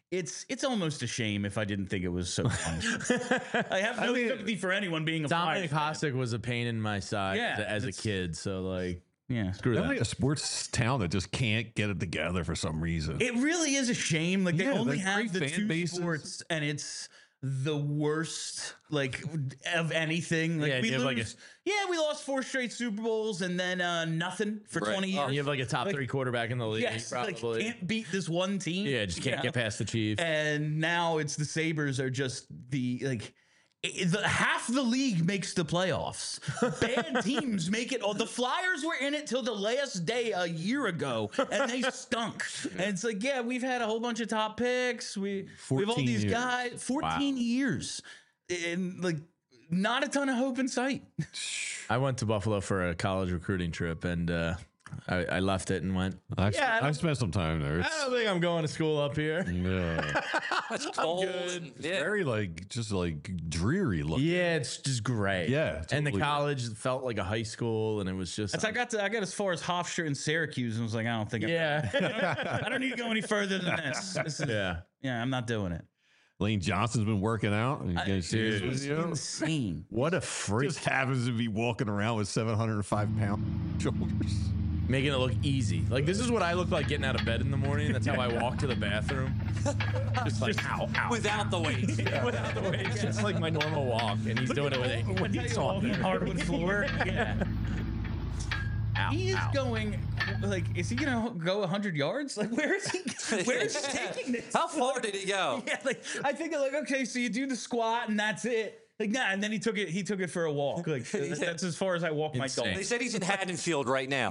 it's it's almost a shame if I didn't think it was so fun. I have no I mean, sympathy for anyone being a Dominic Flyers fan. Hasek was a pain in my side Yeah, as a it's- kid. So like, Yeah. screw They're that. like a sports town that just can't get it together for some reason. It really is a shame. Like they Yeah, only they're have great the fan two bases. sports, and it's the worst like of anything. Like Yeah, we you have, lose, like, a- yeah, we lost four straight Super Bowls and then uh, nothing for Right. twenty Oh, years. you have like a top Like, three quarterback in the league. yes, like probably. can't beat this one team. yeah, just you can't know? get past the Chiefs. And now it's the Sabres are just the like. i- The, half the league makes the playoffs. Bad teams make it. Oh, the Flyers were in it till the last day a year ago, and they stunk. And it's like, yeah, we've had a whole bunch of top picks. We we have all fourteen these years. guys. Fourteen years, and like not a ton of hope in sight. I went to Buffalo for a college recruiting trip, and uh, I, I left it and went. I've, Yeah, I I've don't- spent some time there. I It's, don't think I'm going to school up here. yeah, It's cold. good. Yeah. very like just like dreary looking. Yeah, it's just great. Yeah, and the totally. college felt like a high school, and it was just. That's I got to I got as far as Hofstra and Syracuse, and was like, I don't think I'm, yeah, I don't need to go any further than this. This is, yeah. yeah, I'm not doing it. Lane Johnson's been working out. You guys see his dude. video? Insane. What a freak! Just happens to be walking around with seven hundred five pound shoulders. Making it look easy. Like this is what I look like getting out of bed in the morning. That's how I walk to the bathroom. Just like ow, ow. Without the weight. Without the weight. It's just like my normal walk, and he's doing it with it. When he's on there. Hardwood floor. Yeah. Ow, He is ow. going like, is he gonna go a hundred yards? Like, where is he? Where is he taking this? How far did he go? Yeah, like I think like okay, so you do the squat and that's it. Like nah, and then he took it. He took it for a walk. Like that's, that's as far as I walk my Insane. dog. They said he's in Haddonfield right now.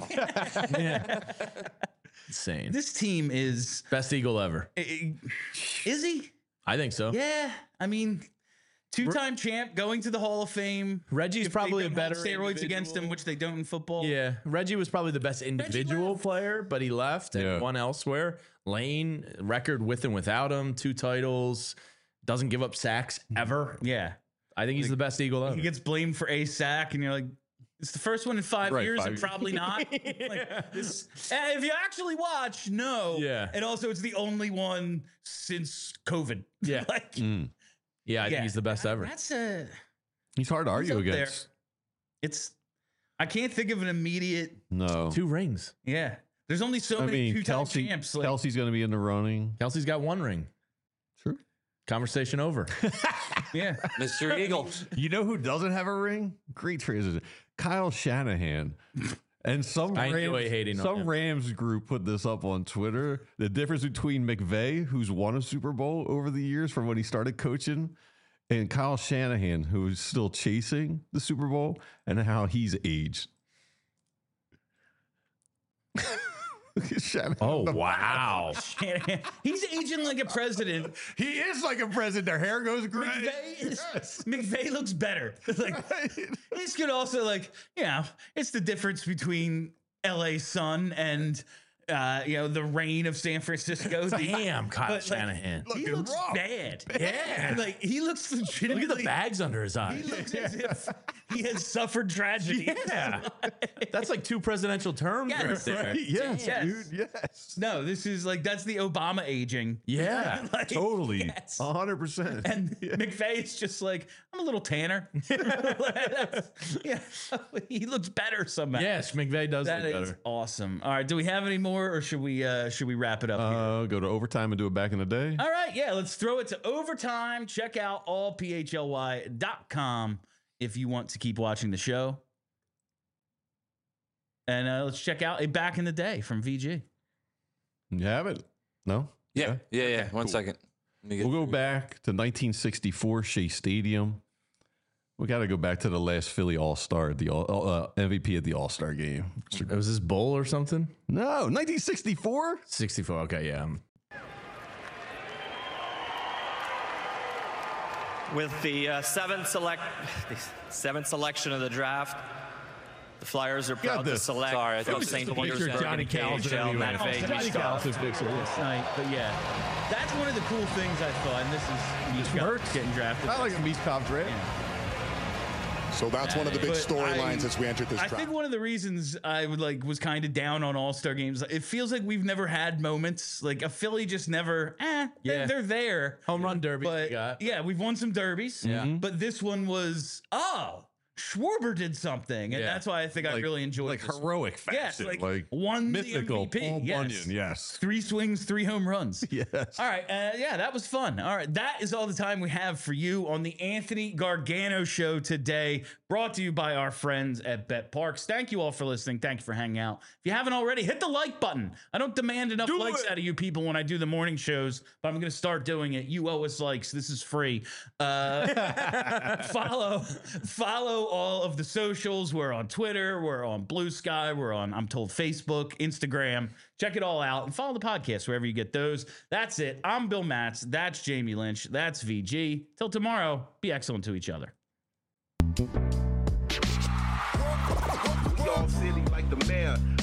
Insane. This team is Best Eagle ever. is he? I think so. Yeah, I mean, two-time champ, going to the Hall of Fame. Reggie's If they probably a don't have better steroids against him, individual. which they don't in football. Yeah, Reggie was probably the best individual left. player, but he left and Yeah. won elsewhere. Lane, record with and without him, two titles, doesn't give up sacks ever. yeah. I think he's the best Eagle ever. He gets blamed for a sack, and you're like, it's the first one in five Right, years, five and years. probably not. Like, this, and if you actually watch, no. Yeah. And also, it's the only one since COVID. Yeah. like, Mm. yeah, I yeah. think he's the best ever. That's a. He's hard to He's argue up there. against. It's. I can't think of an immediate. No. Two rings. Yeah. There's only so I many mean, two-time Kelsey, champs. Like, Kelsey's going to be in the running. Kelsey's got one ring. True. Conversation over. yeah. Mister Eagle. You know who doesn't have a ring? Great transition. Kyle Shanahan. And some I Rams, enjoy hating on some him. Rams group put this up on Twitter. The difference between McVay, who's won a Super Bowl over the years from when he started coaching, and Kyle Shanahan, who's still chasing the Super Bowl, and how he's aged. Look at Shanahan. Oh, wow. He's aging like a president. He is like a president. Their hair goes gray. McVay, is, Yes. McVay looks better. Like, this could also like, you know, it's the difference between L A sun and uh, you know, the rain of San Francisco. Damn, Kyle But, like, Shanahan. he Looking looks rough. bad. Yeah. Like he looks Look legitimately. at the bags under his He eyes. looks as if he has suffered tragedy. Yeah. That's like two presidential terms Yes. right there. Right? Yes, Yes. dude. Yes. No, this is like that's the Obama aging. Yeah. Like, Totally. yes. A hundred percent. And McVay is just like, I'm a little tanner. Yeah, he looks better somehow. Yes, McVay does That look is better. awesome. All right, do we have any more, or should we uh, should we wrap it up here? Uh, go to overtime and do it back in the day. All right, yeah, let's throw it to overtime. Check out all p h l y dot com if you want to keep watching the show. And uh, let's check out a back in the day from V G. You have it? No? Yeah. Yeah, yeah. One second. Let me get- We'll go back to nineteen sixty-four Shea Stadium. We got to go back to the last Philly All-Star, the all, uh, M V P at the All-Star game. It was this bowl or something? No, nineteen sixty-four? sixty-four. Okay, yeah. With the uh, seventh select, the seventh selection of the draft, the Flyers are proud to this. select Sorry, I from thought it was Saint just a picture of Petersburg Johnny and Carlson K H L anyway. Matvey Johnny Michkov. Carlson's picture. Night, but yeah, that's one of the cool things I thought. And this is Michkov getting drafted. I like a Michkov draft. So that's one of the big But storylines I- as we entered this I draft. think one of the reasons I would like was kind of down on All-Star games. It feels like we've never had moments like a Philly just never. Eh, they're, Yeah. they're there. Home run derby. But we got. yeah, we've won some derbies. Yeah. Mhm. But this one was oh, Schwarber did something, and Yeah. that's why I think I Like- really enjoyed like this one. heroic Yes, fashion, like, like won mythical the M V P. Paul yes. Bunyan, yes. Three swings, three home runs. Yes. All right. Uh, yeah, that was fun. All right. That is all the time we have for you on the Anthony Gargano Show today, brought to you by our friends at Bet Parks. Thank you all for listening. Thank you for hanging out. If you haven't already, hit the like button. I don't demand enough Do likes it. out of you people when I do the morning shows, but I'm going to start doing it. You owe us likes. This is free. Uh, follow, follow all of the socials. We're on Twitter. We're on Blue Sky. We're on, I'm told, Facebook, Instagram. Check it all out and follow the podcast wherever you get those. That's it. I'm Bill Matz. That's Jamie Lynch. That's V G. Till tomorrow, be excellent to each other. Y'all silly like the mayor.